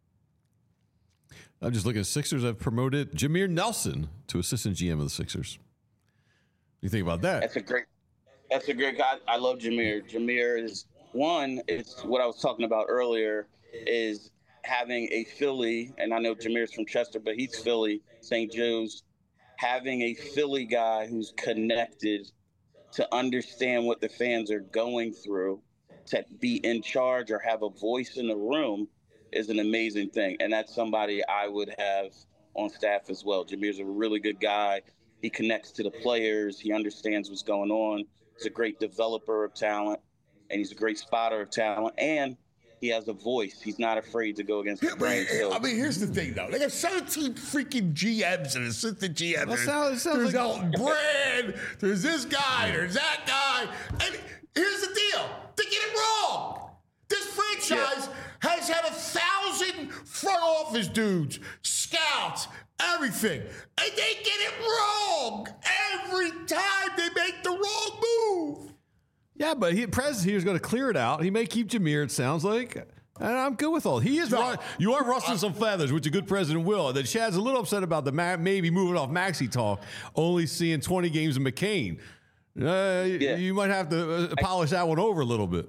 I'm just looking at Sixers. I've promoted Jameer Nelson to assistant G M of the Sixers. What do you think about that? That's a great, that's a great guy. I love Jameer. Jameer is one, it's what I was talking about earlier, is having a Philly, and I know Jameer's from Chester, but he's Philly, Saint Joe's, having a Philly guy who's connected to understand what the fans are going through, to be in charge or have a voice in the room is an amazing thing. And that's somebody I would have on staff as well. Jameer's a really good guy. He connects to the players. He understands what's going on. He's a great developer of talent, and he's a great spotter of talent. And he has a voice. He's not afraid to go against the grain. So, I mean, here's the thing, though. They have seventeen freaking G Ms and assistant G Ms. That sounds, sounds there's like... Elton Brand. There's this guy. There's that guy. And here's the deal. They get it wrong. This franchise yeah. has had a thousand front office dudes, scouts, everything. And they get it wrong every time they make the wrong move. Yeah, but he, Prez here is going to clear it out. He may keep Jameer, it sounds like. And I'm good with all. He is no, right. You are rustling some feathers, which a good president will. And then Shad's a little upset about the ma- maybe moving off Maxey talk, only seeing twenty games of McCain. Uh, yeah. You might have to uh, polish I, that one over a little bit.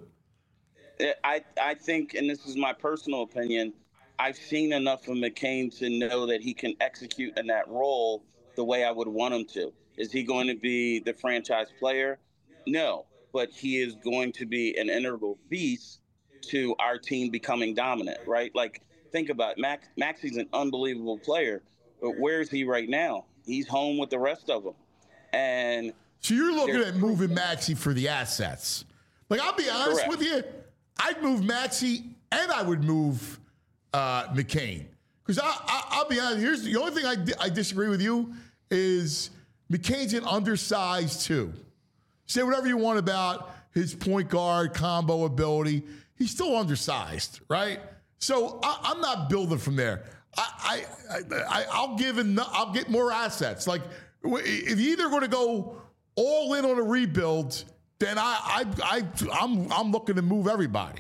I, I think, and this is my personal opinion, I've seen enough of McCain to know that he can execute in that role the way I would want him to. Is he going to be the franchise player? No. But he is going to be an integral piece to our team becoming dominant, right? Like, think about it. Max, Maxey's an unbelievable player, but where is he right now? He's home with the rest of them. And so you're looking at moving Maxey for the assets. Like, I'll be honest correct. with you, I'd move Maxey and I would move uh, McCain. Because I, I, I'll be honest, here's the only thing I, di- I disagree with you is McCain's an undersized too. Say whatever you want about his point guard combo ability. He's still undersized, right? So I, I'm not building from there. I, I, I, I'll give him, I'll get more assets. Like if you're either going to go all in on a rebuild, then I, I, I, I'm, I'm looking to move everybody.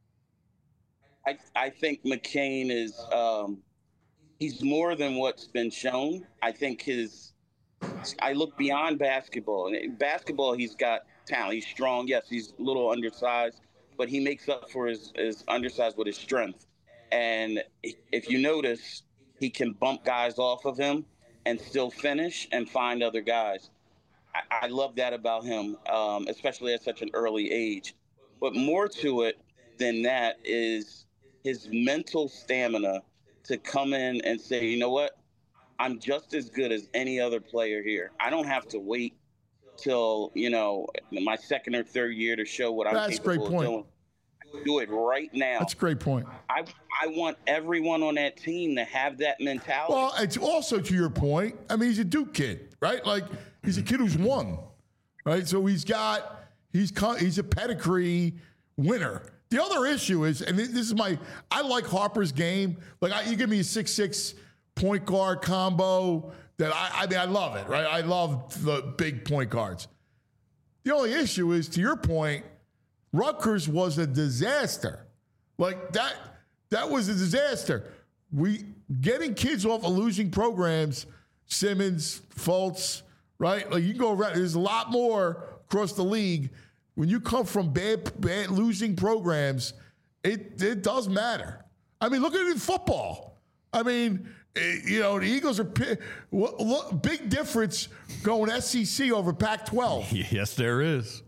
I, I think McCain is, um, he's more than what's been shown. I think his. I look beyond basketball. In basketball, he's got talent. He's strong. Yes, he's a little undersized, but he makes up for his, his undersize with his strength. And if you notice, he can bump guys off of him and still finish and find other guys. I, I love that about him, um, especially at such an early age. But more to it than that is his mental stamina to come in and say, you know what, I'm just as good as any other player here. I don't have to wait till, you know, my second or third year to show what I'm That's a great capable point. of doing. Do it right now. That's a great point. I I want everyone on that team to have that mentality. Well, it's also to your point. I mean, he's a Duke kid, right? Like he's a kid who's won, right? So he's got he's he's a pedigree winner. The other issue is, and this is my, I like Harper's game. Like I, you give me a six six point guard combo that I I mean I love it, right? I love the big point guards. The only issue is, to your point, Rutgers was a disaster. Like that, that was a disaster. We getting kids off of losing programs, Simmons, Fultz, right? Like you can go around. There's a lot more across the league. When you come from bad, bad losing programs, it it does matter. I mean, look at it in football. I mean, it, you know, the Eagles are what, what, big difference going S E C over Pac twelve. Yes, there is.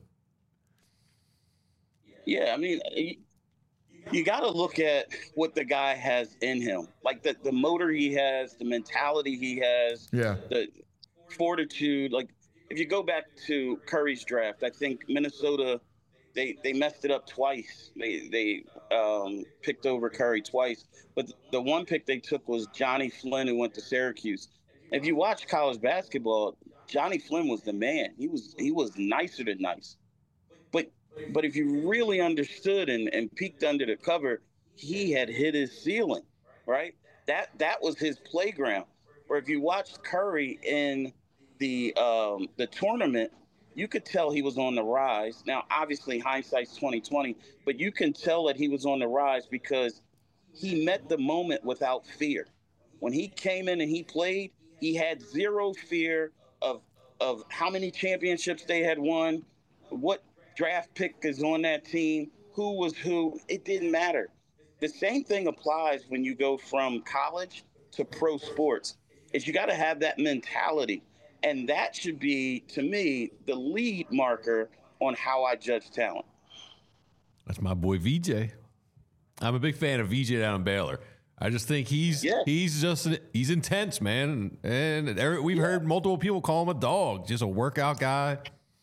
Yeah, I mean, you, you got to look at what the guy has in him, like the, the motor he has, the mentality he has, yeah, the fortitude. Like if you go back to Curry's draft, I think Minnesota, they they messed it up twice. They they um, picked over Curry twice, but the one pick they took was Johnny Flynn, who went to Syracuse. If you watch college basketball, Johnny Flynn was the man. He was he was nicer than nice. But But if you really understood and, and peeked under the cover, he had hit his ceiling, right? That that was his playground. Or if you watched Curry in the um, the tournament, you could tell he was on the rise. Now, obviously, hindsight's twenty twenty, but you can tell that he was on the rise because he met the moment without fear. When he came in and he played, he had zero fear of of how many championships they had won, what draft pick is on that team, who was who, it didn't matter. The same thing applies when you go from college to pro sports, is you got to have that mentality. And that should be, to me, the lead marker on how I judge talent. That's my boy V J. I'm a big fan of V J down in Baylor. I just think he's yeah. he's just he's intense, man. And, and we've yeah. heard multiple people call him a dog, just a workout guy.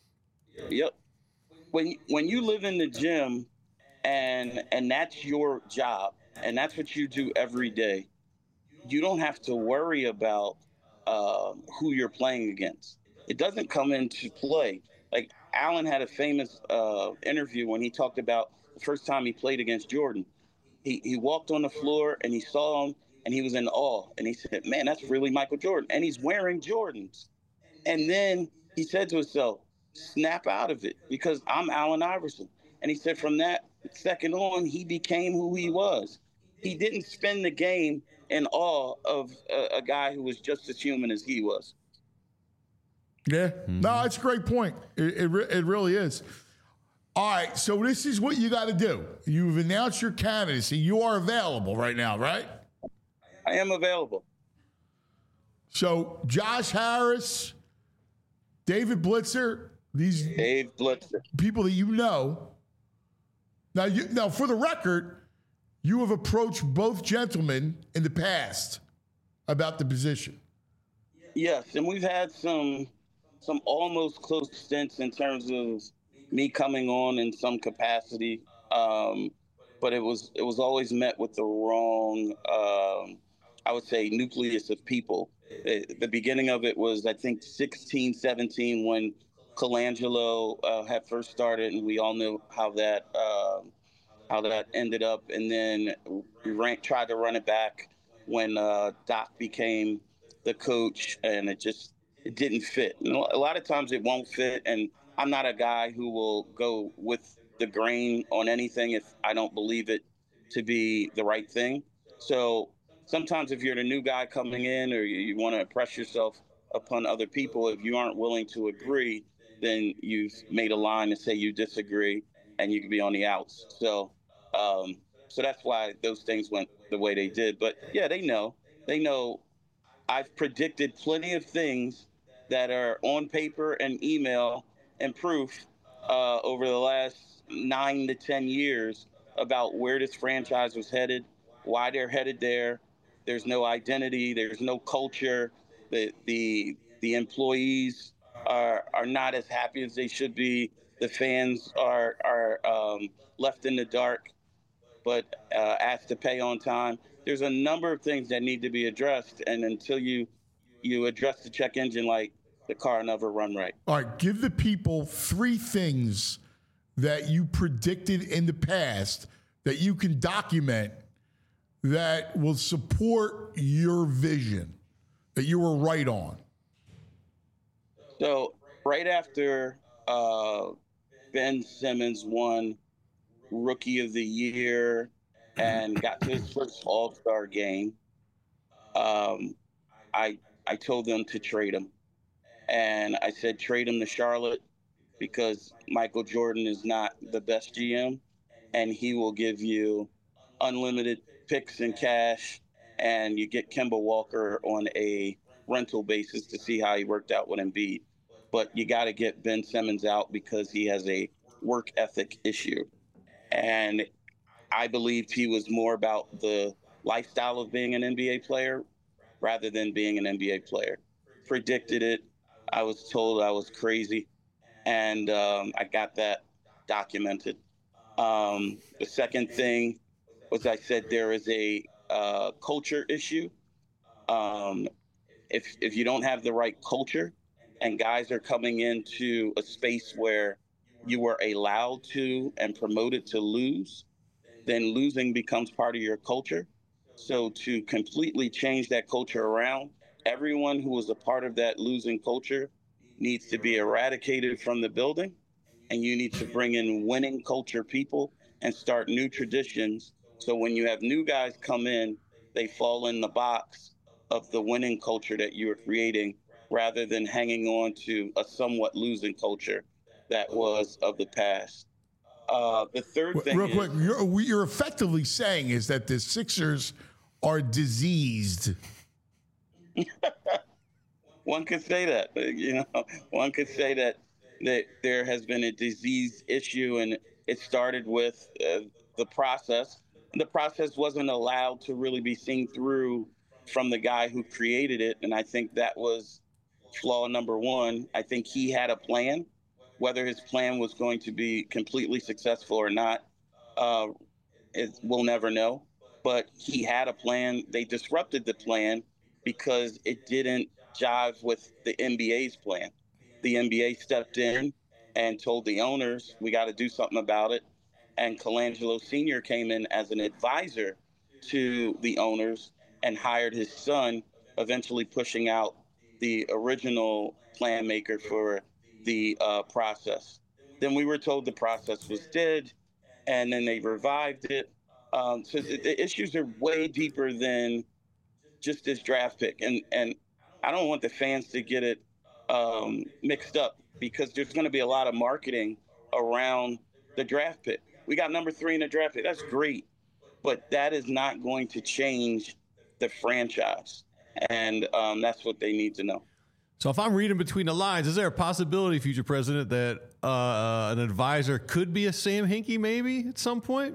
Yep. When when you live in the gym and and that's your job and that's what you do every day, you don't have to worry about uh, who you're playing against. It doesn't come into play. Like Allen had a famous uh, interview when he talked about the first time he played against Jordan. He he walked on the floor and he saw him and he was in awe. And he said, man, that's really Michael Jordan. And he's wearing Jordans. And then he said to himself, snap out of it because I'm Allen Iverson. And he said from that second on, he became who he was. He didn't spend the game in awe of a, a guy who was just as human as he was. Yeah, mm-hmm. No, it's a great point. It, it, it really is. All right, so this is what you got to do. You've announced your candidacy. You are available right now, right? I am available. So Josh Harris, David Blitzer, these Dave Blitzer. people that you know. Now, you, now, for the record, you have approached both gentlemen in the past about the position. Yes, and we've had some some almost close stints in terms of me coming on in some capacity, um, but it was it was always met with the wrong, um, I would say, nucleus of people. It, the beginning of it was, I think, sixteen, seventeen when Colangelo uh, had first started, and we all knew how that uh, how that ended up. And then we ran, tried to run it back when uh, Doc became the coach, and it just it didn't fit. And a lot of times it won't fit, and I'm not a guy who will go with the grain on anything if I don't believe it to be the right thing. So sometimes if you're the new guy coming in or you, you want to impress yourself upon other people, if you aren't willing to agree, then you've made a line to say you disagree, and you can be on the outs. So, um, so that's why those things went the way they did. But yeah, they know. They know. I've predicted plenty of things that are on paper and email and proof uh, over the last nine to ten years about where this franchise was headed, why they're headed there. There's no identity. There's no culture. The the the employees are are not as happy as they should be. The fans are are um, left in the dark, but uh, asked to pay on time. There's a number of things that need to be addressed, and until you you address the check engine light, the car will never run right. All right, give the people three things that you predicted in the past that you can document that will support your vision, that you were right on. So right after uh, Ben Simmons won Rookie of the Year and got to his first All-Star game, um, I I told them to trade him. And I said trade him to Charlotte because Michael Jordan is not the best G M, and he will give you unlimited picks and cash, and you get Kemba Walker on a rental basis to see how he worked out with Embiid. But you got to get Ben Simmons out because he has a work ethic issue. And I believed he was more about the lifestyle of being an N B A player rather than being an N B A player. Predicted it. I was told I was crazy, and um, I got that documented. Um, the second thing was I said there is a uh, culture issue. Um, if if you don't have the right culture, and guys are coming into a space where you were allowed to and promoted to lose, then losing becomes part of your culture. So to completely change that culture around, everyone who was a part of that losing culture needs to be eradicated from the building, and you need to bring in winning culture people and start new traditions. So when you have new guys come in, they fall in the box of the winning culture that you're creating, rather than hanging on to a somewhat losing culture that was of the past. Uh, the third thing Real is, quick, you're, what you're effectively saying is that the Sixers are diseased. One could say that, you know, one could say that, that there has been a disease issue, and it started with uh, the process. The process wasn't allowed to really be seen through from the guy who created it, and I think that was flaw number one. I think he had a plan. Whether his plan was going to be completely successful or not, uh, it, we'll never know. But he had a plan. They disrupted the plan because it didn't jive with the N B A's plan. The N B A stepped in and told the owners, we got to do something about it. And Colangelo Senior came in as an advisor to the owners and hired his son, eventually pushing out the original plan maker for the uh, process. Then we were told the process was dead, and then they revived it. Um, so the, the issues are way deeper than just this draft pick. And, and I don't want the fans to get it um, mixed up, because there's going to be a lot of marketing around the draft pick. We got number three in the draft pick. That's great. But that is not going to change the franchise. And um, that's what they need to know. So if I'm reading between the lines, is there a possibility, future president, that uh, an advisor could be a Sam Hinkie maybe at some point?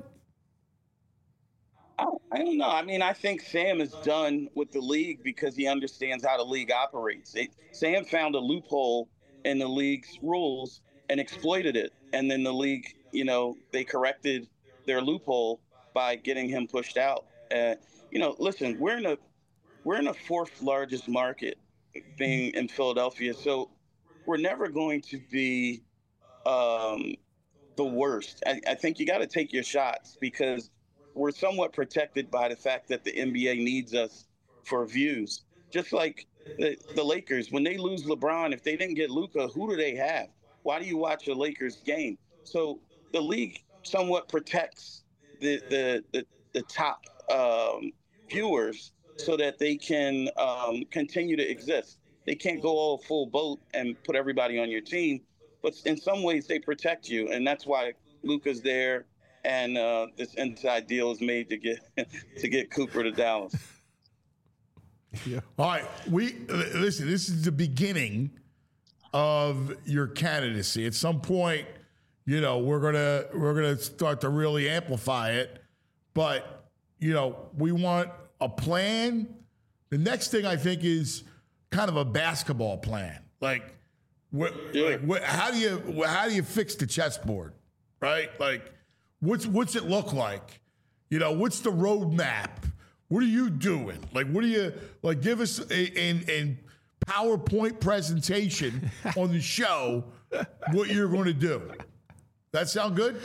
I, I don't know. I mean, I think Sam is done with the league because he understands how the league operates. It, Sam found a loophole in the league's rules and exploited it. And then the league, you know, they corrected their loophole by getting him pushed out. Uh, you know, listen, we're in a we're in a fourth largest market, being in Philadelphia. So we're never going to be um, the worst. I, I think you got to take your shots, because we're somewhat protected by the fact that the N B A needs us for views. Just like the, the Lakers, when they lose LeBron, if they didn't get Luka, who do they have? Why do you watch a Lakers game? So the league somewhat protects the the the, the top um, viewers so that they can um, continue to exist. They can't go all full boat and put everybody on your team, but in some ways they protect you, and that's why Luka's there, and uh, this inside deal is made to get to get Cooper to Dallas. Yeah. All right, we listen. This is the beginning of your candidacy. At some point, you know, we're gonna we're gonna start to really amplify it. But you know, we want a plan. The next thing I think is kind of a basketball plan. Like, what, like what, how do you how do you fix the chessboard, right? Like, what's what's it look like? You know, what's the roadmap? What are you doing? Like, what do you like? Give us a, a, a PowerPoint presentation on the show. What you're going to do? That sound good?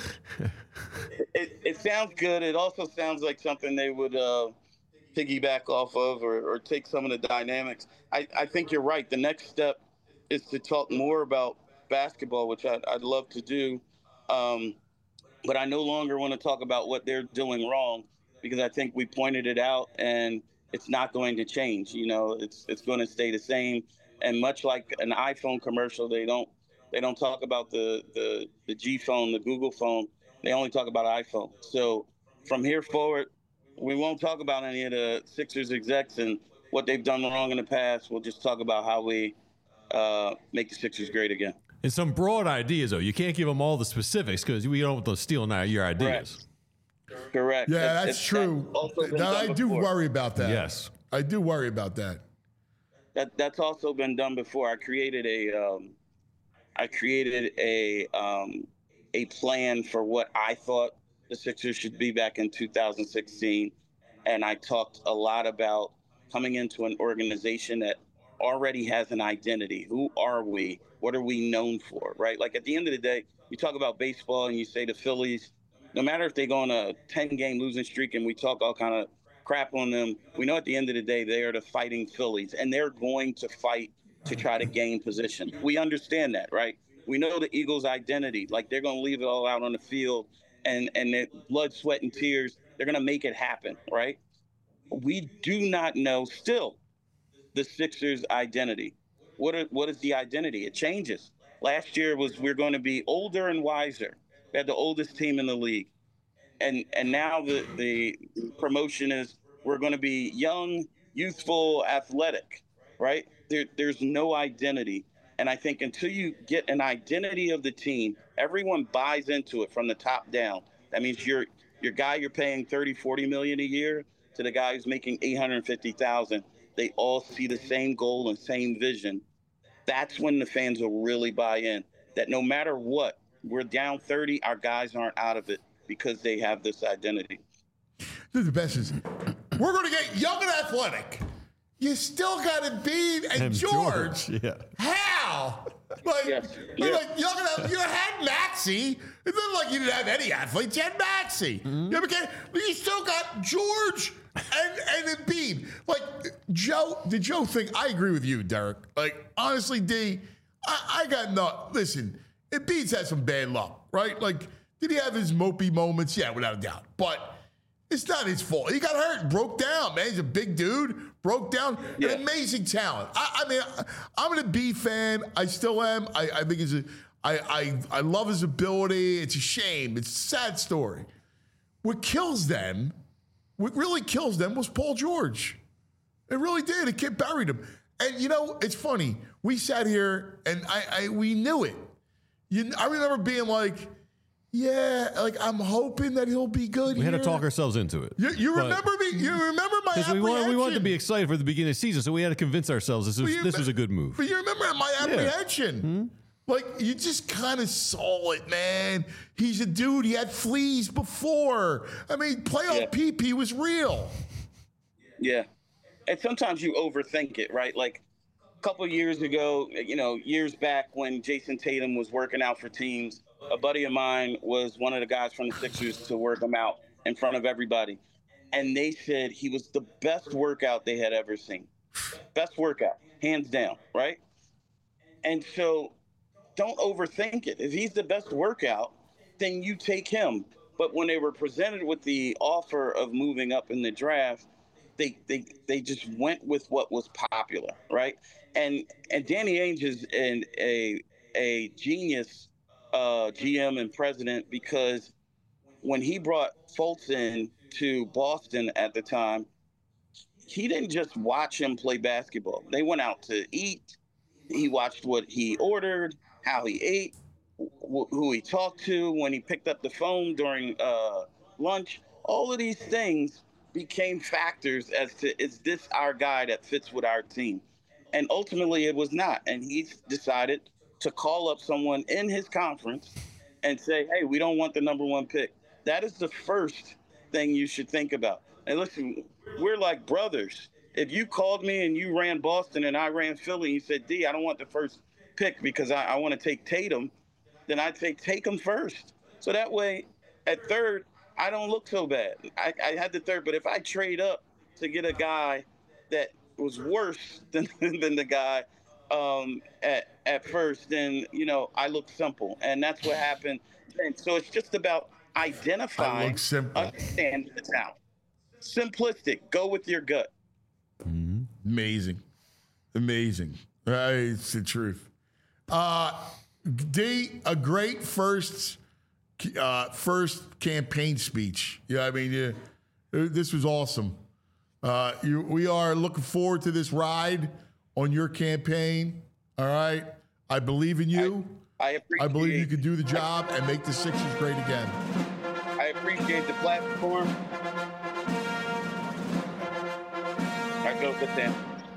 It, it sounds good. It also sounds like something they would uh, piggyback off of, or, or take some of the dynamics. I, I think you're right. The next step is to talk more about basketball, which I'd, I'd love to do. Um, but I no longer want to talk about what they're doing wrong, because I think we pointed it out, and it's not going to change. You know, it's it's going to stay the same. And much like an iPhone commercial, they don't they don't talk about the the the G phone, the Google phone. They only talk about iPhone. So from here forward, we won't talk about any of the Sixers execs and what they've done wrong in the past. We'll just talk about how we uh, make the Sixers great again. And some broad ideas, though. You can't give them all the specifics because we don't want them stealing our, your ideas. Correct. Correct. Yeah, It's- that's it's- true. also been Now, done I do before. worry about that. Yes. I do worry about that. That that's also been done before. I created a um, I created a um, a plan for what I thought the Sixers should be back in two thousand sixteen, and I talked a lot about coming into an organization that already has an identity. Who are we? What are we known for? Right? Like, at the end of the day, you talk about baseball and you say the Phillies, no matter if they go on a ten-game losing streak and we talk all kind of crap on them, we know at the end of the day they are the fighting Phillies, and they're going to fight to try to gain position. We understand that, right? We know the Eagles' identity. Like, they're going to leave it all out on the field, and and their blood, sweat, and tears, they're going to make it happen, right? We do not know still the Sixers' identity. What are, what is the identity? It changes. Last year was we're going to be older and wiser. We had the oldest team in the league. And and now the, the promotion is we're going to be young, youthful, athletic, right? There, there's no identity. And I think until you get an identity of the team, everyone buys into it from the top down. That means your your guy you're paying thirty, forty million a year to the guy who's making eight hundred fifty thousand. They all see the same goal and same vision. That's when the fans will really buy in. That no matter what, we're down thirty, our guys aren't out of it because they have this identity. This is the best. Is we're going to get young and athletic. You still got to beat and, And George. George, yeah. How? Like, Yes, like, yes. like young and athletic. You had Maxey. It's not like you didn't have any athletes. You had Maxey. Mm-hmm. You, ever get, you still got George and, and Embiid. Like, Joe, the Joe thing, I agree with you, Derek. Like, honestly, D, I, I got no. Listen, Embiid's had some bad luck, right? Like, did he have his mopey moments? Yeah, without a doubt. But it's not his fault. He got hurt, broke down, man. He's a big dude, broke down. Yeah. An amazing talent. I, I mean, I, I'm an Embiid fan. I still am. I, I think he's a. I, I I love his ability. It's a shame. It's a sad story. What kills them, what really kills them, was Paul George. It really did. It kid buried him. And you know, it's funny. We sat here and I, I we knew it. You, I remember being like, yeah, like I'm hoping that he'll be good. We had to here. talk ourselves into it. You, you But- remember me? You remember my Because we apprehension? wanted, we wanted to be excited for the beginning of the season, so we had to convince ourselves this was, But you this me- was a good move. But you remember my Yeah. apprehension. Hmm? Like, you just kind of saw it, man. He's a dude. He had fleas before. I mean, playoff Yeah. P P was real. Yeah. And sometimes you overthink it, right? Like a couple of years ago, you know, years back when Jason Tatum was working out for teams, a buddy of mine was one of the guys from the Sixers to work him out in front of everybody. And they said he was the best workout they had ever seen. Best workout, hands down, right? And so don't overthink it. If he's the best workout, then you take him. But when they were presented with the offer of moving up in the draft, they they they just went with what was popular, right? And and Danny Ainge is an, a a genius uh, G M and president, because when he brought Fultz in to Boston at the time, he didn't just watch him play basketball. They went out to eat. He watched what he ordered, how he ate, wh- who he talked to, when he picked up the phone during uh, lunch. All of these things became factors as to, is this our guy that fits with our team? And ultimately it was not. And he decided to call up someone in his conference and say, hey, we don't want the number one pick. That is the first thing you should think about. And listen, we're like brothers. If you called me and you ran Boston and I ran Philly, and you said, D, I don't want the first pick because I, I want to take Tatum, then I'd say take him first. So that way, at third, I don't look so bad. I, I had the third, but if I trade up to get a guy that was worse than than the guy um, at at first, then, you know, I look simple. And that's what happened. And so it's just about identifying, understanding the talent. Simplistic. Go with your gut. Mm-hmm. Amazing. Amazing. Uh, it's the truth. Uh, D, a great first uh, first campaign speech. Yeah, I mean, yeah, this was awesome. Uh, you, we are looking forward to this ride on your campaign. All right. I believe in you. I, I appreciate I believe you can do the job and make the Sixers great again. I appreciate the platform. I go with them.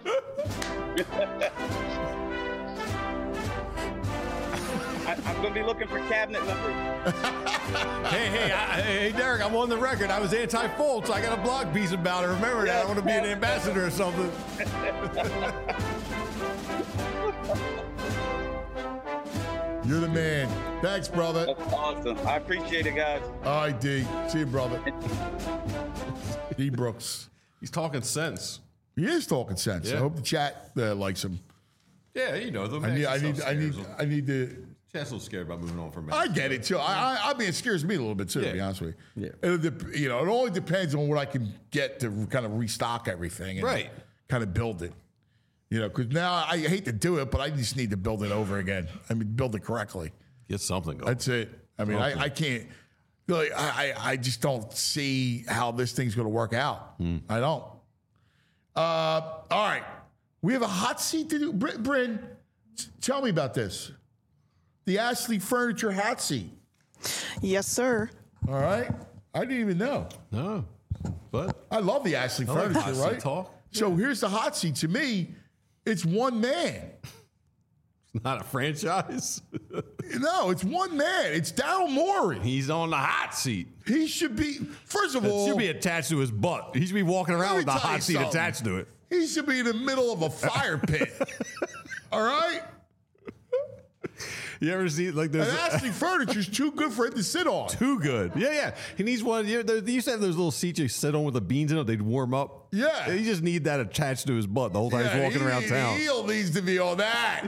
I, I'm going to be looking for cabinet numbers. hey, hey, I, hey, Derek, I'm on the record. I was anti-Fultz. I got a blog piece about it. Remember that. I want to be an ambassador or something. You're the man. Thanks, brother. That's awesome. I appreciate it, guys. All right, D. See you, brother. D. Brooks. He's talking sense. He is talking sense. Yeah. I hope the chat uh, likes him. Yeah, you know, the I need, I need, I need, I need to. Chat's a little scared about moving on from me. I get it too. I, I, I mean, it scares me a little bit too, Yeah. to be honest with you. Yeah. It'll dep- you know, it only depends on what I can get to kind of restock everything and Right. kind of build it. You know, because now I hate to do it, but I just need to build it over again. I mean, build it correctly. Get something going. That's it. I mean, Something. I, I can't. Like, I, I I just don't see how this thing's going to work out. I don't. Uh, all right, we have a hot seat to do. Br- Bryn, t- tell me about this. The Ashley Furniture hot seat. Yes, sir. All right, I didn't even know. No, but I love the Ashley I like Furniture. hot seat right? talk. So here's the hot seat. To me, it's one man. It's not a franchise. No, it's one man. It's Daryl Morey. He's on the hot seat. He should be. First of It all, should be attached to his butt. He should be walking around with the Let me tell you hot seat something. attached to it. He should be in the middle of a fire pit. All right? You ever see like And there's Ashley Furniture's too good for him to sit on. too good? Yeah, yeah. He needs one. You know, they used to have those little seats you sit on with the beans in it. They'd warm up. Yeah. He just need that attached to his butt the whole time Yeah, he's walking he, around town. Heel needs to be on that.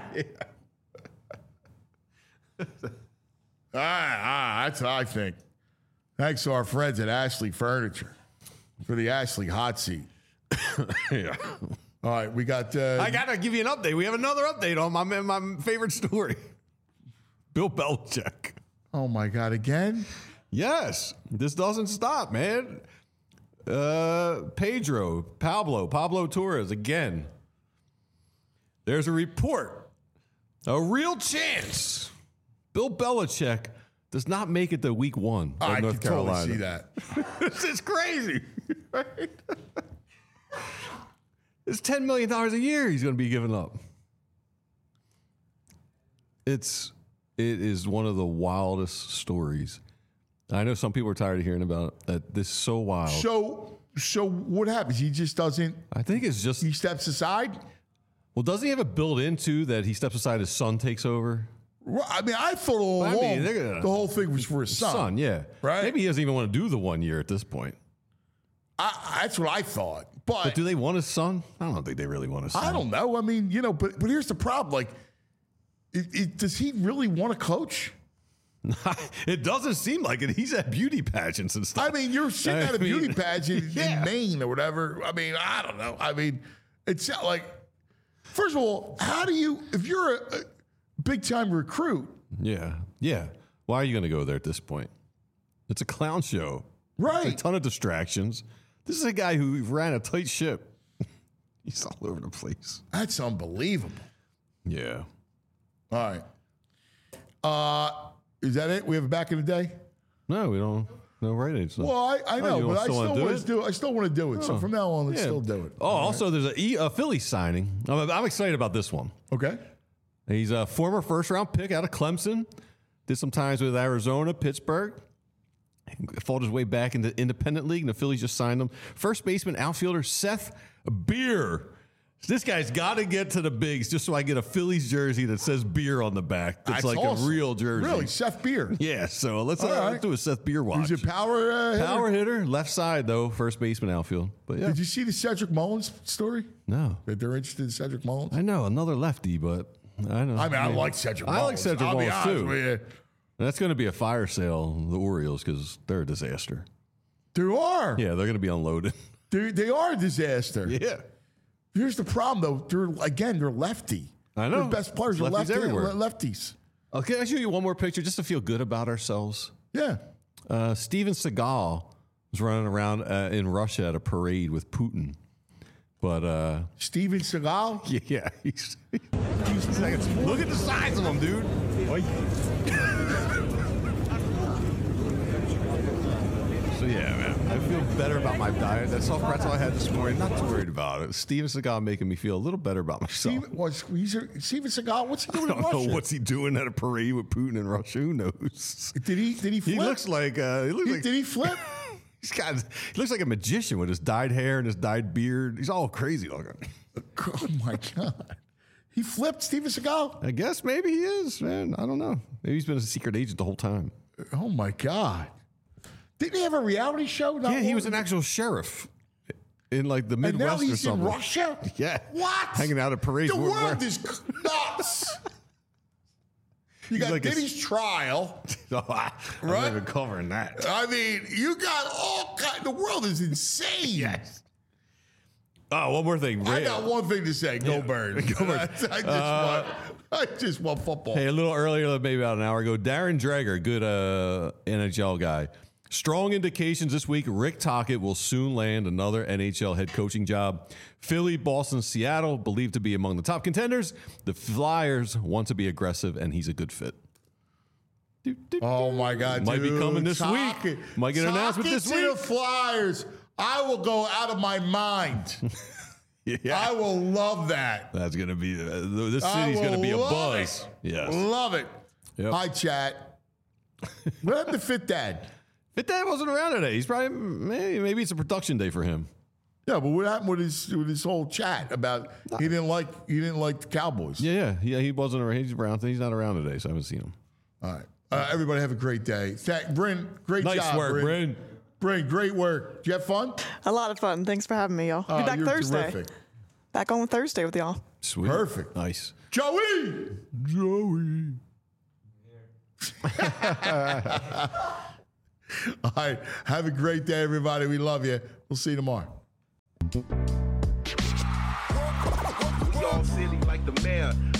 Ah, ah, that's what I think. Thanks to our friends at Ashley Furniture for the Ashley hot seat. Yeah. All right, we got. Uh, I gotta give you an update. We have another update on my my favorite story. Bill Belichick. Oh my God! Again? Yes, this doesn't stop, man. Uh, Pedro, Pablo, Pablo Torres again. There's a report, a real chance. Bill Belichick does not make it to Week One of I North can Carolina. totally see that. This is crazy. Right? It's ten million dollars a year he's going to be giving up. It's it is one of the wildest stories. I know some people are tired of hearing about it. That this is so wild. So, so what happens? He just doesn't. I think it's just He steps aside. well. Doesn't he have it built into that he steps aside, his son takes over? Well, I mean, I thought all I along mean, they're gonna- the whole thing was for his son. Son, yeah, Right? Maybe he doesn't even want to do the one year at this point. I, that's what I thought. But, But do they want his son? I don't think they really want his son. I don't know. I mean, you know, but but here's the problem. Like, it, it, does he really want to coach? It doesn't seem like it. He's at beauty pageants and stuff. I mean, you're sitting I at a mean, beauty pageant yeah. in Maine or whatever. I mean, I don't know. I mean, it's not like, first of all, how do you, if you're a, a big time recruit. Yeah, yeah. Why are you going to go there at this point? It's a clown show. Right. It's a ton of distractions. This is a guy who ran a tight ship. He's all over the place. That's unbelievable. Yeah. All right. Uh, is that it? We have it back in the day? No, we don't. No, right age. Well, I, I know, you but I still wanna still do want it? to do it. I still want to do it. So Oh. from now on, let's Yeah. still do it. Oh, also, there's a, E- a Philly signing. I'm, I'm excited about this one. Okay. He's a former first round pick out of Clemson. Did some times with Arizona, Pittsburgh. Fought his way back into independent league, and the Phillies just signed him. First baseman, outfielder Seth Beer. This guy's got to get to the bigs just so I get a Phillies jersey that says beer on the back. That's, That's like awesome. a real jersey. Really, Seth Beer. Yeah, so let's, uh, All right. let's do a Seth Beer watch. He's a power uh, hitter? Power hitter, left side, though, first baseman, outfield. But yeah. Did you see the Cedric Mullins story? No. That they're interested in Cedric Mullins? I know, another lefty, but I know. I mean, I like Cedric I like Mullins. Cedric I'll be Mullins, honest too. with you. That's going to be a fire sale, the Orioles, because they're a disaster. They are. Yeah, they're going to be unloaded. They, they are a disaster. Yeah. Here's the problem, though. They're again, they're lefty. I know. Their best players are Lefties lefty, everywhere. lefties. Okay, I'll show you one more picture just to feel good about ourselves. Yeah. Uh, Steven Seagal was running around uh, in Russia at a parade with Putin. But uh, Steven Seagal? Yeah, yeah. He's, he's like, look at the size of him, dude. So yeah, man, I feel better about my diet. That soft pretzel I had this morning, not too worried about it. Steven Seagal making me feel a little better about myself. Steven, what's, he's a, Steven Seagal, what's he I doing don't in Russia? know what's he doing at a parade with Putin in Russia. Who knows? Did he? Did he flip? He looks like. Uh, he looks He- like. did he flip? He's got. He looks like a magician with his dyed hair and his dyed beard. He's all crazy looking. Oh my God! He flipped Steven Seagal. I guess maybe he is, man. I don't know. Maybe he's been a secret agent the whole time. Oh my God! Didn't he have a reality show? Not Yeah, he long- was an actual sheriff in like the And now Midwest or he's in something. Russia. Yeah. What? Hanging out at parades. The Where- world where- is nuts. You He's got like a- Diddy's trial. Oh, I'm Right? not even covering that. I mean, you got all kind. The world is insane. Yes. Oh, one more thing. I Ray- got one thing to say. Go Yeah. Birds. Go Birds. I just Uh, want. I just want football. Hey, a little earlier, maybe about an hour ago, Darren Dreger, good uh, N H L guy. Strong indications this week Rick Tocchet will soon land another N H L head coaching job. Philly, Boston, Seattle, believed to be among the top contenders. The Flyers want to be aggressive, and he's a good fit. Oh my God! Might be dude. coming this Tocchet. week. Might get an announcement this Tocchet to week. the Flyers. I will go out of my mind. Yeah. I will love that. That's going to be, uh, this I city's going to will be a love buzz. it. Yes. Love it. Yep. Hi, chat. What happened to Fit Dad? Fit Dad wasn't around today. He's probably, maybe, maybe it's a production day for him. Yeah, but what happened with his with his whole chat about he didn't like he didn't like the Cowboys? Yeah, yeah, yeah. He wasn't around. He's around. He's not around today, so I haven't seen him. All right. Uh, everybody have a great day. Thank, Bryn, great Nice job. work, Bryn. Bryn, great work. Did you have fun? A lot of fun. Thanks for having me, y'all. Be Oh, back you're Thursday. terrific. Back on Thursday with y'all. Sweet. Perfect. Nice. Joey! Joey. All right. Have a great day, everybody. We love you. We'll see you tomorrow. We all silly like the mayor.